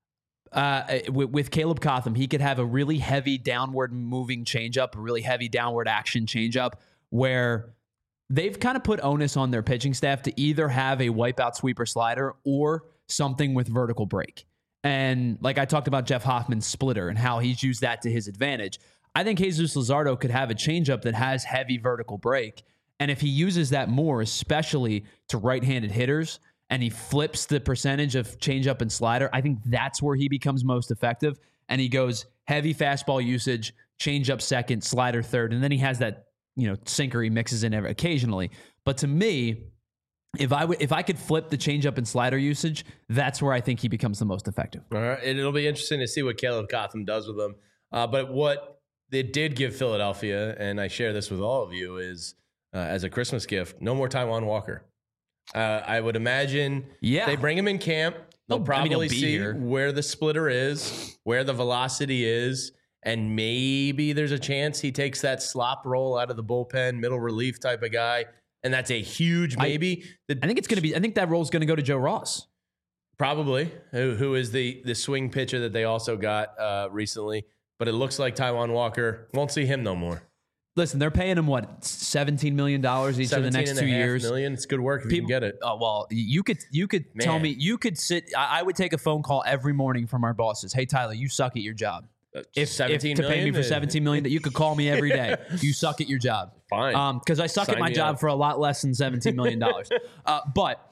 Speaker 4: with Caleb Cotham, he could have a really heavy downward moving changeup, a really heavy downward action changeup where they've kind of put onus on their pitching staff to either have a wipeout sweeper slider or something with vertical break. And like I talked about Jeff Hoffman's splitter and how he's used that to his advantage. I think Jesus Luzardo could have a changeup that has heavy vertical break. And if he uses that more, especially to right-handed hitters, and he flips the percentage of changeup and slider, I think that's where he becomes most effective. And he goes heavy fastball usage, changeup second, slider third, and then he has that sinker he mixes in occasionally. But to me, if I could flip the changeup and slider usage, that's where I think he becomes the most effective.
Speaker 2: All right, and it'll be interesting to see what Caleb Cotham does with them. But what they did give Philadelphia, and I share this with all of you, is as a Christmas gift, no more Taijuan Walker. I would imagine they bring him in camp. They'll probably see where the splitter is, where the velocity is, and maybe there's a chance he takes that slop roll out of the bullpen, middle relief type of guy, and that's a huge maybe.
Speaker 4: I think it's going to be. I think that roll's going to go to Joe Ross,
Speaker 2: probably, who is the swing pitcher that they also got recently. But it looks like Taijuan Walker won't see him no more.
Speaker 4: Listen, they're paying him what, $17 million each of the next 2 years.
Speaker 2: Million. It's good work if you can get it.
Speaker 4: Well, you could tell me, you could sit. I would take a phone call every morning from our bosses. Hey, Tyler, you suck at your job. If to pay me for $17 million, that you could call me every day. You suck at your job.
Speaker 2: Fine.
Speaker 4: Because I suck at my job for a lot less than $17 million. But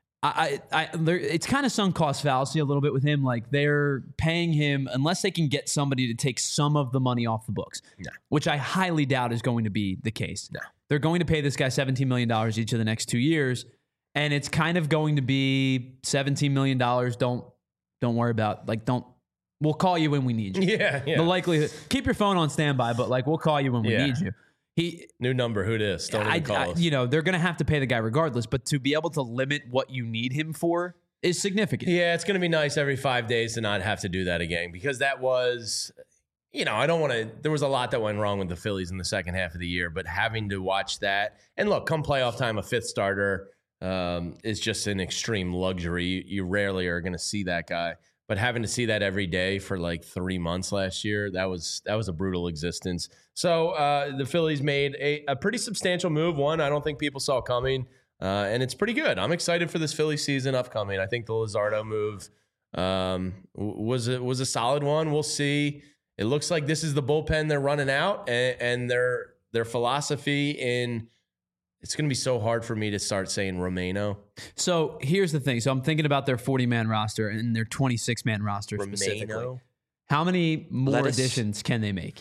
Speaker 4: it's kind of sunk cost fallacy a little bit with him. Like they're paying him unless they can get somebody to take some of the money off the books, which I highly doubt is going to be the case. they're going to pay this guy $17 million each of the next 2 years. And it's kind of going to be $17 million. Don't worry about, like, we'll call you when we need you.
Speaker 2: Yeah.
Speaker 4: The likelihood, keep your phone on standby, but like, we'll call you when we need you.
Speaker 2: New number, who dis? Don't even call us.
Speaker 4: They're going to have to pay the guy regardless, but to be able to limit what you need him for is significant.
Speaker 2: Yeah, it's going to be nice every 5 days to not have to do that again, because that was, I don't want to, there was a lot that went wrong with the Phillies in the second half of the year, but having to watch that, and look, come playoff time, a fifth starter is just an extreme luxury. You rarely are going to see that guy, but having to see that every day for like 3 months last year, that was a brutal existence. So the Phillies made a pretty substantial move. One I don't think people saw coming, and it's pretty good. I'm excited for this Philly season upcoming. I think the Luzardo move was a solid one. We'll see. It looks like this is the bullpen they're running out, and their philosophy in. It's going to be so hard for me to start saying Romano.
Speaker 4: So here's the thing. So I'm thinking about their 40-man roster and their 26-man roster specifically. How many more additions can they make?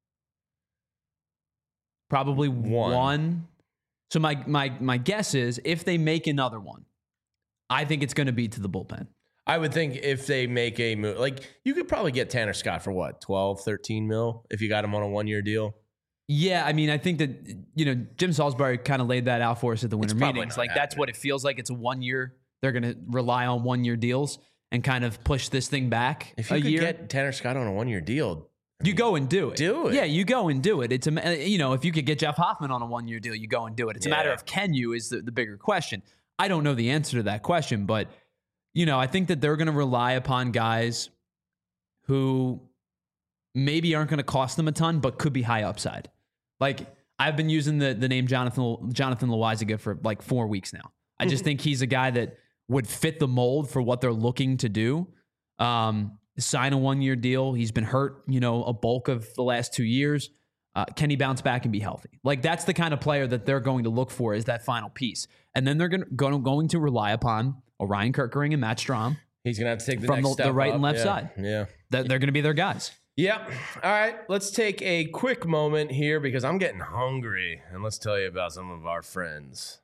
Speaker 4: Probably one. So my guess is if they make another one, I think it's going to be to the bullpen.
Speaker 2: I would think if they make a move, like you could probably get Tanner Scott for what, 12, 13 mil if you got him on a 1-year deal.
Speaker 4: Yeah, I mean, I think that, Jim Salisbury kind of laid that out for us at the winter meetings. Like, that's what it feels like. It's a 1 year. They're going to rely on 1-year deals and kind of push this thing back
Speaker 2: if you could get Tanner Scott on a 1-year deal,
Speaker 4: you go and do it.
Speaker 2: Do it.
Speaker 4: Yeah, you go and do it. It's if you could get Jeff Hoffman on a 1-year deal, you go and do it. It's a matter of can you is the bigger question. I don't know the answer to that question, but, I think that they're going to rely upon guys who maybe aren't going to cost them a ton, but could be high upside. Like, I've been using the name Jonathan Loaisiga for like 4 weeks now. I just think he's a guy that would fit the mold for what they're looking to do. Sign a 1-year deal. He's been hurt, a bulk of the last 2 years. Can he bounce back and be healthy? Like, that's the kind of player that they're going to look for is that final piece. And then they're going to rely upon Orion Kerkering and Matt Strahm.
Speaker 2: He's going to have to take the
Speaker 4: from
Speaker 2: next step
Speaker 4: the right
Speaker 2: up.
Speaker 4: And left side.
Speaker 2: Yeah.
Speaker 4: They're going to be their guys.
Speaker 2: Yep. All right. Let's take a quick moment here because I'm getting hungry. And let's tell you about some of our friends.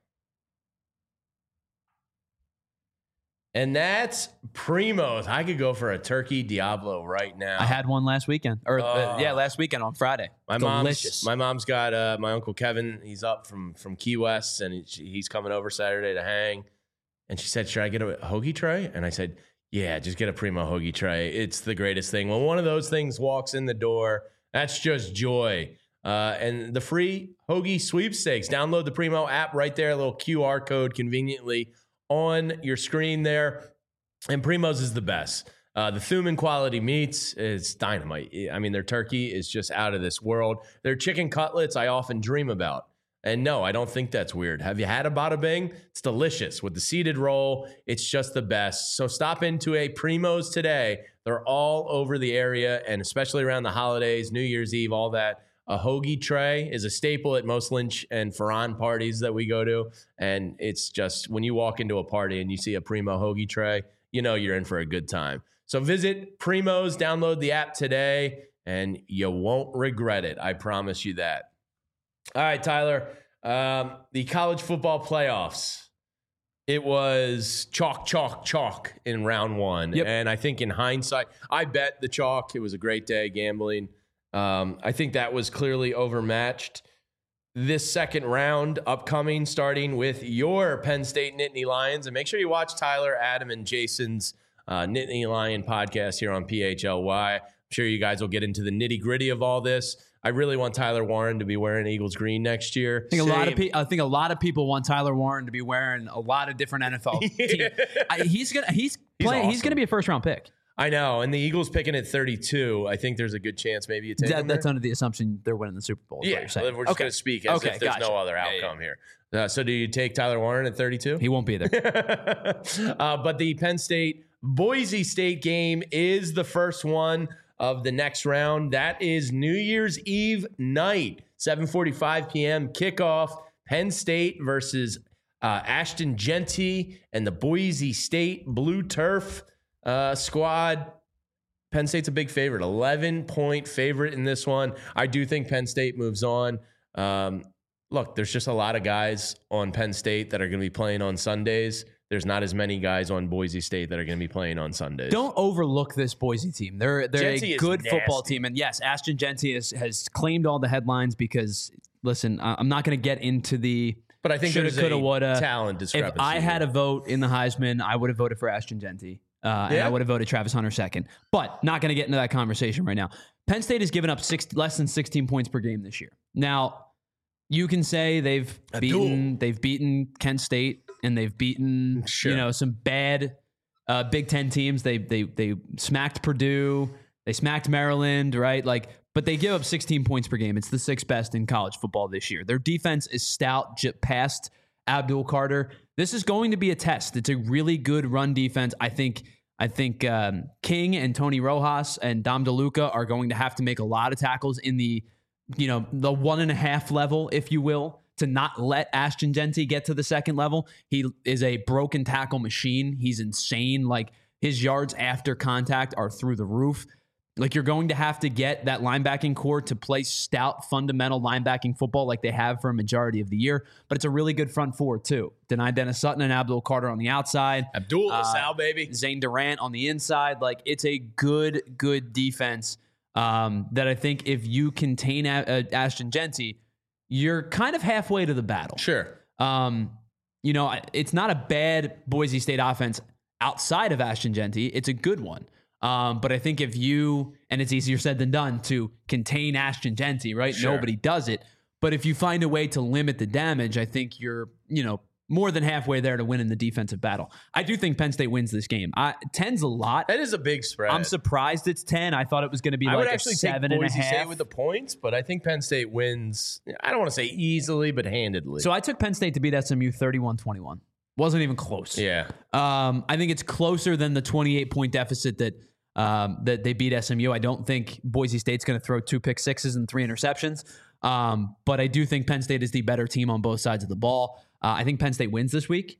Speaker 2: And that's Primo's. I could go for a turkey Diablo right now.
Speaker 4: I had one last weekend. Last weekend on Friday. Delicious.
Speaker 2: My mom's got my Uncle Kevin. He's up from Key West, and he's coming over Saturday to hang. And she said, should I get a hoagie tray? And I said, yeah, just get a Primo hoagie tray. It's the greatest thing. When one of those things walks in the door, that's just joy. And the free hoagie sweepstakes. Download the Primo app right there, a little QR code conveniently on your screen there. And Primo's is the best. The Thuman quality meats is dynamite. I mean, their turkey is just out of this world. Their chicken cutlets I often dream about. And no, I don't think that's weird. Have you had a Bada Bing? It's delicious. With the seeded roll, it's just the best. So stop into a Primo's today. They're all over the area, and especially around the holidays, New Year's Eve, all that. A hoagie tray is a staple at most Lynch and Ferran parties that we go to. And it's just, when you walk into a party and you see a Primo hoagie tray, you know you're in for a good time. So visit Primo's, download the app today, and you won't regret it. I promise you that. All right, Tyler, the college football playoffs. It was chalk in round one.
Speaker 4: Yep.
Speaker 2: And I think in hindsight, I bet the chalk. It was a great day gambling. I think that was clearly overmatched. This second round upcoming, starting with your Penn State Nittany Lions. And make sure you watch Tyler, Adam, and Jason's Nittany Lion podcast here on PHLY. I'm sure you guys will get into the nitty-gritty of all this. I really want Tyler Warren to be wearing Eagles green next year.
Speaker 4: I think a lot of people want Tyler Warren to be wearing a lot of different NFL teams. He's gonna be a first round pick.
Speaker 2: I know, and the Eagles picking at 32. I think there's a good chance maybe you take him there.
Speaker 4: That's under the assumption they're winning the Super Bowl.
Speaker 2: Yeah, we're just going to speak as if there's no other outcome here. So do you take Tyler Warren at 32?
Speaker 4: He won't be there.
Speaker 2: But the Penn State Boise State game is the first one of the next round. That is New Year's Eve night, 7:45 p.m. kickoff. Penn State versus Ashton Jeanty and the Boise State Blue Turf squad. Penn State's a big favorite, 11-point favorite in this one. I do think Penn State moves on. look, there's just a lot of guys on Penn State that are going to be playing on Sundays. There's not as many guys on Boise State that are going to be playing on Sundays.
Speaker 4: Don't overlook this Boise team. They're
Speaker 2: Jeanty
Speaker 4: a good
Speaker 2: nasty.
Speaker 4: football team. And yes, Ashton Jeanty has claimed all the headlines because, listen, I'm not going to get into the
Speaker 2: but I think
Speaker 4: shoulda,
Speaker 2: there's
Speaker 4: coulda,
Speaker 2: a
Speaker 4: woulda.
Speaker 2: talent discrepancy.
Speaker 4: If I had a vote in the Heisman, I would have voted for Ashton Jeanty. And I would have voted Travis Hunter second. But not going to get into that conversation right now. Penn State has given up less than 16 points per game this year. Now, you can say they've beaten Kent State and they've beaten some bad Big Ten teams. They smacked Purdue, they smacked Maryland, right? But they give up 16 points per game. It's the 6th best in college football this year. Their defense is stout, past Abdul Carter. This is going to be a test. It's a really good run defense. I think King and Tony Rojas and Dom DeLuca are going to have to make a lot of tackles in the 1.5 level, if you will, to not let Ashton Jeanty get to the 2nd level. He is a broken tackle machine. He's insane. His yards after contact are through the roof. You're going to have to get that linebacking core to play stout, fundamental linebacking football like they have for a majority of the year. But it's a really good front four, too. Dennis Sutton and Abdul Carter on the outside.
Speaker 2: Abdul Sal, baby.
Speaker 4: Zane Durant on the inside. It's a good defense that I think if you contain Ashton Jeanty, you're kind of halfway to the battle.
Speaker 2: Sure.
Speaker 4: It's not a bad Boise State offense outside of Ashton Jeanty. It's a good one. But I think and it's easier said than done to contain Ashton Jeanty, right?
Speaker 2: Sure.
Speaker 4: Nobody does it. But if you find a way to limit the damage, I think you're, more than halfway there to win in the defensive battle. I do think Penn State wins this game. 10's a lot.
Speaker 2: That is a big spread.
Speaker 4: I'm surprised it's 10. I thought it was going to be
Speaker 2: I would
Speaker 4: a
Speaker 2: actually
Speaker 4: 7.5.
Speaker 2: take Boise State with the points, but I think Penn State wins. I don't want to say easily, but handedly.
Speaker 4: So I took Penn State to beat SMU 31-21. Wasn't even close.
Speaker 2: Yeah.
Speaker 4: I think it's closer than the 28-point deficit that they beat SMU. I don't think Boise State's going to throw 2 pick sixes and 3 interceptions. But I do think Penn State is the better team on both sides of the ball. I think Penn State wins this week.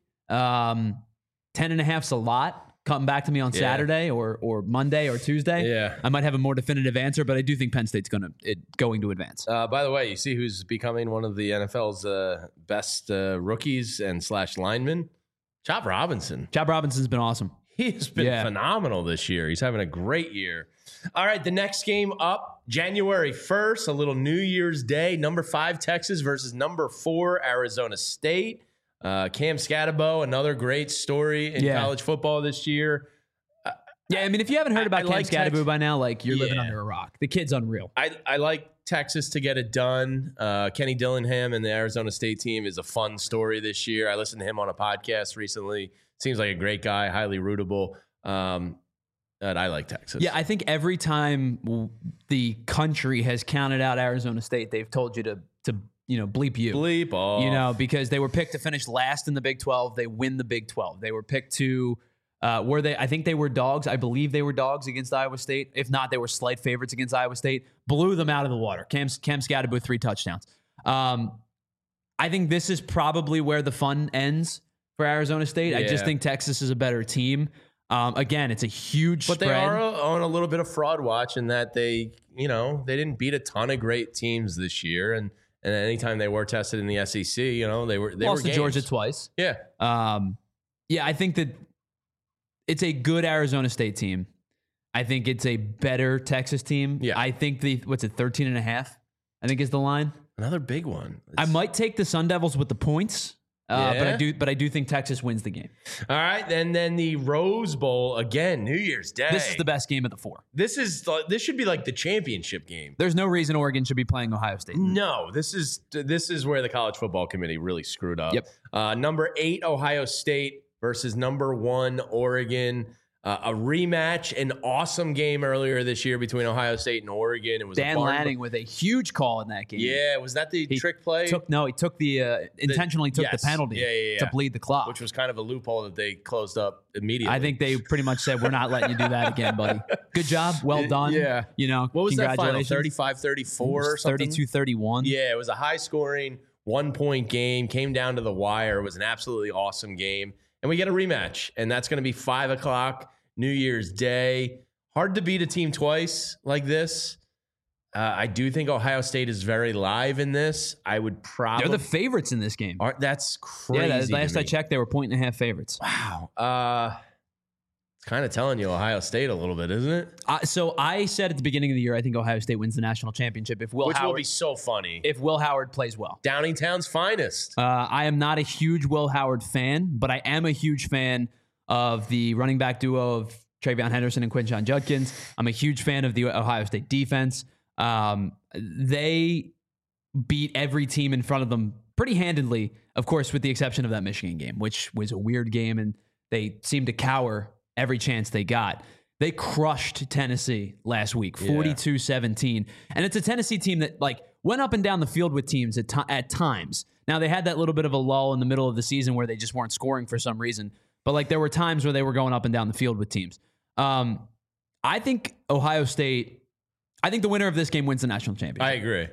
Speaker 4: 10.5's a lot. Come back to me on Saturday or Monday or Tuesday.
Speaker 2: Yeah.
Speaker 4: I might have a more definitive answer, but I do think Penn State's going to advance.
Speaker 2: By the way, you see who's becoming one of the NFL's best rookies and / linemen? Chop Robinson.
Speaker 4: Chop Robinson's been awesome.
Speaker 2: He's been phenomenal this year. He's having a great year. All right, the next game up, January 1st, a little New Year's Day. Number 5, Texas versus number 4, Arizona State. Cam Scatterbo, another great story in college football this year.
Speaker 4: If you haven't heard about Cam Scatterbo by now, you're living under a rock. The kid's unreal.
Speaker 2: I like Texas to get it done. Kenny Dillingham and the Arizona State team is a fun story this year. I listened to him on a podcast recently. Seems like a great guy, highly rootable. But I like Texas.
Speaker 4: Yeah, I think every time the country has counted out Arizona State, they've told you to bleep you.
Speaker 2: Bleep off.
Speaker 4: Because they were picked to finish last in the Big 12. They win the Big 12. They were picked to I think they were dogs. I believe they were dogs against Iowa State. If not, they were slight favorites against Iowa State. Blew them out of the water. Cam Scatterbo 3 touchdowns. I think this is probably where the fun ends for Arizona State. Yeah. I just think Texas is a better team. Again, it's a huge spread.
Speaker 2: But they are on a little bit of fraud watch in that they didn't beat a ton of great teams this year. And anytime they were tested in the SEC, they
Speaker 4: lost to Georgia twice.
Speaker 2: Yeah.
Speaker 4: I think that it's a good Arizona State team. I think it's a better Texas team.
Speaker 2: Yeah.
Speaker 4: I think 13.5, I think is the line.
Speaker 2: Another big one.
Speaker 4: I might take the Sun Devils with the points. But I do think Texas wins the game.
Speaker 2: All right, and then the Rose Bowl again, New Year's Day.
Speaker 4: This is the best game of the 4.
Speaker 2: This should be like the championship game.
Speaker 4: There's no reason Oregon should be playing Ohio State.
Speaker 2: No, this is where the college football committee really screwed up.
Speaker 4: Yep.
Speaker 2: Number 8 Ohio State versus number 1 Oregon. A rematch, an awesome game earlier this year between Ohio State and Oregon. It was
Speaker 4: Dan Lanning with a huge call in that game.
Speaker 2: Yeah, was that the trick play?
Speaker 4: He took intentionally took the penalty to bleed the clock,
Speaker 2: which was kind of a loophole that they closed up immediately.
Speaker 4: I think they pretty much said, "We're not letting you do that again, buddy. Good job, well done."
Speaker 2: Yeah,
Speaker 4: what
Speaker 2: was that final?
Speaker 4: 35-34
Speaker 2: or something?
Speaker 4: 32-31.
Speaker 2: Yeah, it was a high scoring 1-point game. Came down to the wire. It was an absolutely awesome game, and we get a rematch, and that's going to be 5:00. New Year's Day. Hard to beat a team twice like this. I do think Ohio State is very live in this. I would probably
Speaker 4: They're the favorites in this game.
Speaker 2: That's crazy.
Speaker 4: Yeah, last I checked, they were 1.5 favorites.
Speaker 2: Wow. It's kind of telling you Ohio State a little bit, isn't it?
Speaker 4: So I said at the beginning of the year, I think Ohio State wins the national championship if Will
Speaker 2: Which
Speaker 4: Howard
Speaker 2: will be so funny.
Speaker 4: if Will Howard plays well.
Speaker 2: Downingtown's finest.
Speaker 4: I am not a huge Will Howard fan, but I am a huge fan of the running back duo of Travion Henderson and Quinshon Judkins. I'm a huge fan of the Ohio State defense. They beat every team in front of them pretty handedly, of course, with the exception of that Michigan game, which was a weird game, and they seemed to cower every chance they got. They crushed Tennessee last week, 42-17. And it's a Tennessee team that went up and down the field with teams at times. Now, they had that little bit of a lull in the middle of the season where they just weren't scoring for some reason. But there were times where they were going up and down the field with teams. I think Ohio State, I think the winner of this game wins the national championship.
Speaker 2: I agree.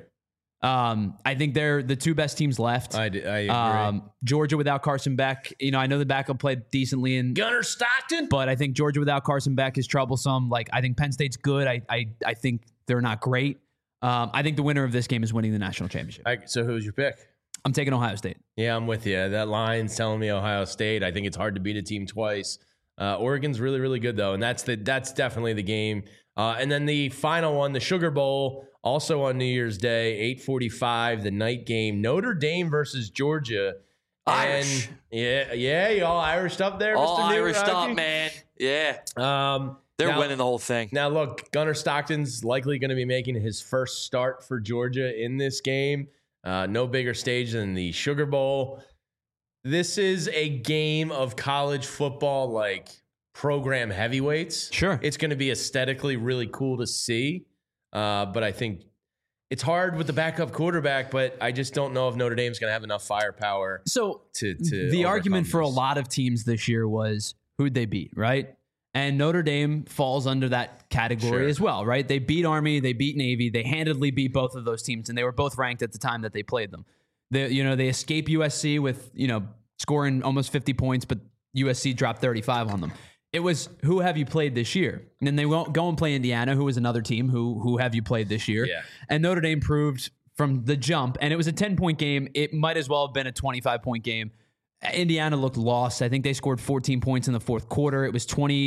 Speaker 4: I think they're the two best teams left.
Speaker 2: I agree.
Speaker 4: Georgia without Carson Beck, I know the backup played decently in
Speaker 2: Gunnar Stockton,
Speaker 4: but I think Georgia without Carson Beck is troublesome. I think Penn State's good. I think they're not great. I think the winner of this game is winning the national championship.
Speaker 2: So who's your pick?
Speaker 4: I'm taking Ohio State.
Speaker 2: Yeah, I'm with you. That line's telling me Ohio State. I think it's hard to beat a team twice. Oregon's really, really good though, and that's definitely the game. And then the final one, the Sugar Bowl, also on New Year's Day, 8:45, the night game, Notre Dame versus Georgia.
Speaker 3: Irish.
Speaker 2: And yeah, you all Irish up there,
Speaker 3: all
Speaker 2: Mr.
Speaker 3: Irish up, man. Yeah. They're winning the whole thing.
Speaker 2: Now, look, Gunnar Stockton's likely going to be making his first start for Georgia in this game. No bigger stage than the Sugar Bowl. This is a game of college football, program heavyweights.
Speaker 4: Sure.
Speaker 2: It's going to be aesthetically really cool to see. But I think it's hard with the backup quarterback, but I just don't know if Notre Dame's going to have enough firepower.
Speaker 4: So
Speaker 2: to
Speaker 4: the argument for a
Speaker 2: this.
Speaker 4: lot of teams this year was who'd they beat, right? And Notre Dame falls under that category as well, right? They beat Army, they beat Navy, they handedly beat both of those teams, and they were both ranked at the time that they played them. They escape USC with, scoring almost 50 points, but USC dropped 35 on them. It was, who have you played this year? And then they won't go and play Indiana, who was another team. Who have you played this year?
Speaker 2: Yeah.
Speaker 4: And Notre Dame proved from the jump, and it was a 10-point game. It might as well have been a 25-point game. Indiana looked lost. I think they scored 14 points in the fourth quarter. It was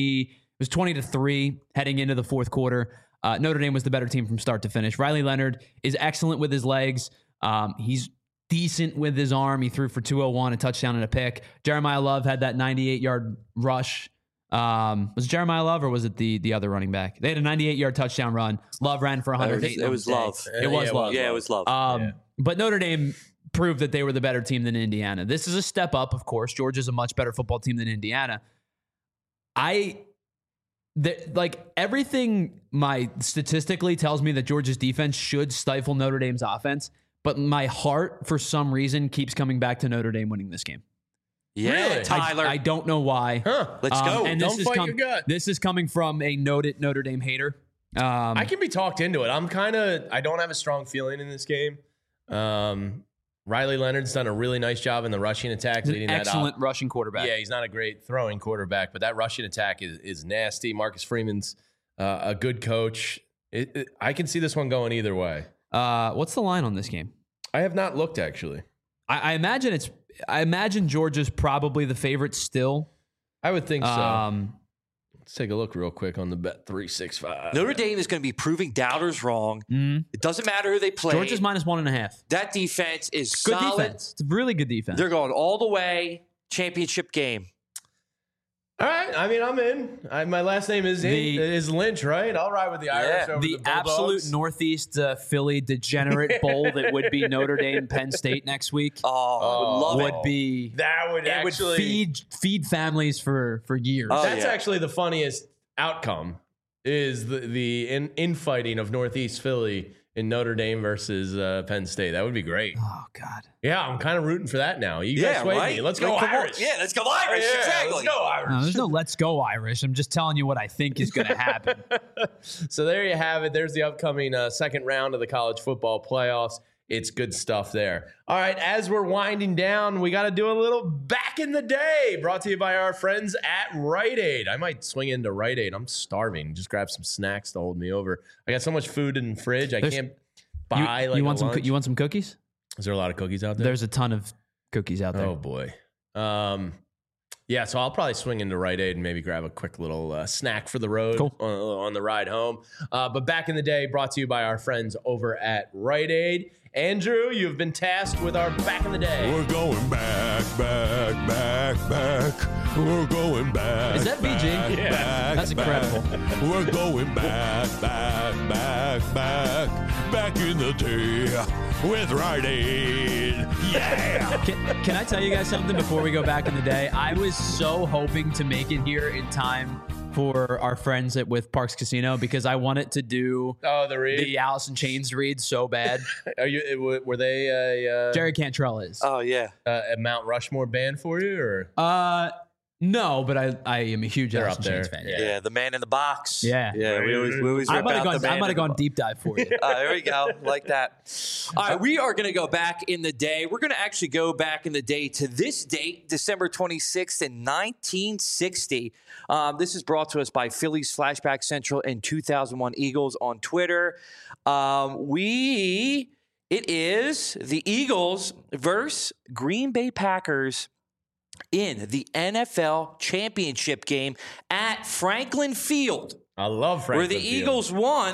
Speaker 4: 20-3 heading into the fourth quarter. Notre Dame was the better team from start to finish. Riley Leonard is excellent with his legs. He's decent with his arm. He threw for 201, a touchdown and a pick. Jeremiah Love had that 98-yard rush. Was it Jeremiah Love or was it the other running back? They had a 98-yard touchdown run. Love ran for 108.
Speaker 3: It was Love.
Speaker 4: It was Love.
Speaker 3: Yeah, it was Love.
Speaker 4: But Notre Dame proved that they were the better team than Indiana. This is a step up, of course. Georgia's a much better football team than Indiana. Everything statistically tells me that Georgia's defense should stifle Notre Dame's offense, but my heart, for some reason, keeps coming back to Notre Dame winning this game.
Speaker 3: Yeah,
Speaker 2: Really?
Speaker 3: Tyler.
Speaker 4: I don't know why.
Speaker 3: Let's go.
Speaker 4: And
Speaker 2: Don't fight your gut.
Speaker 4: This is coming from a noted Notre Dame hater.
Speaker 2: I can be talked into it. I don't have a strong feeling in this game. Riley Leonard's done a really nice job in the rushing attack, leading that up.
Speaker 4: Excellent rushing quarterback.
Speaker 2: Yeah, he's not a great throwing quarterback, but that rushing attack is nasty. Marcus Freeman's a good coach. I can see this one going either way.
Speaker 4: What's the line on this game?
Speaker 2: I have not looked, actually.
Speaker 4: I imagine Georgia's probably the favorite still.
Speaker 2: I would think so. Let's take a look real quick on the Bet365.
Speaker 3: Notre Dame is going to be proving doubters wrong. It doesn't matter who they play.
Speaker 4: Georgia's -1.5.
Speaker 3: That defense is
Speaker 4: Good
Speaker 3: solid.
Speaker 4: defense. It's a really good defense.
Speaker 3: They're going all the way. Championship game.
Speaker 2: All right. I mean, I'm in. My last name is Lynch, right? I'll ride with the Irish over
Speaker 4: the
Speaker 2: the
Speaker 4: absolute
Speaker 2: Bulldogs.
Speaker 4: Northeast Philly degenerate bowl that would be Notre Dame Penn State next week.
Speaker 3: I would love
Speaker 4: would be
Speaker 2: That would
Speaker 4: it
Speaker 2: actually
Speaker 4: would feed families for years.
Speaker 3: Oh,
Speaker 2: That's
Speaker 3: yeah.
Speaker 2: actually the funniest outcome is the infighting of Northeast Philly in Notre Dame versus Penn State. That would be great.
Speaker 4: Oh God.
Speaker 2: Yeah, I'm kind of rooting for that now. You guys swayed me. Let's go
Speaker 3: Like, come on.
Speaker 2: Irish.
Speaker 3: Yeah, let's go Irish.
Speaker 2: Yeah,
Speaker 3: Exactly.
Speaker 2: Let's go Irish.
Speaker 4: No, there's no let's go Irish. I'm just telling you what I think is going to happen.
Speaker 2: So there you have it. There's the upcoming second round of the college football playoffs. it's good stuff there. All right, as we're winding down, we got to do a little Back in the Day, brought to you by our friends at Rite Aid. I might swing into Rite Aid. I'm starving. Just grab some snacks to hold me over. I got so much food in the fridge. I can't buy
Speaker 4: you want
Speaker 2: lunch.
Speaker 4: You want some cookies?
Speaker 2: Is there a lot of cookies out there?
Speaker 4: There's a ton of cookies out there.
Speaker 2: Oh boy. Yeah, so I'll probably swing into Rite Aid and maybe grab a quick little snack for the road on the ride home. But Back in the Day, brought to you by our friends over at Rite Aid. Andrew, you've been tasked with our Back in the Day.
Speaker 1: We're going back. We're going back.
Speaker 4: Is that BG?
Speaker 2: Yeah.
Speaker 4: That's incredible.
Speaker 1: We're going back in the day with Rite Aid. Yeah.
Speaker 4: Can I tell you guys something before we go back in the day? I was so hoping to make it here in time for our friends with Parks Casino because I wanted to do the Alice in Chains read so bad.
Speaker 2: Were they
Speaker 4: Jerry Cantrell is.
Speaker 3: Oh yeah.
Speaker 2: A Mount Rushmore band for you or?
Speaker 4: No, but I am a huge Alice in Chains fan.
Speaker 3: Yeah, the Man in the Box.
Speaker 4: Yeah.
Speaker 3: We always
Speaker 4: I
Speaker 3: rip
Speaker 4: might
Speaker 3: out the Man
Speaker 4: have
Speaker 3: in the
Speaker 4: gone
Speaker 3: Box.
Speaker 4: deep dive for you.
Speaker 3: There we go. Like that. All right, we are going to go back in the day. We're going to actually go back in the day to this date, December 26th in 1960. This is brought to us by Phillies Flashback Central and 2001 Eagles on Twitter. It is the Eagles versus Green Bay Packers in the NFL championship game at Franklin Field.
Speaker 2: I love Franklin
Speaker 3: where the
Speaker 2: Field.
Speaker 3: Eagles won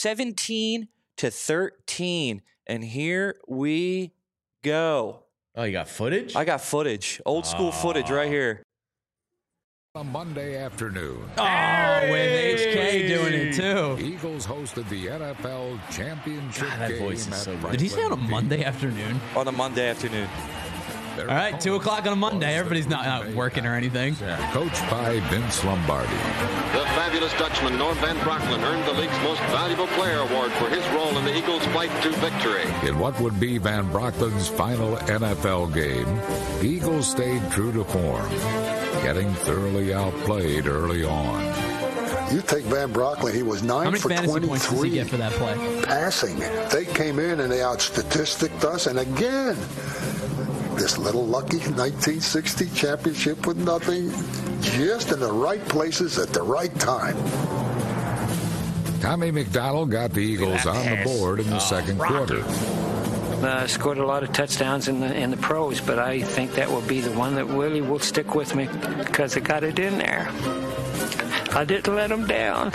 Speaker 3: 17-13. And here we go.
Speaker 2: Oh, you got footage?
Speaker 3: I got footage. Old school footage right here.
Speaker 7: A Monday afternoon.
Speaker 4: Oh, with HK doing it too.
Speaker 7: Eagles hosted the NFL championship
Speaker 2: God, that
Speaker 7: game
Speaker 2: voice is
Speaker 7: at
Speaker 2: so good.
Speaker 7: Franklin
Speaker 4: Did he say on a
Speaker 7: Field.
Speaker 4: Monday afternoon?
Speaker 3: On a Monday afternoon.
Speaker 7: Their
Speaker 4: All right, 2 o'clock on a Monday.
Speaker 7: was the
Speaker 4: Everybody's not
Speaker 7: Green Bay
Speaker 4: working or anything.
Speaker 7: Coached by Vince Lombardi.
Speaker 8: The fabulous Dutchman Norm Van Brocklin earned the league's most valuable player award for his role in the Eagles' flight to victory.
Speaker 7: In what would be Van Brocklin's final NFL game, the Eagles stayed true to form, getting thoroughly outplayed early on.
Speaker 9: You take Van Brocklin, he was 9
Speaker 4: How many
Speaker 9: for
Speaker 4: fantasy points does he
Speaker 9: 23
Speaker 4: get for that play?
Speaker 9: passing. They came in and they out-statisticed us, and again, this little lucky 1960 championship with nothing, just in the right places at the right time.
Speaker 7: Tommy McDonald got the Eagles on the board in the second quarter.
Speaker 10: Scored a lot of touchdowns in the pros, but I think that will be the one that really will stick with me because I got it in there. I didn't let them down.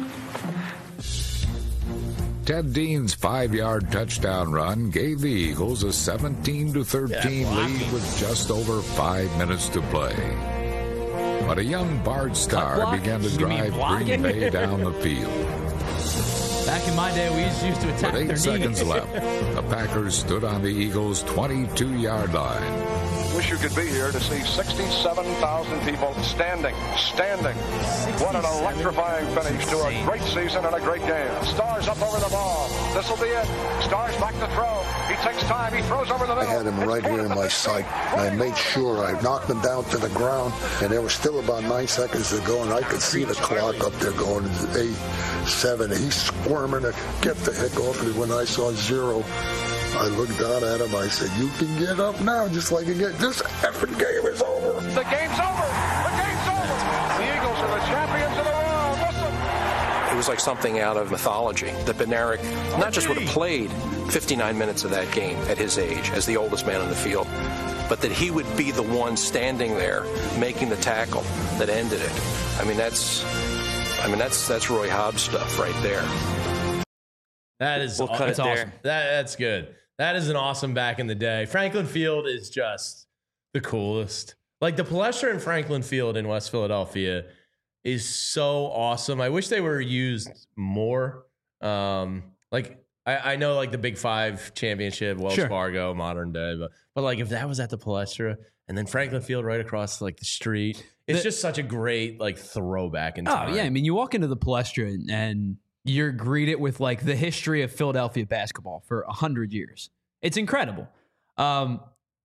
Speaker 7: Ted Dean's 5-yard touchdown run gave the Eagles a 17-13 lead with just over 5 minutes to play. But a young Bard Starr began to drive Green Bay down the field.
Speaker 4: Back in my day, we used to attack
Speaker 7: With
Speaker 4: their
Speaker 7: 8 seconds
Speaker 4: knees.
Speaker 7: left, the Packers stood on the Eagles' 22-yard line.
Speaker 11: Wish you could be here to see 67,000 people standing. What an electrifying finish to a great season and a great game. Stars up over the ball. This will be it. Stars back to throw. He takes time. He throws over the middle.
Speaker 9: I had him right here in my sight. I made sure I knocked him down to the ground, and there was still about 9 seconds to go, and I could see the clock up there going 8, 7. He's squirming to get the heck off me. When I saw 0, I looked down at him. I said, "You can get up now, just like you get. This effing game is over."
Speaker 11: The game's over. The game's over. The Eagles are the champions of the world. Listen.
Speaker 12: It was like something out of mythology that Bednarik not just would have played 59 minutes of that game at his age as the oldest man on the field, but that he would be the one standing there making the tackle that ended it. That's Roy Hobbs stuff right there.
Speaker 2: That is
Speaker 3: We'll cut it there.
Speaker 2: awesome. That's good. That is an awesome Back in the Day. Franklin Field is just the coolest. Like the Palestra in Franklin Field in West Philadelphia is so awesome. I wish they were used more. I know like the Big 5 championship, Wells Fargo, modern day, but like if that was at the Palestra and then Franklin Field right across like the street, it's just such a great like throwback in time.
Speaker 4: Oh, yeah. I mean, you walk into the Palestra and you're greeted with like the history of Philadelphia basketball for 100 years. It's incredible. I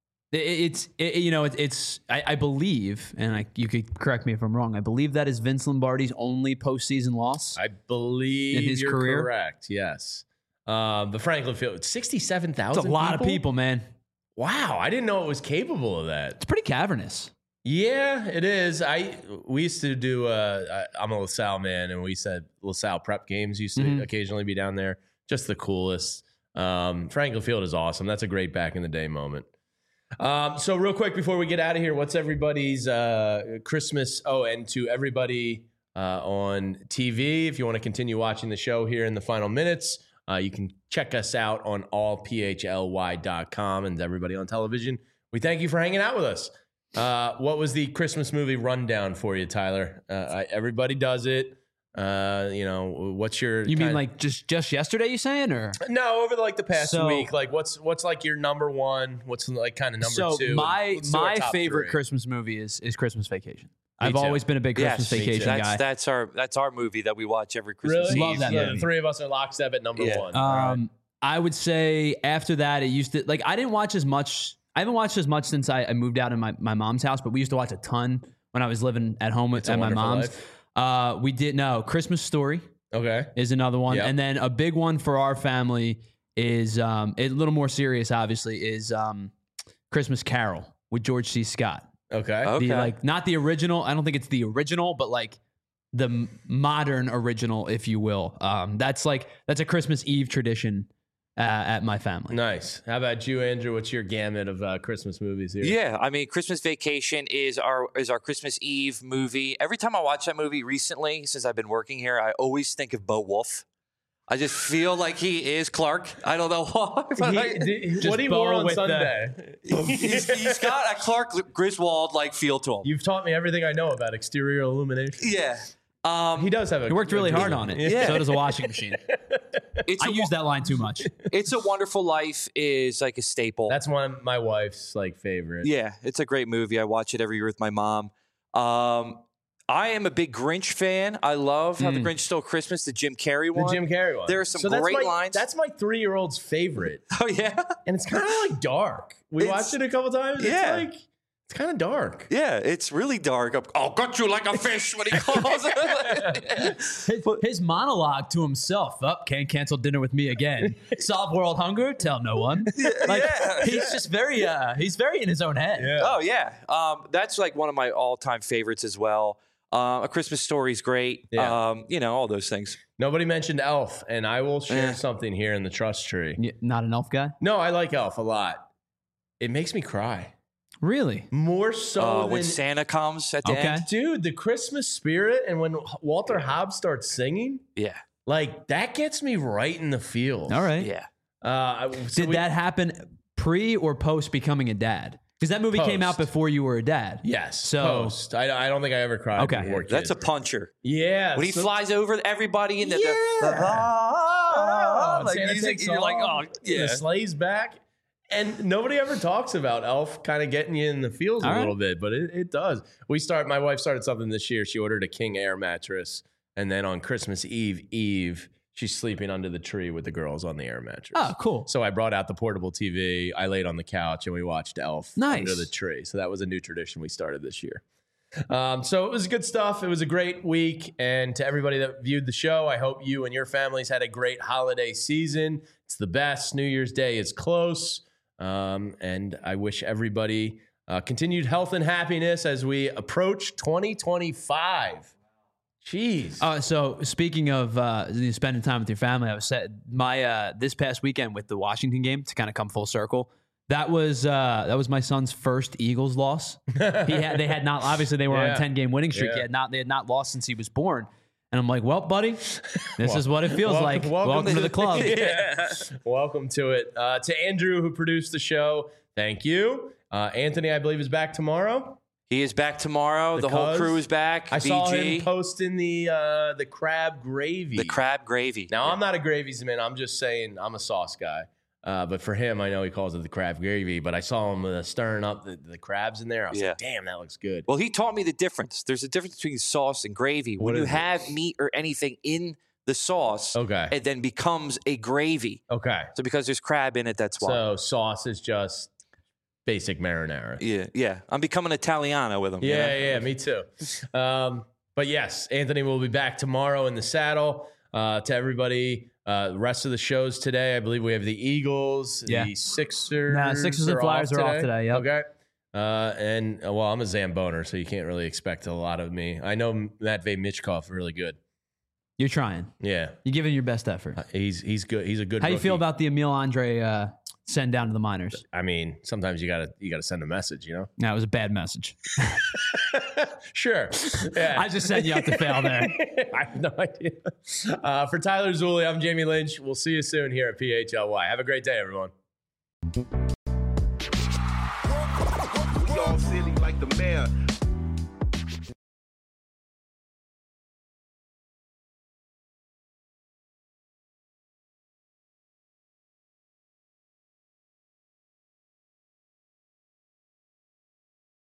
Speaker 4: believe, and you could correct me if I'm wrong, I believe that is Vince Lombardi's only postseason loss.
Speaker 2: I believe
Speaker 4: in his
Speaker 2: you're
Speaker 4: career.
Speaker 2: correct. Yes. The Franklin Field, 67,000.
Speaker 4: That's a lot of people, man.
Speaker 2: Wow, I didn't know it was capable of that.
Speaker 4: It's pretty cavernous.
Speaker 2: Yeah, it is. We used to do. I'm a LaSalle man, and we said LaSalle prep games used to occasionally be down there. Just the coolest. Franklin Field is awesome. That's a great back in the day moment. So real quick before we get out of here, what's everybody's Christmas? Oh, and to everybody on TV, if you want to continue watching the show here in the final minutes, you can check us out on allphly.com. And everybody on television, we thank you for hanging out with us. What was the Christmas movie rundown for you, Tyler? Everybody does it. What's your?
Speaker 4: You mean like just yesterday? You saying or
Speaker 2: no? Over the past week, like what's like your number one? What's like kind of number two?
Speaker 4: My favorite Christmas movie is Christmas Vacation. I've always been a big Christmas Vacation guy.
Speaker 3: That's our movie that we watch every Christmas.
Speaker 2: Really?
Speaker 3: Eve.
Speaker 2: Love that movie. The three of us are lockstep at number one.
Speaker 4: Right. I would say after that, it used to I didn't watch as much. I haven't watched as much since I moved out in my mom's house, but we used to watch a ton when I was living at home at my mom's. We did Christmas Story.
Speaker 2: Okay,
Speaker 4: is another one, and then a big one for our family is a little more serious. Obviously, is Christmas Carol with George C. Scott.
Speaker 2: Okay.
Speaker 4: Not the original. I don't think it's the original, but the modern original, if you will. That's a Christmas Eve tradition at my family.
Speaker 2: Nice. How about you, Andrew? What's your gamut of Christmas movies here?
Speaker 3: Yeah, I mean, Christmas Vacation is our Christmas Eve movie. Every time I watch that movie recently, since I've been working here, I always think of Bo Wolf. I just feel like he is Clark. I don't know why.
Speaker 2: What he wore on Sunday.
Speaker 3: He's got a Clark Griswold feel to him.
Speaker 2: You've taught me everything I know about exterior illumination.
Speaker 3: Yeah.
Speaker 2: He does have
Speaker 4: he worked really hard on it. Yeah. So does a washing machine. I use that line too much.
Speaker 3: It's a Wonderful Life is like a staple.
Speaker 2: That's one of my wife's favorite.
Speaker 3: Yeah, it's a great movie. I watch it every year with my mom. I am a big Grinch fan. I love How the Grinch Stole Christmas, the Jim Carrey one.
Speaker 2: The Jim Carrey one.
Speaker 3: There are some great lines.
Speaker 2: That's my 3-year-old's favorite.
Speaker 3: Oh, yeah?
Speaker 2: And it's kind of dark. We watched it a couple times.
Speaker 3: Yeah.
Speaker 2: It's kind of dark.
Speaker 3: Yeah, it's really dark. I'll gut you like a fish when he calls it.
Speaker 4: His monologue to himself, can't cancel dinner with me again. Solve world hunger, tell no one. He's just very he's very in his own head.
Speaker 2: Yeah.
Speaker 3: Oh, yeah. That's one of my all-time favorites as well. A Christmas Story is great.
Speaker 2: Yeah.
Speaker 3: All those things.
Speaker 2: Nobody mentioned Elf, and I will share something here in the trust tree.
Speaker 4: Yeah, not an Elf guy?
Speaker 2: No, I like Elf a lot. It makes me cry.
Speaker 4: Really?
Speaker 2: More so
Speaker 3: when Santa comes at the end.
Speaker 2: Dude, the Christmas spirit, and when Walter Hobbs starts singing, that gets me right in the feels.
Speaker 4: All right.
Speaker 3: Yeah.
Speaker 4: Did that happen pre or post becoming a dad? Because that movie came out before you were a dad.
Speaker 2: Yes.
Speaker 4: So
Speaker 2: post. I don't think I ever cried before kids.
Speaker 3: That's a puncher.
Speaker 2: Yeah.
Speaker 3: When he flies over everybody in the music, you're like, oh, yeah.
Speaker 2: The sleigh's back. And nobody ever talks about Elf kind of getting you in the feels a little bit, but it does. My wife started something this year. She ordered a King Air mattress. And then on Christmas Eve, she's sleeping under the tree with the girls on the air mattress.
Speaker 4: Oh, cool.
Speaker 2: So I brought out the portable TV. I laid on the couch and we watched Elf under the tree. So that was a new tradition we started this year. So it was good stuff. It was a great week. And to everybody that viewed the show, I hope you and your families had a great holiday season. It's the best. New Year's Day is close. And I wish everybody continued health and happiness as we approach 2025. Jeez.
Speaker 4: So speaking of spending time with your family, I was this past weekend with the Washington game to kind of come full circle. That was my son's first Eagles loss. They had not, obviously they were on a 10-game winning streak. They had not lost since he was born. And I'm like, well, buddy, this is what it feels like. Welcome to the club.
Speaker 2: Welcome to it. To Andrew, who produced the show, thank you. Anthony, I believe, is back tomorrow.
Speaker 3: He is back tomorrow. The whole crew is back.
Speaker 2: I saw him posting the crab gravy.
Speaker 3: The crab gravy.
Speaker 2: Now, I'm not a gravies man. I'm just saying I'm a sauce guy. But for him, I know he calls it the crab gravy. But I saw him stirring up the crabs in there. I was like, damn, that looks good.
Speaker 3: Well, he taught me the difference. There's a difference between sauce and gravy. When you have meat or anything in the sauce, it then becomes a gravy.
Speaker 2: Okay.
Speaker 3: So because there's crab in it, that's why.
Speaker 2: So sauce is just basic marinara.
Speaker 3: Yeah. I'm becoming Italiano with him.
Speaker 2: Yeah, me too. But yes, Anthony will be back tomorrow in the saddle. To everybody Rest of the shows today, I believe we have the Eagles, the Sixers.
Speaker 4: Sixers and Flyers are off today. Yep.
Speaker 2: Okay. Well, I'm a Zamboner, so you can't really expect a lot of me. I know Matvey Michkov really good.
Speaker 4: You're trying.
Speaker 2: Yeah.
Speaker 4: You're giving your best effort.
Speaker 2: He's good. He's a good
Speaker 4: How
Speaker 2: rookie.
Speaker 4: you feel about the Emil Andre send down to the minors?
Speaker 2: I mean, sometimes you gotta send a message, you know?
Speaker 4: No, it was a bad message.
Speaker 2: Sure. Yeah.
Speaker 4: I just said you have to fail there.
Speaker 2: I have no idea. For Tyler Zulli, I'm Jamie Lynch. We'll see you soon here at PHLY. Have a great day, everyone.
Speaker 13: We all silly like the mayor.